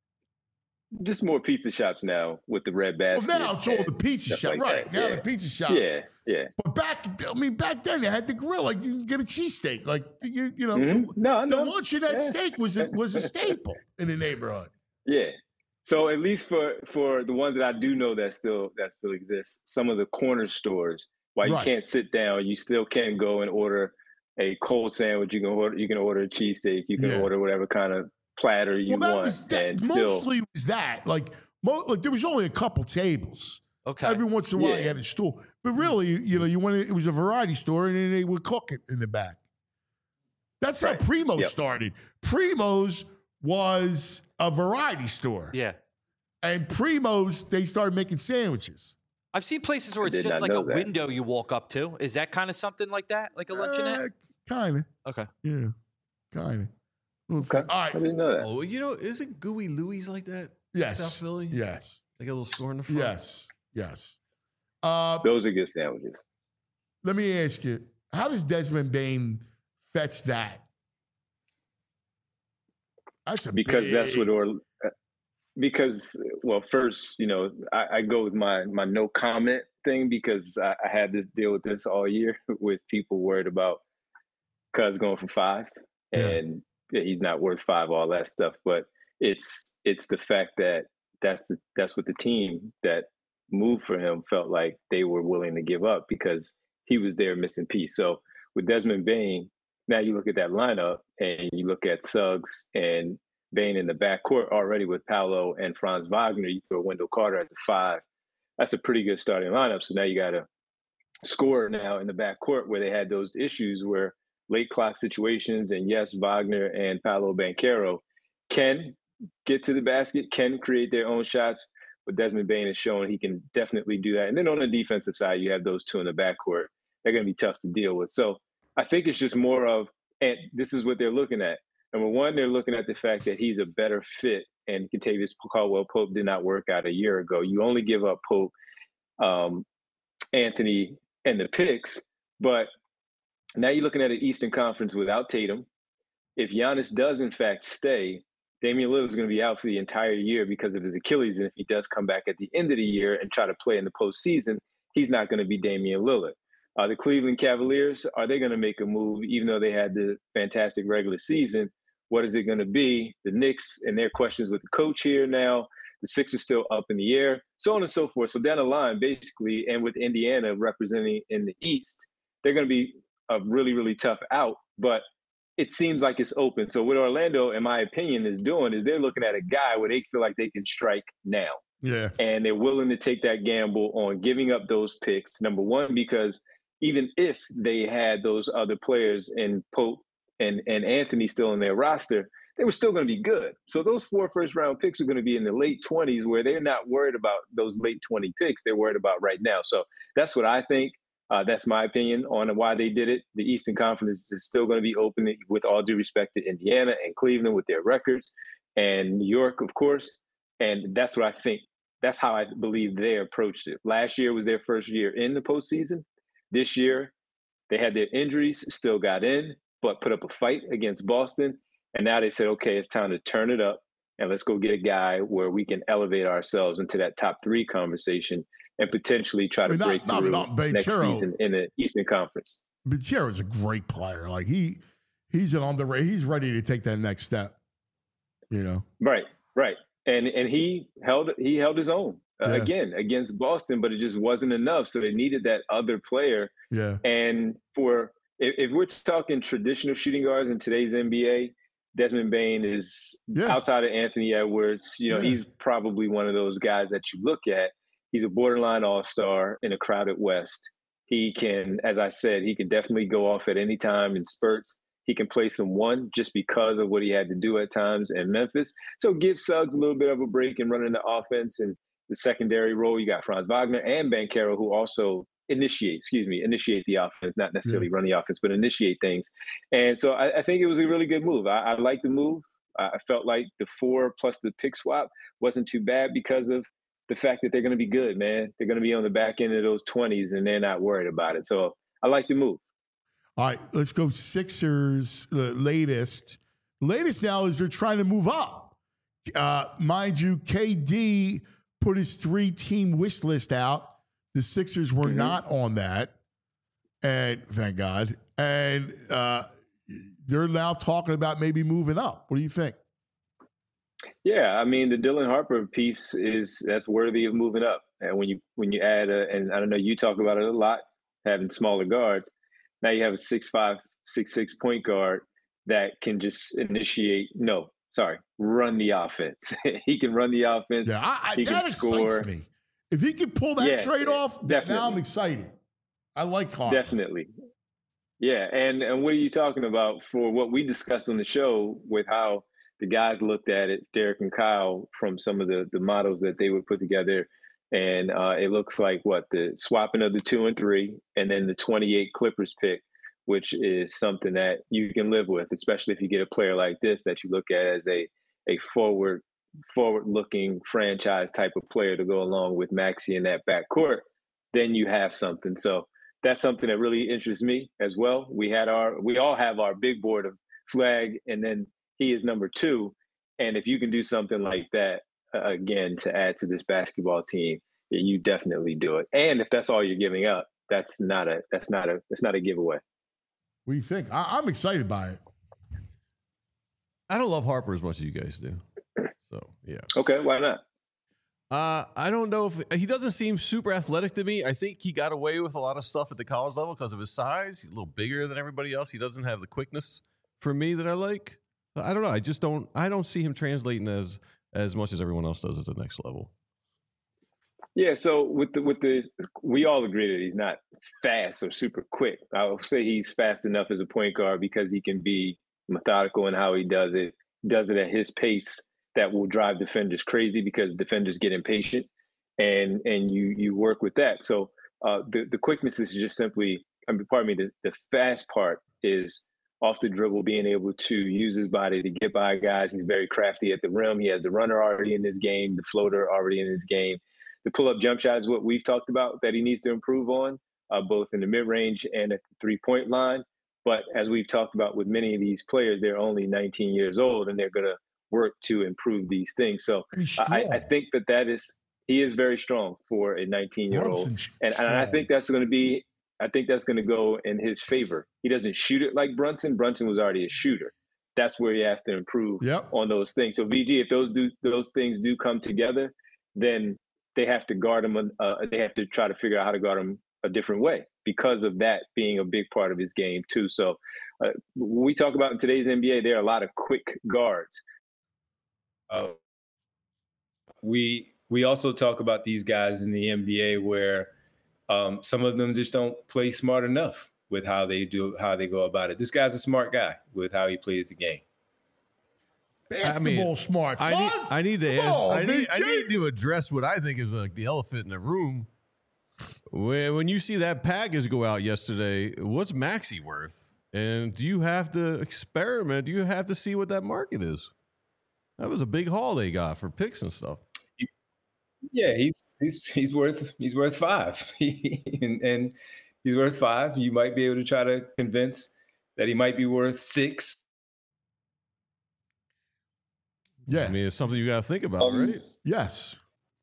Just more pizza shops now with the red Well, basket. now it's all the and pizza stuff shop, like right? that. Now Yeah. the pizza shops. Yeah. But back then they had the grill. Like you can get a cheesesteak. Like you know, Mhm. No, the no. luncheonette Yeah. steak was a staple in the neighborhood. Yeah. So at least for the ones that I do know that still exist, some of the corner stores, while you Right. can't sit down, you still can go and order a cold sandwich. You can order a cheesesteak. You can Yeah. order whatever kind of platter you Well, want, and still. mostly was that. Like there was only a couple tables. Okay. Every once in a while Yeah. you had a stool. But really, you went it was a variety store and then they would cook it in the back. That's Right. how Primo's Yep. started. Primo's was a variety store. Yeah. And Primo's, they started making sandwiches. I've seen places where I it's did just not like a know that. window you walk up to. Is that kind of something like that? Like a luncheonette? Kind of. Okay. Yeah. Kind of. Okay. All right. I didn't know that. Oh, isn't Gooey Louie's like that? Yes. South Philly? Yes. Like a little store in the front? Yes. Yes. Those are good sandwiches. Let me ask you, how does Desmond Bain fetch that? That's a Because that's big- what because well, first, I go with my no comment thing because I had this deal with this all year with people worried about Cuz going for 5 and he's not worth 5, all that stuff. But it's the fact that that's what the team that moved for him felt like they were willing to give up because he was their missing piece. So with Desmond Bain, now you look at that lineup and you look at Suggs and Bain in the backcourt already with Paolo and Franz Wagner. You throw Wendell Carter at the 5. That's a pretty good starting lineup. So now you got a scorer now in the backcourt where they had those issues where late clock situations, and yes, Wagner and Paolo Banchero can get to the basket, can create their own shots, but Desmond Bain has shown he can definitely do that. And then on the defensive side, you have those 2 in the backcourt. They're going to be tough to deal with. So I think it's just more of, and this is what they're looking at. Number one, they're looking at the fact that he's a better fit, and Kentavious Caldwell-Pope did not work out a year ago. You only give up Pope, Anthony, and the picks, but now you're looking at an Eastern Conference without Tatum. If Giannis does in fact stay, Damian Lillard is going to be out for the entire year because of his Achilles, and if he does come back at the end of the year and try to play in the postseason, he's not going to be Damian Lillard. The Cleveland Cavaliers, are they going to make a move even though they had the fantastic regular season? What is it going to be? The Knicks and their questions with the coach here now. The Sixers still up in the air, so on and so forth. So down the line, basically, and with Indiana representing in the East, they're going to be a really, really tough out. But it seems like it's open. So what Orlando, in my opinion, is doing is they're looking at a guy where they feel like they can strike now. Yeah. And they're willing to take that gamble on giving up those picks. Number one, because even if they had those other players in Pope and Anthony still in their roster, they were still going to be good. So those 4 first-round picks are going to be in the late 20s where they're not worried about those late 20 picks. They're worried about right now. So that's what I think. That's my opinion on why they did it. The Eastern Conference is still going to be open, with all due respect to Indiana and Cleveland with their records, and New York, of course. And that's what I think. That's how I believe they approached it. Last year was their first year in the postseason. This year, they had their injuries, still got in, but put up a fight against Boston. And now they said, okay, it's time to turn it up, and let's go get a guy where we can elevate ourselves into that top 3 conversation and potentially try to break through next season in the Eastern Conference. Banchero's a great player. Like he's an underrated. He's ready to take that next step. You know. Right. And he held his own again against Boston, but it just wasn't enough. So they needed that other player. Yeah. And if we're talking traditional shooting guards in today's NBA, Desmond Bane is outside of Anthony Edwards. You know, he's probably one of those guys that you look at. He's a borderline all-star in a crowded West. He can, as I said, he can definitely go off at any time in spurts. He can play some one just because of what he had to do at times in Memphis. So give Suggs a little bit of a break and running the offense and the secondary role. You got Franz Wagner and Banchero, who also initiate the offense, not necessarily run the offense, but initiate things. And so I think it was a really good move. I like the move. I felt like the 4 plus the pick swap wasn't too bad because of the fact that they're going to be good, man. They're going to be on the back end of those 20s, and they're not worried about it. So I like the move. All right, let's go Sixers. Latest now is they're trying to move up. Mind you, KD put his 3-team wish list out. The Sixers were not on that, and thank God. And they're now talking about maybe moving up. What do you think? Yeah, I mean, the Dylan Harper piece that's worthy of moving up. And when you add and I don't know, you talk about it a lot, having smaller guards. Now you have a 6'5", 6'6" point guard that can just run the offense. He can run the offense. Yeah, he that can score. Excites me. If he can pull that trade off, definitely. Now I'm excited. I like Harper. Definitely. Yeah, and what are you talking about for what we discussed on the show with how the guys looked at it, Derek and Kyle, from some of the models that they would put together. And it looks like the swapping of the 2 and 3 and then the 28 Clippers pick, which is something that you can live with, especially if you get a player like this that you look at as a forward-looking franchise type of player to go along with Maxey in that backcourt, then you have something. So that's something that really interests me as well. We all have our big board of Flag, and then he is number 2. And if you can do something like that, again, to add to this basketball team, you definitely do it. And if that's all you're giving up, that's not a giveaway. What do you think? I'm excited by it. I don't love Harper as much as you guys do. So yeah. Okay, why not? I don't know if he doesn't seem super athletic to me. I think he got away with a lot of stuff at the college level because of his size. He's a little bigger than everybody else. He doesn't have the quickness for me that I like. I don't know. I don't see him translating as much as everyone else does at the next level. Yeah, so with the we all agree that he's not fast or super quick. I would say he's fast enough as a point guard because he can be methodical in how he does it. Does it at his pace that will drive defenders crazy because defenders get impatient, and you work with that. So the quickness is just simply, the fast part is off the dribble, being able to use his body to get by guys. He's very crafty at the rim. He has the runner already in his game, the floater already in his game. The pull-up jump shot is what we've talked about that he needs to improve on, both in the mid-range and at the three-point line. But as we've talked about with many of these players, they're only 19 years old, and they're going to work to improve these things. So I think he is very strong for a 19-year-old. And I think that's going to go in his favor. He doesn't shoot it like Brunson. Brunson was already a shooter. That's where he has to improve on those things. So VG, if those things do come together, then they have to guard him. They have to try to figure out how to guard him a different way. because of that being a big part of his game too. So when we talk about in today's NBA, there are a lot of quick guards. We also talk about these guys in the NBA where some of them just don't play smart enough with how they go about it. This guy's a smart guy with how he plays the game. Basketball smart. I need to address what I think is like the elephant in the room. When you see that package go out yesterday, what's Maxey worth? And do you have to experiment? Do you have to see what that market is? That was a big haul they got for picks and stuff. Yeah, he's worth 5, and he's worth 5. You might be able to try to convince that he might be worth 6. Yeah, I mean, it's something you got to think about, right? Yes.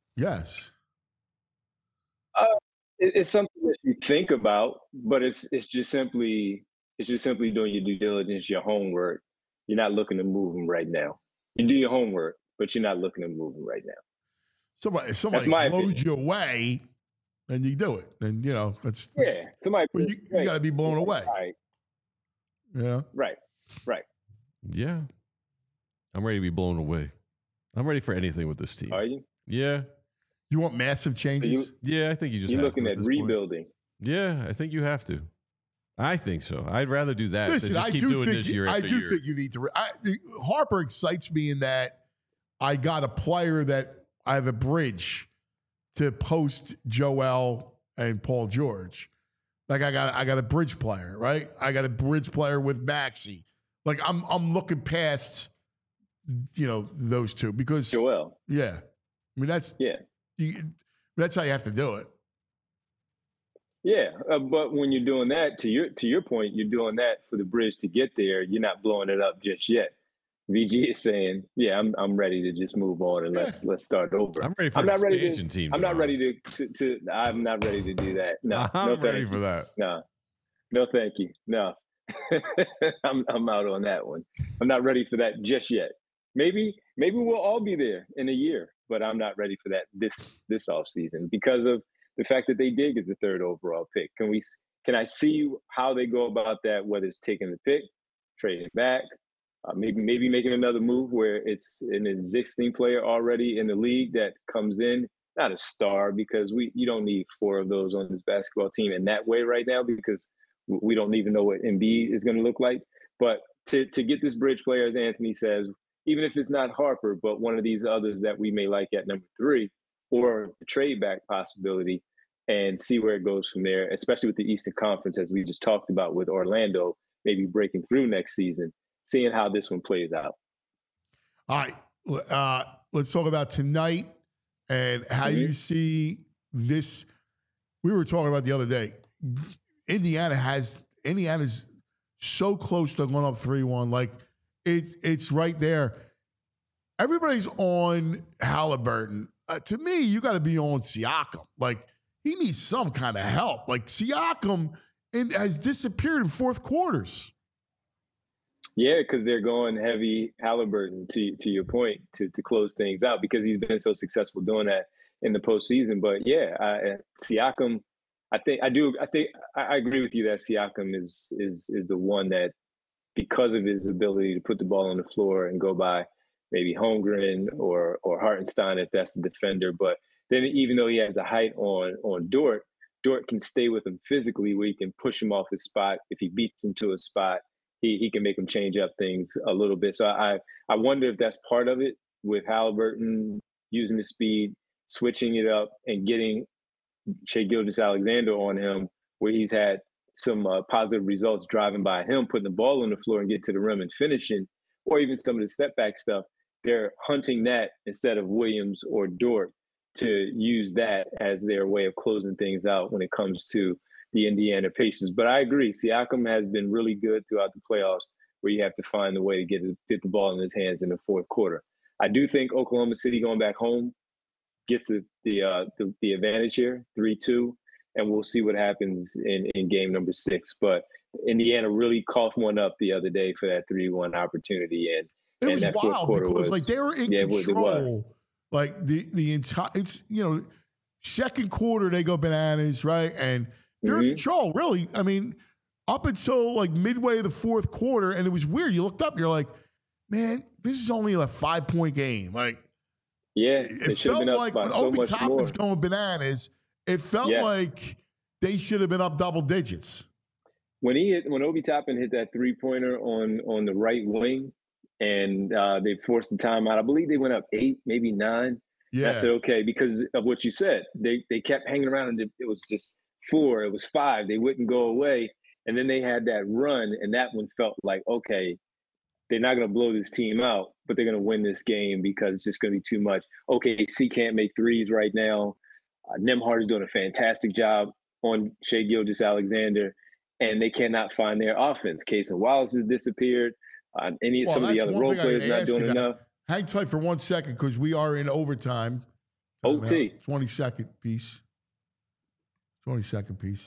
It's something that you think about, but it's just simply doing your due diligence, your homework. You're not looking to move him right now. You do your homework, but you're not looking to move him right now. If somebody blows you away, then you do it. And somebody. You got to be blown away. Right. Yeah. Right. Yeah. I'm ready to be blown away. I'm ready for anything with this team. Are you? Yeah. You want massive changes? I think you just. You're have looking to at this rebuilding. Point. Yeah, I think you have to. I think so. I'd rather do that Listen, than just keep doing this year after year. I do think you need to. Harper excites me in that I got a player that I have a bridge to post Joel and Paul George. Like I got a bridge player, right? I got a bridge player with Maxey. Like I'm looking past, those two because Joel. Yeah, I mean that's how you have to do it. Yeah, but when you're doing that, to your point, you're doing that for the bridge to get there. You're not blowing it up just yet. VG is saying, "Yeah, I'm ready to just move on and let's start over." I'm ready for an expansion team. I'm not ready to. I'm not ready to do that. No, I'm ready for that. No, thank you. No, I'm out on that one. I'm not ready for that just yet. Maybe we'll all be there in a year, but I'm not ready for that this offseason because of the fact that they did get the 3rd overall pick. Can I see how they go about that? Whether it's taking the pick, trading back, maybe making another move where it's an existing player already in the league that comes in, not a star, because you don't need 4 of those on this basketball team in that way right now because we don't even know what Embiid is going to look like. But to get this bridge player, as Anthony says, even if it's not Harper, but one of these others that we may like at number 3, or a trade back possibility, and see where it goes from there, especially with the Eastern Conference, as we just talked about with Orlando, maybe breaking through next season, seeing how this one plays out. All right. Let's talk about tonight and how you see this. We were talking about the other day. Indiana's so close to going up 3-1. Like, it's right there. Everybody's on Halliburton. To me, you got to be on Siakam. Like, he needs some kind of help. Like, Siakam has disappeared in fourth quarters. Yeah, because they're going heavy Halliburton, to your point, to close things out because he's been so successful doing that in the postseason. But yeah, Siakam, I agree with you that Siakam is the one that, because of his ability to put the ball on the floor and go by maybe Holmgren or Hartenstein if that's the defender. But then even though he has the height on Dort can stay with him physically where he can push him off his spot. If he beats him to a spot, he can make him change up things a little bit. So I wonder if that's part of it with Halliburton using the speed, switching it up, and getting Shai Gilgeous-Alexander on him where he's had some positive results driving by him, putting the ball on the floor and get to the rim and finishing, or even some of the step back stuff. They're hunting that instead of Williams or Dort to use that as their way of closing things out when it comes to the Indiana Pacers. But I agree, Siakam has been really good throughout the playoffs where you have to find the way to get the ball in his hands in the fourth quarter. I do think Oklahoma City going back home gets the advantage here, 3-2, and we'll see what happens in game number 6. But Indiana really coughed one up the other day for that 3-1 opportunity. And it was that wild because like they were in control. Like the entire, second quarter they go bananas, right? And they're in control, really. I mean, up until like midway of the fourth quarter, and it was weird. You looked up, you're like, man, this is only a 5-point game. Like, yeah, it felt like when Obi Toppin's going bananas, it felt like they should have been up double digits. When Obi Toppin hit that 3-pointer on the right wing, and they forced the timeout, I believe they went up 8, maybe 9. Yeah. I said, okay, because of what you said. They kept hanging around, and it was just 4, it was 5. They wouldn't go away. And then they had that run, and that one felt like, okay, they're not going to blow this team out, but they're going to win this game because it's just going to be too much. OKC can't make threes right now. Nembhard is doing a fantastic job on Shai Gilgeous-Alexander, and they cannot find their offense. Cason Wallace has disappeared. Some of the other role players not doing enough. Hang tight for 1 second because we are in overtime. OT. 20-second piece. 20-second piece.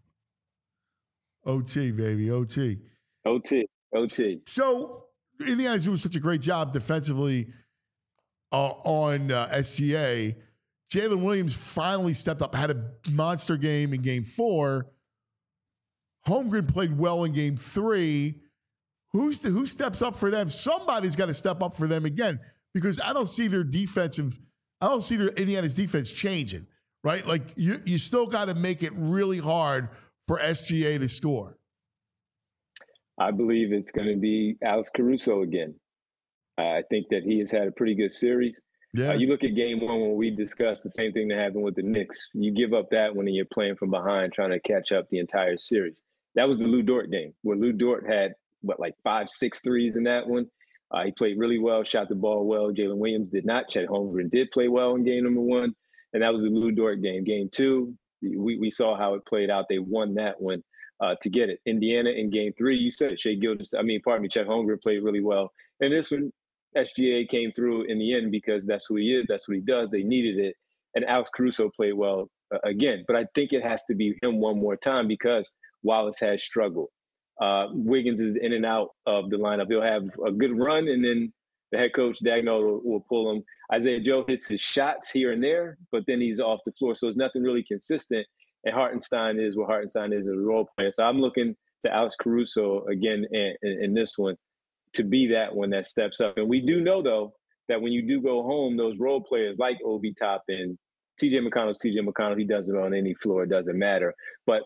OT, baby, OT. OT. So Indiana's doing such a great job defensively on SGA. Jalen Williams finally stepped up, had a monster game in Game 4. Holmgren played well in Game 3. Who steps up for them? Somebody's got to step up for them again because I don't see their Indiana's defense changing, right? Like you still got to make it really hard for SGA to score. I believe it's going to be Alex Caruso again. I think that he has had a pretty good series. Yeah. You look at Game 1 when we discussed the same thing that happened with the Knicks. You give up that when you're playing from behind, trying to catch up the entire series. That was the Lou Dort game where Lou Dort had, 5-6 threes in that one. He played really well, shot the ball well. Jalen Williams did not. Chet Holmgren did play well in game number 1. And that was the Lou Dort game. Game 2, we saw how it played out. They won that one to get it. Indiana in Game 3, you said it. Chet Holmgren played really well. And this one, SGA came through in the end because that's who he is. That's what he does. They needed it. And Alex Caruso played well again. But I think it has to be him one more time because Wallace has struggled. Wiggins is in and out of the lineup. He'll have a good run, and then the head coach, Dagnall, will pull him. Isaiah Joe hits his shots here and there, but then he's off the floor. So it's nothing really consistent. And Hartenstein is what Hartenstein is as a role player. So I'm looking to Alex Caruso again in this one to be that one that steps up. And we do know, though, that when you do go home, those role players like Obi Toppin, TJ McConnell, he does it on any floor. It doesn't matter. But,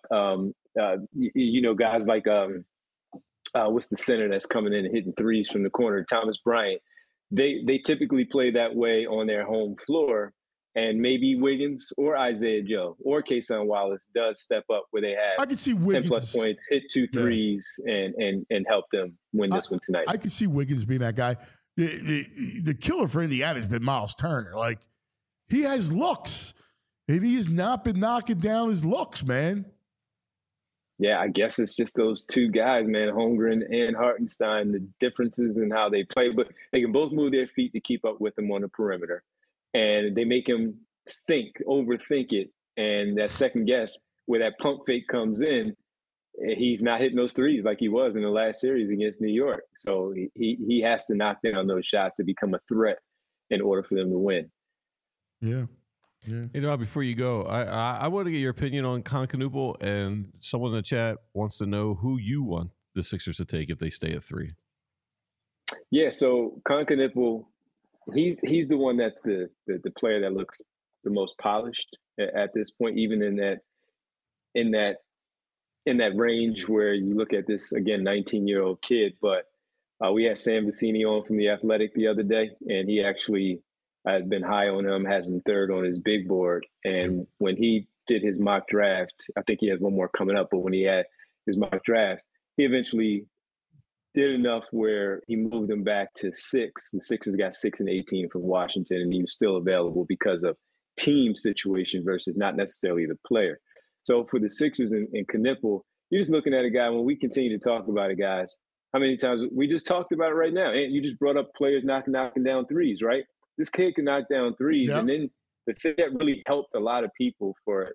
guys like what's the center that's coming in and hitting threes from the corner, Thomas Bryant, they typically play that way on their home floor. And maybe Wiggins or Isaiah Joe or Cason Wallace does step up where they have I can see Wiggins 10-plus points, hit 2 threes, and help them win this one tonight. I can see Wiggins being that guy. The killer for Indiana has been Miles Turner. Like, he has looks, and he has not been knocking down his looks, man. Yeah, I guess it's just those two guys, man, Holmgren and Hartenstein, the differences in how they play. But they can both move their feet to keep up with them on the perimeter. And they make him overthink it. And that second guess, where that pump fake comes in, he's not hitting those threes like he was in the last series against New York. So he has to knock down those shots to become a threat in order for them to win. Yeah. Before you go, I want to get your opinion on Concanupal, and someone in the chat wants to know who you want the Sixers to take if they stay at 3. Yeah, so Concanupal, he's the one that's the player that looks the most polished at this point, even in that range where you look at this, again, 19-year-old kid. But we had Sam Vecini on from The Athletic the other day, and he actually has been high on him, has him 3rd on his big board. And when he did his mock draft, I think he has one more coming up, but when he had his mock draft, he eventually did enough where he moved them back to 6. The Sixers got 6 and 18 from Washington, and he was still available because of team situation versus not necessarily the player. So for the Sixers and Knipple, you're just looking at a guy, when we continue to talk about it, guys, how many times we just talked about it right now. And you just brought up players knocking down threes, right? This kid can knock down threes. Yep. And then the thing that really helped a lot of people for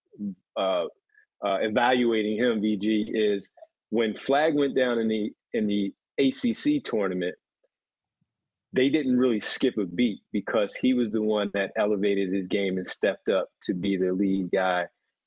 evaluating him, VG, is when Flag went down in the ACC tournament, they didn't really skip a beat because he was the one that elevated his game and stepped up to be the lead guy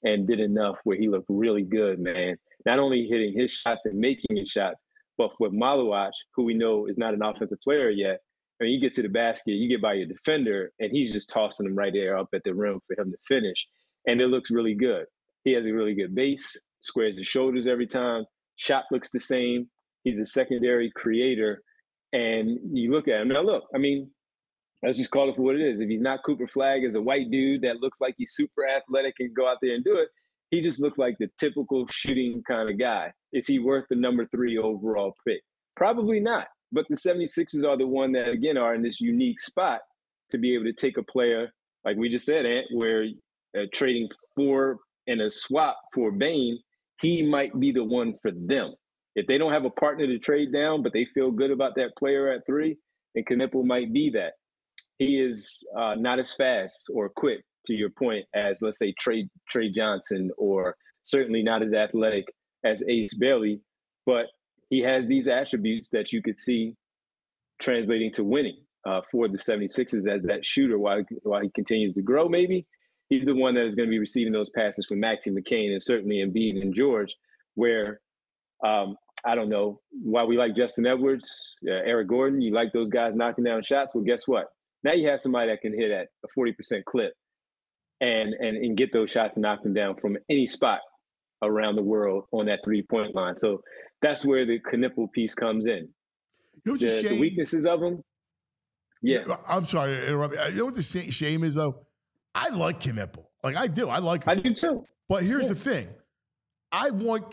and did enough where he looked really good, man. Not only hitting his shots and making his shots, but for Maluach, who we know is not an offensive player yet, when you get to the basket, you get by your defender, and he's just tossing them right there up at the rim for him to finish. And it looks really good. He has a really good base, squares his shoulders every time. Shot looks the same. He's a secondary creator. And you look at him. Now, look, I mean, let's just call it for what it is. If he's not Cooper Flagg as a white dude that looks like he's super athletic and go out there and do it, he just looks like the typical shooting kind of guy. Is he worth the number 3 overall pick? Probably not. But the 76ers are the one that, again, are in this unique spot to be able to take a player, like we just said, Ant, where trading for and a swap for Bane, he might be the one for them. If they don't have a partner to trade down, but they feel good about that player at 3, then Knipple might be that. He is not as fast or quick, to your point, as, let's say, Trey Johnson, or certainly not as athletic as Ace Bailey, but he has these attributes that you could see translating to winning for the 76ers as that shooter while he continues to grow, maybe. He's the one that is going to be receiving those passes from Maxey McCain and certainly Embiid and George, where I don't know why we like Justin Edwards, Eric Gordon. You like those guys knocking down shots. Well, guess what? Now you have somebody that can hit at a 40% clip and get those shots and knock them down from any spot around the world on that 3-point line. So that's where the Knipple piece comes in. You know the weaknesses of him. Yeah. I'm sorry to interrupt. You know what the shame is, though? I like Knipple. Like, I do. I like him. I do too. But here's the thing. I want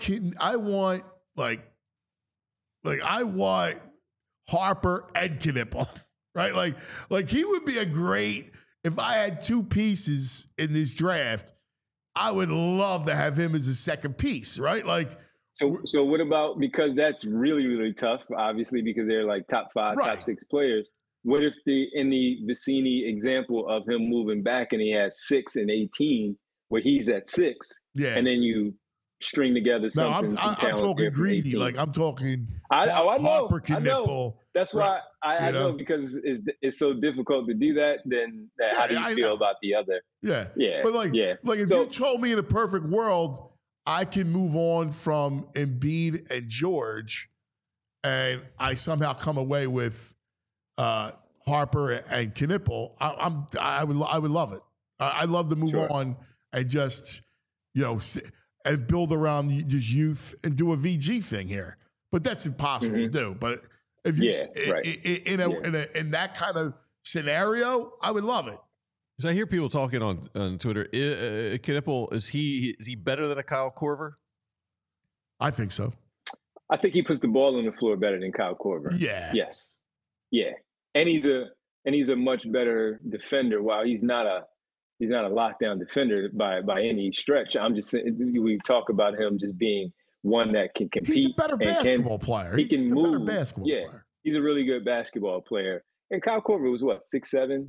Harper and Knipple, right? Like he would be a great, if I had 2 pieces in this draft, I would love to have him as a second piece, right? Like, so what about, because that's really, really tough, obviously, because they're like top 5, top 6 players. What if in the Vicini example of him moving back and he has 6 and 18, where he's at 6, and then you string together something. No, I'm talking greedy. Like, I'm talking Harper, Knipple. I know. That's why I know, because it's so difficult to do that. Then how do you feel about the other? Yeah. But if you told me in a perfect world, I can move on from Embiid and George, and I somehow come away with Harper and Knipple, I would love it. I'd love to move on and just, and build around just youth and do a VG thing here. But that's impossible to do. But if you in that kind of scenario, I would love it. So I hear people talking on Twitter. Knipple, is he better than a Kyle Korver? I think so. I think he puts the ball on the floor better than Kyle Korver. Yeah. Yes. Yeah. And he's a much better defender. While he's not a lockdown defender by any stretch. I'm just saying, we talk about him just being one that can compete. He's a better basketball player. He can move. Better basketball player. He's a really good basketball player. And Kyle Korver was what, 6'7",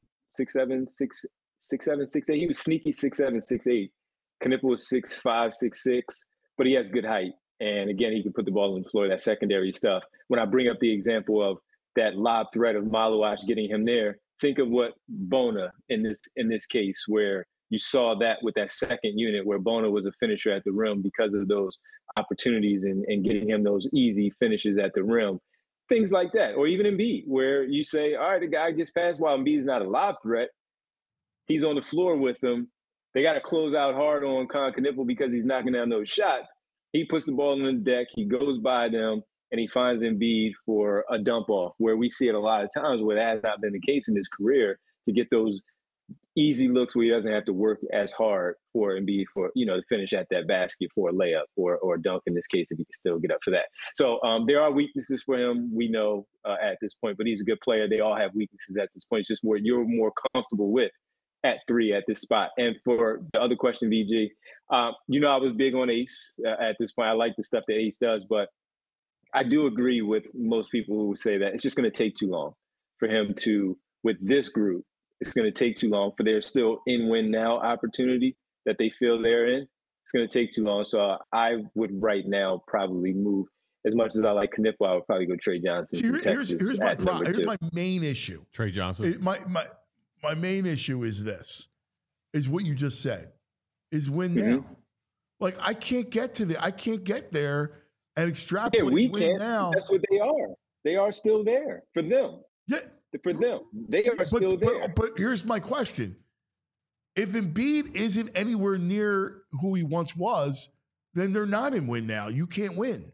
6'8". He was sneaky 6'7", 6'8". Knipple was 6'5", 6'6", but he has good height. And again, he can put the ball on the floor, that secondary stuff. When I bring up the example of that lob threat of Maluach getting him there, think of what Bona in this case, where you saw that with that second unit, where Bona was a finisher at the rim because of those opportunities and getting him those easy finishes at the rim. Things like that. Or even Embiid, where you say, all right, the guy gets past while Embiid's not a lob threat. He's on the floor with them. They got to close out hard on Knipple because he's knocking down those shots. He puts the ball on the deck. He goes by them, and he finds Embiid for a dump off, where we see it a lot of times where that has not been the case in his career, to get those easy looks where he doesn't have to work as hard for Embiid for, to finish at that basket for a layup or a dunk in this case, if he can still get up for that. So there are weaknesses for him, we know at this point, but he's a good player. They all have weaknesses at this point. It's just where you're more comfortable with at 3 at this spot. And for the other question, VG, I was big on Ace at this point. I like the stuff that Ace does, but I do agree with most people who say that it's just going to take too long for him to, with this group, it's going to take too long for their still in-win now opportunity that they feel they're in. It's going to take too long. So I would right now probably move. As much as I like Knipple, I would probably go Trey Johnson. See, here's my main issue. Trey Johnson. My main issue is this, is what you just said, is win now. Like I can't get there and extrapolate. Yeah, we win can't. now. That's what they are. They are still there for them. Yeah, for them, they are still there. But here's my question: if Embiid isn't anywhere near who he once was, then they're not in win now. You can't win.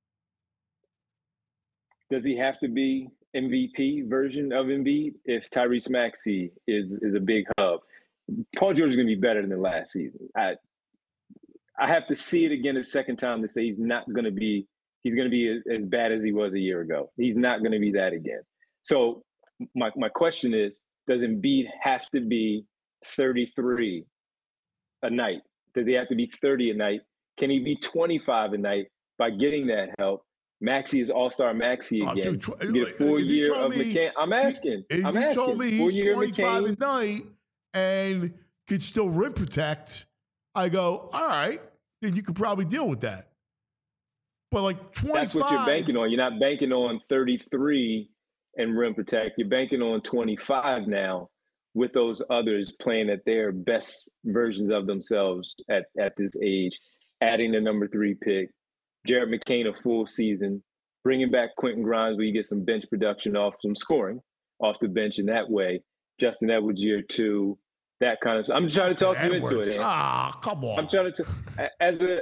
Does he have to be MVP version of Embiid if Tyrese Maxey is a big hub? Paul George is going to be better than last season. I have to see it again a second time to say he's going to be as bad as he was a year ago. He's not going to be that again. So my question is, does Embiid have to be 33 a night? Does he have to be 30 a night? Can he be 25 a night by getting that help? Maxey is all-star Maxey again. Get a full year of McCann. I'm asking. If you told me he's 25 a night and could still rim protect, I go, all right, then you could probably deal with that. But like 25. That's what you're banking on. You're not banking on 33 and rim protect. You're banking on 25 now with those others playing at their best versions of themselves at this age, adding the number 3 pick, Jared McCain a full season, bringing back Quentin Grimes where you get some bench production off some scoring off the bench in that way. Justin Edwards year 2, that kind of stuff. I'm trying to talk you into it. Come on. I'm trying to as a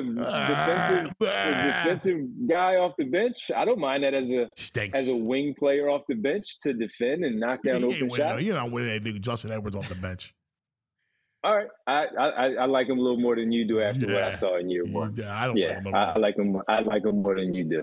defensive guy off the bench. I don't mind that as a wing player off the bench to defend and knock down open shots. You're not winning anything with Justin Edwards off the bench. All right, I like him a little more than you do after what I saw in year 1. I like him. I like him more than you do.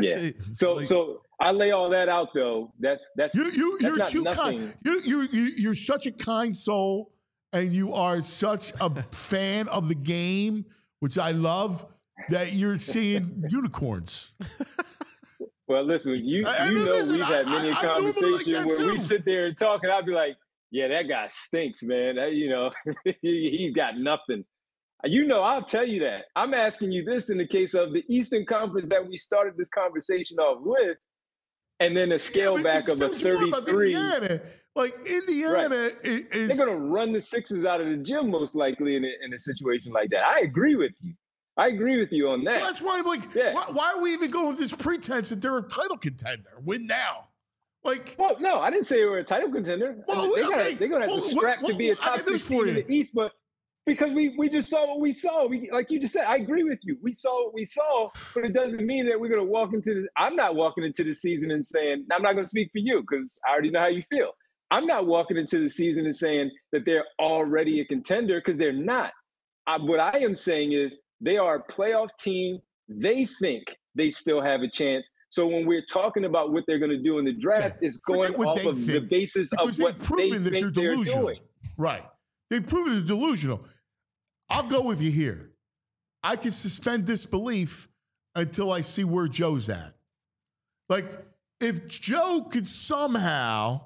So I lay all that out though. That's you're not too nothing. kind. You're such a kind soul, and you are such a fan of the game, which I love. That you're seeing unicorns. Well, listen, we've had many conversations where we sit there and talk, and I'd be like, yeah, that guy stinks, man. He's got nothing. I'll tell you that. I'm asking you this in the case of the Eastern Conference that we started this conversation off with, and then a scale back of a 33. Like Indiana is they're going to run the Sixers out of the gym most likely in a situation like that. I agree with you. On that. So that's why I'm like, why are we even going with this pretense that they're a title contender? Win now. Well, no, I didn't say they were a title contender. Well, they're gonna have to scrap to be a top 6 team in the East, but because we just saw what we saw. Like you just said, I agree with you. We saw what we saw, but it doesn't mean that we're gonna walk into this. I'm not walking into the season and saying, I'm not gonna speak for you because I already know how you feel. I'm not walking into the season and saying that they're already a contender because they're not. What I am saying is they are a playoff team. They think they still have a chance. So when we're talking about what they're going to do in the draft, it's going off of the basis of what they think they're doing. Right. They've proven they're delusional. I'll go with you here. I can suspend disbelief until I see where Joe's at. Like, if Joe could somehow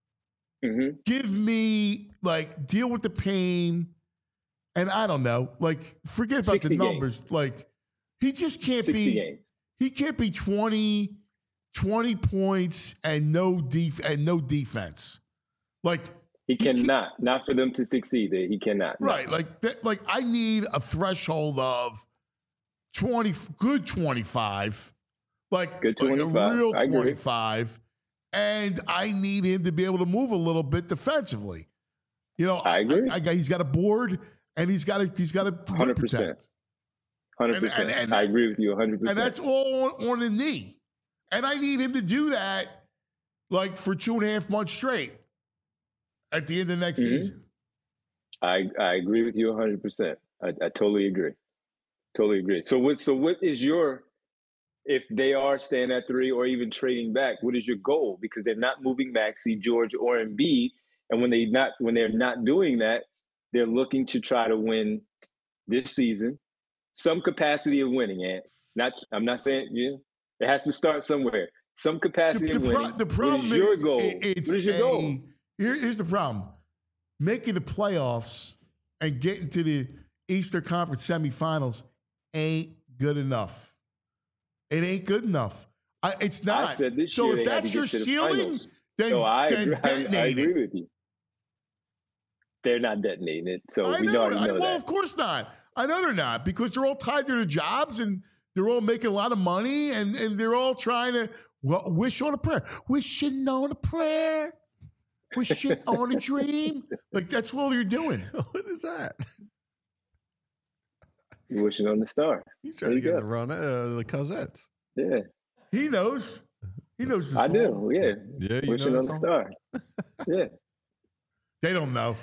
give me, deal with the pain, and I don't know, forget about the numbers. Games. Like, he just can't be. Games. He can't be 20 points and no defense. He cannot. Not for them to succeed. He cannot. Right. No. I need a threshold of 25. Good 25. A real 25. And I need him to be able to move a little bit defensively. I agree. He's got a board and he's got to 100%. Protect. 100%. And I agree with you 100%. And that's all on a knee. And I need him to do that for 2.5 months straight at the end of next season. I agree with you 100%. I totally agree. Totally agree. So what is your, if they are staying at 3 or even trading back, what is your goal? Because they're not moving Maxey, George, or Embiid. And when they're not doing that, they're looking to try to win this season. Some capacity of winning, and I'm not saying it has to start somewhere. Some capacity of winning. The problem what is your goal? What is your goal? Here's the problem: making the playoffs and getting to the Eastern Conference semifinals ain't good enough. It ain't good enough. It's not. I said this so year if that's your ceiling, then I detonate agree with you. They're not detonating it, so we already know that. Well, of course not. I know they're not, because they're all tied to their jobs and they're all making a lot of money and they're all trying to wish on a prayer. Wishing on a prayer. Wishing on a dream. Like, that's all you're doing. What is that? You're wishing on the star. He's trying to get the run the Cosettes. Yeah. He knows. He knows the I song. do, yeah. Yeah, you Wishing know on that the song? star. Yeah. They don't know.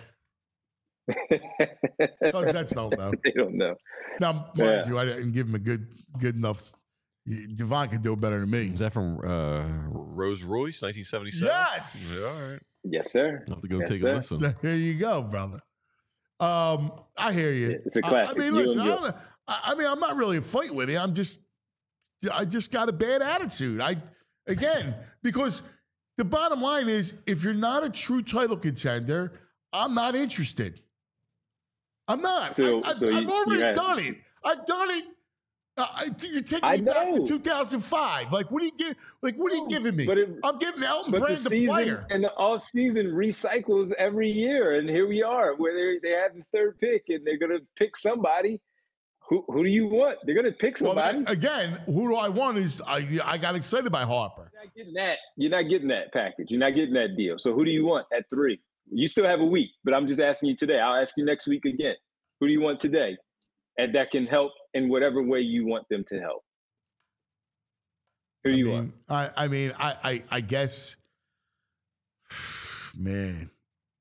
Cosettes don't know. They don't know. Now, mind you, I didn't give him a good enough. Devon could do it better than me. Is that from Rose Royce, 1977? Yes. Yeah, all right. Yes, sir. I'll have to go Yes, take sir. a listen. There you go, brother. I hear you. It's a classic. I mean, You listen, enjoy- I'm not really a fight with you. I just got a bad attitude. Because the bottom line is, if you're not a true title contender, I'm not interested. I'm not. So I've you already have- done it. I've done it. You're taking I me back to know. 2005. Like, what are you giving me? But I'm giving Elton But Brand the the season player. and the off season recycles every year, and here we are, where they have the third pick, and they're gonna pick somebody. Who do you want? They're gonna pick somebody. Well, again, who do I want? Is I got excited by Harper. You're not getting that. You're not getting that package. You're not getting that deal. So who do you want at 3? You still have a week, but I'm just asking you today. I'll ask you next week again. Who do you want today, and that can help in whatever way you want them to help? Who do you want? I guess, man.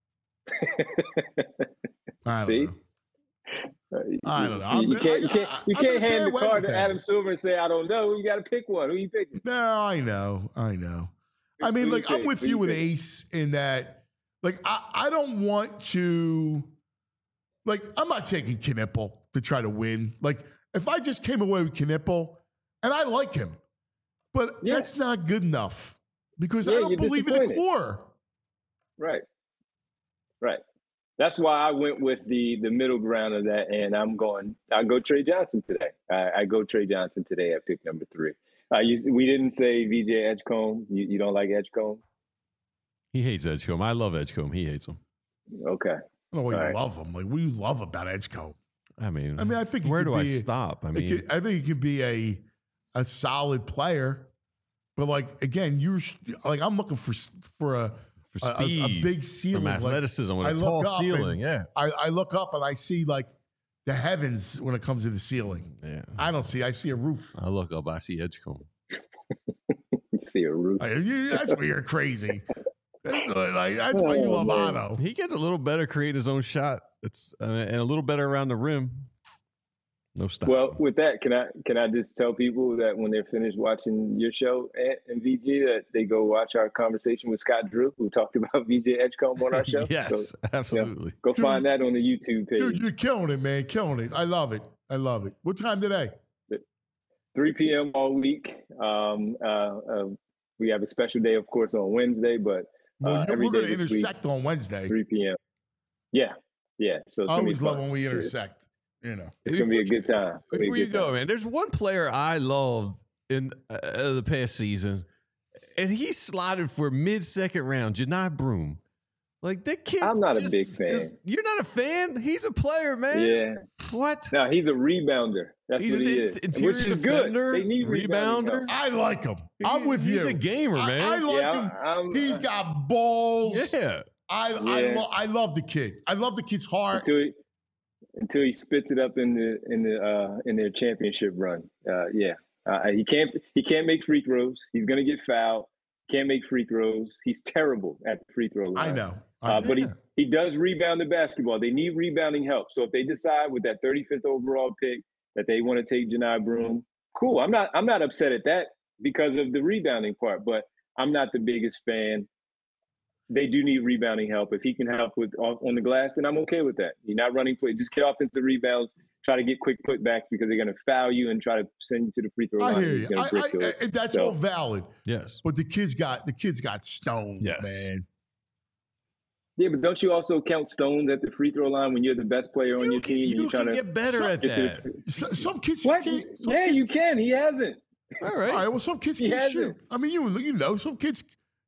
I don't See? know. I don't know. You can't I'm hand in a bad the way card with to that. Adam Silver and say, I don't know. You got to pick one. Who you picking? No, I know. I mean, Who like, you I'm pick? with Who you you with pick? Ace in that, like, I don't want to, like, I'm not taking Knipple to try to win. Like, if I just came away with Knipple, and I like him, but that's not good enough because I Yeah, don't you're believe in the disappointed. core. Right. That's why I went with the middle ground of that, and I'll go Trey Johnson today. I go Trey Johnson today at pick number 3. We didn't say VJ Edgecombe. You don't like Edgecombe? He hates Edgecombe. I love Edgecombe. He hates him. Okay. I don't know why All you right. love him. Like, what do you love about Edgecombe? I mean, I think he where could do I be- stop? I I mean, think he could be a solid player, but like again, I'm looking for a speed, big ceiling, from Like, athleticism with I a look tall up ceiling. and I look up and I see like the heavens when it comes to the ceiling. Yeah, I see a roof. I look up, I see Edgecombe. You see a roof. That's where you're crazy. That's why you love Otto. He gets a little better creating his own shot. It's and a little better around the rim. No stop. Well, with that, can I just tell people that when they're finished watching your show and VG, that they go watch our conversation with Scott Drew, who talked about VJ Edgecombe on our show? Yes, So, absolutely. go find that on the YouTube page. Dude, you're killing it, man. Killing it. I love it. What time today? 3 p.m. all week. We have a special day, of course, on Wednesday, but every we're going day to this week, intersect on Wednesday. 3 p.m. Yeah. So it's I gonna be always love fun. when we intersect. You know, It's gonna be a good time. It'll be a Before you good go, time. man, there's one player I loved in the past season, and he slotted for mid-second round, Janai Broom. Like, that kid. I'm not a big fan. You're not a fan? He's a player, man. Yeah. What? No, he's a rebounder. That's He's what an he is. interior Which is defender, good. They need rebounding rebounder. help. I like him. I'm with you. He's a gamer, man. I like Yeah, him. He's got balls. Yeah. I love the kid. I love the kid's heart. Until he spits it up in their championship run. He can't make free throws. He's gonna get fouled. Can't make free throws. He's terrible at the free throw line. I know. But he does rebound the basketball. They need rebounding help. So if they decide with that 35th overall pick that they want to take Janai Broom, cool. I'm not upset at that because of the rebounding part, but I'm not the biggest fan. They do need rebounding help. If he can help with on the glass, then I'm okay with that. You're not running play. Just get offensive rebounds. Try to get quick putbacks because they're going to foul you and try to send you to the free throw line. I hear He's you. gonna bristle it. That's So- all valid. Yes. But the kid's got stones, Yes. man. Yeah, but don't you also count stones at the free throw line when you're the best player on your team? and You you're trying can to get better at get to that. the- Some kids What? can't. You can. He hasn't. All right. All right. Well, some kids He can't hasn't. shoot. I mean, you know, some kids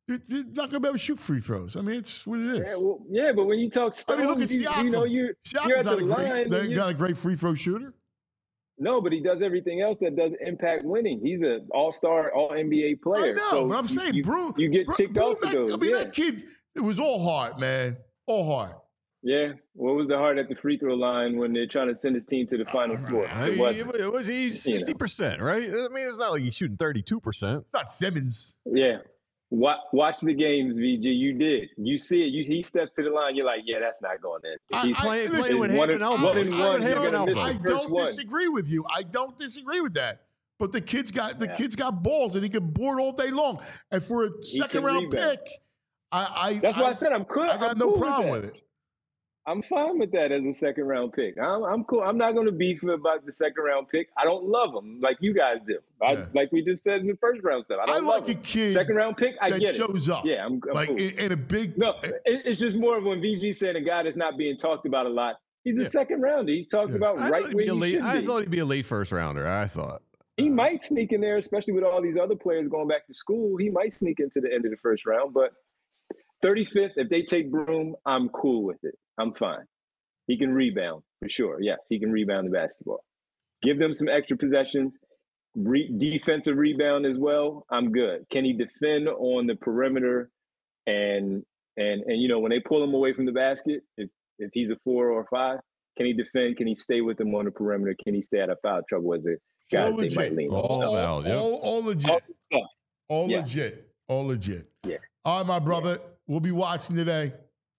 they're not going to be able to shoot free throws. I mean, it's what it is. Yeah, but when you talk I Stones, mean, look at Siakam. you're Siakam's at the line. not a great free throw shooter. No, but he does everything else that does impact winning. He's an all-star, all-NBA player. I know, so but I'm saying, you get ticked off with those. I mean, that kid, it was all heart, man. All heart. Yeah. What was the heart at the free throw line when they're trying to send his team to the Final Four? It was 60%, right? I mean, it's not like he's shooting 32%. Not Simmons. Yeah. Watch the games, VG. You did. You see it. He steps to the line. You're like, yeah, that's not going in. He's playing with hand and elbow. I don't disagree with you. I don't disagree with that. But the kid's got balls and he can board all day long. And for a second round pick, that's why I said I'm cool. I got no problem with it. I'm fine with that as a second round pick. I'm cool. I'm not going to beef about the second round pick. I don't love him like you guys do. Like we just said in the first round stuff. I don't love like him. A kid second round pick. I get it. Shows up. Yeah, I'm like cool. in a big. No, it's just more of when VG said a guy that's not being talked about a lot. He's a second rounder. He's talked about right where he should be. I thought he'd be a late first rounder. I thought he might sneak in there, especially with all these other players going back to school. He might sneak into the end of the first round, but 35th, if they take Broom, I'm cool with it. I'm fine. He can rebound for sure. Yes, he can rebound the basketball. Give them some extra possessions, defensive rebound as well. I'm good. Can he defend on the perimeter? And when they pull him away from the basket, if he's a 4 or a 5, can he defend? Can he stay with them on the perimeter? Can he stay out of foul trouble as a guy they might lean on? All legit. All legit. All legit. Yeah. All right, my brother. We'll be watching today.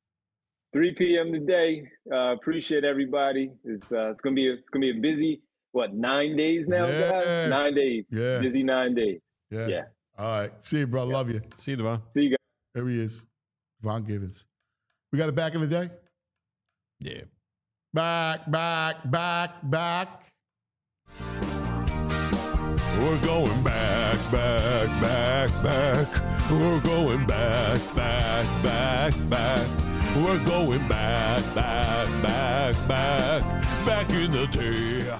3 p.m. today. Appreciate everybody. It's gonna be a busy 9 days now, guys? 9 days. Yeah. Busy 9 days. Yeah. All right. See you, bro. Love you. See you, Devon. See you guys. There he is. Devon Givens. We got it back in the day? Yeah. Back. We're going back. We're going back. We're going back in the day.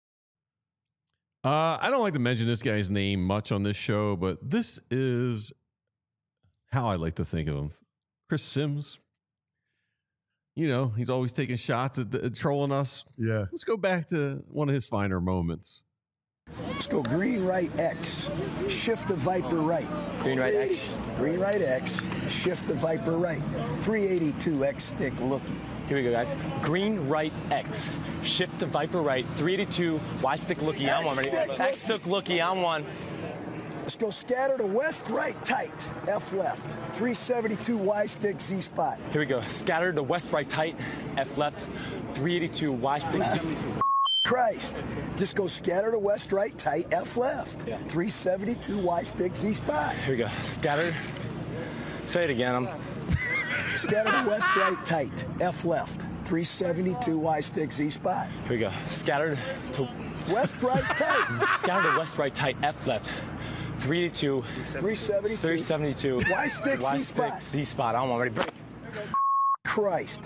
I don't like to mention this guy's name much on this show, but this is how I like to think of him. Chris Sims. You know, he's always taking shots at trolling us. Yeah. Let's go back to one of his finer moments. Let's go green, right, X. Shift the Viper right. Green, right, X. Green, right, X. Shift the Viper right. 382 X stick looky. Here we go, guys. Green, right, X. Shift the Viper right. 382 Y stick looky. I'm one. X stick looky. I'm one. Let's go scatter to west, right, tight. F left. 372 Y stick Z spot. Here we go. Scatter to west, right, tight. F left. 382 Y stick. Christ. Just go scatter to west, right, tight, F left. Yeah. 372 Y stick Z spot. Here we go. Scatter. Say it again. Scatter to west, right, tight, F left. 372 Y stick Z spot. Here we go. Scatter to west, right, tight. Scatter to west, right, tight, F left. 382. 372. Y stick Z spot. Z spot. I'm already break. Christ.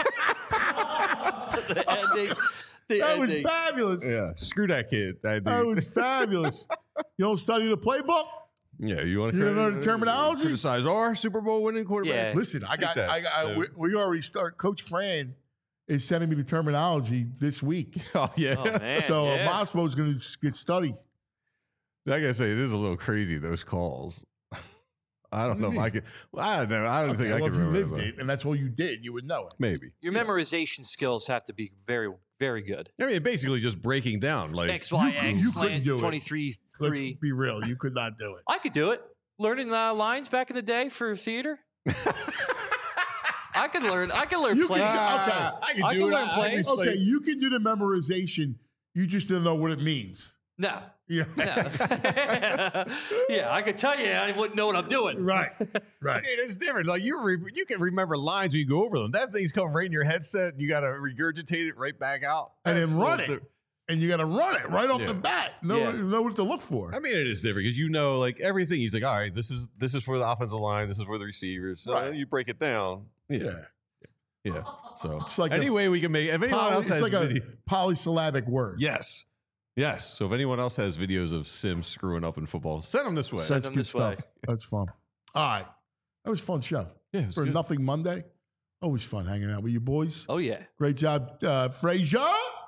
The ending. That was fabulous. Yeah. Screw that kid. That was fabulous. You don't study the playbook? Yeah, you want to know the terminology? Criticize our Super Bowl winning quarterback. Yeah. Listen, we already start. Coach Fran is sending me the terminology this week. Oh yeah. Oh, man, so yeah. Mosco's going to get studied. I gotta say, it is a little crazy, those calls. I don't know if I could. Well, I don't know. I don't think I could remember. If you lived it, and that's all you did, you would know it. Maybe. Your memorization skills have to be very, very good. I mean, basically just breaking down. Like X, Y, X, you couldn't do it. 23, 3. Let's be real. You could not do it. I could do it. Learning lines back in the day for theater. I could learn plays. I can learn plays. Okay, you can do the memorization. You just don't know what it means. No. Yeah. No. Yeah, I could tell you I wouldn't know what I'm doing. Right. Dude, it's different. Like you can remember lines when you go over them. That thing's coming right in your headset, and you got to regurgitate it right back out, and then run it. And you got to run it right off the bat. Know what to look for. I mean, it is different because you know, like everything. He's like, all right, this is for the offensive line. This is for the receivers. So you break it down. Yeah. So it's like anyway, we can make. If anyone else has like a polysyllabic word. Yes. So if anyone else has videos of Sims screwing up in football, send them this way. That's good stuff. That's fun. All right. That was a fun show. Yeah, it was For good. Nothing Monday. Always fun hanging out with you boys. Oh, yeah. Great job, Frazier.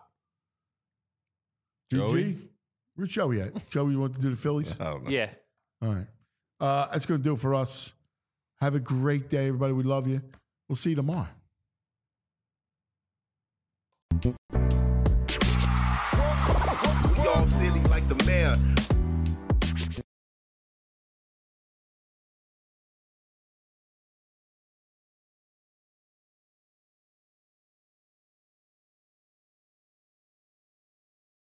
Joey? GG. Where's Joey at? Joey, you want to do the Phillies? I don't know. Yeah. All right. That's going to do it for us. Have a great day, everybody. We love you. We'll see you tomorrow. We all silly like the mayor.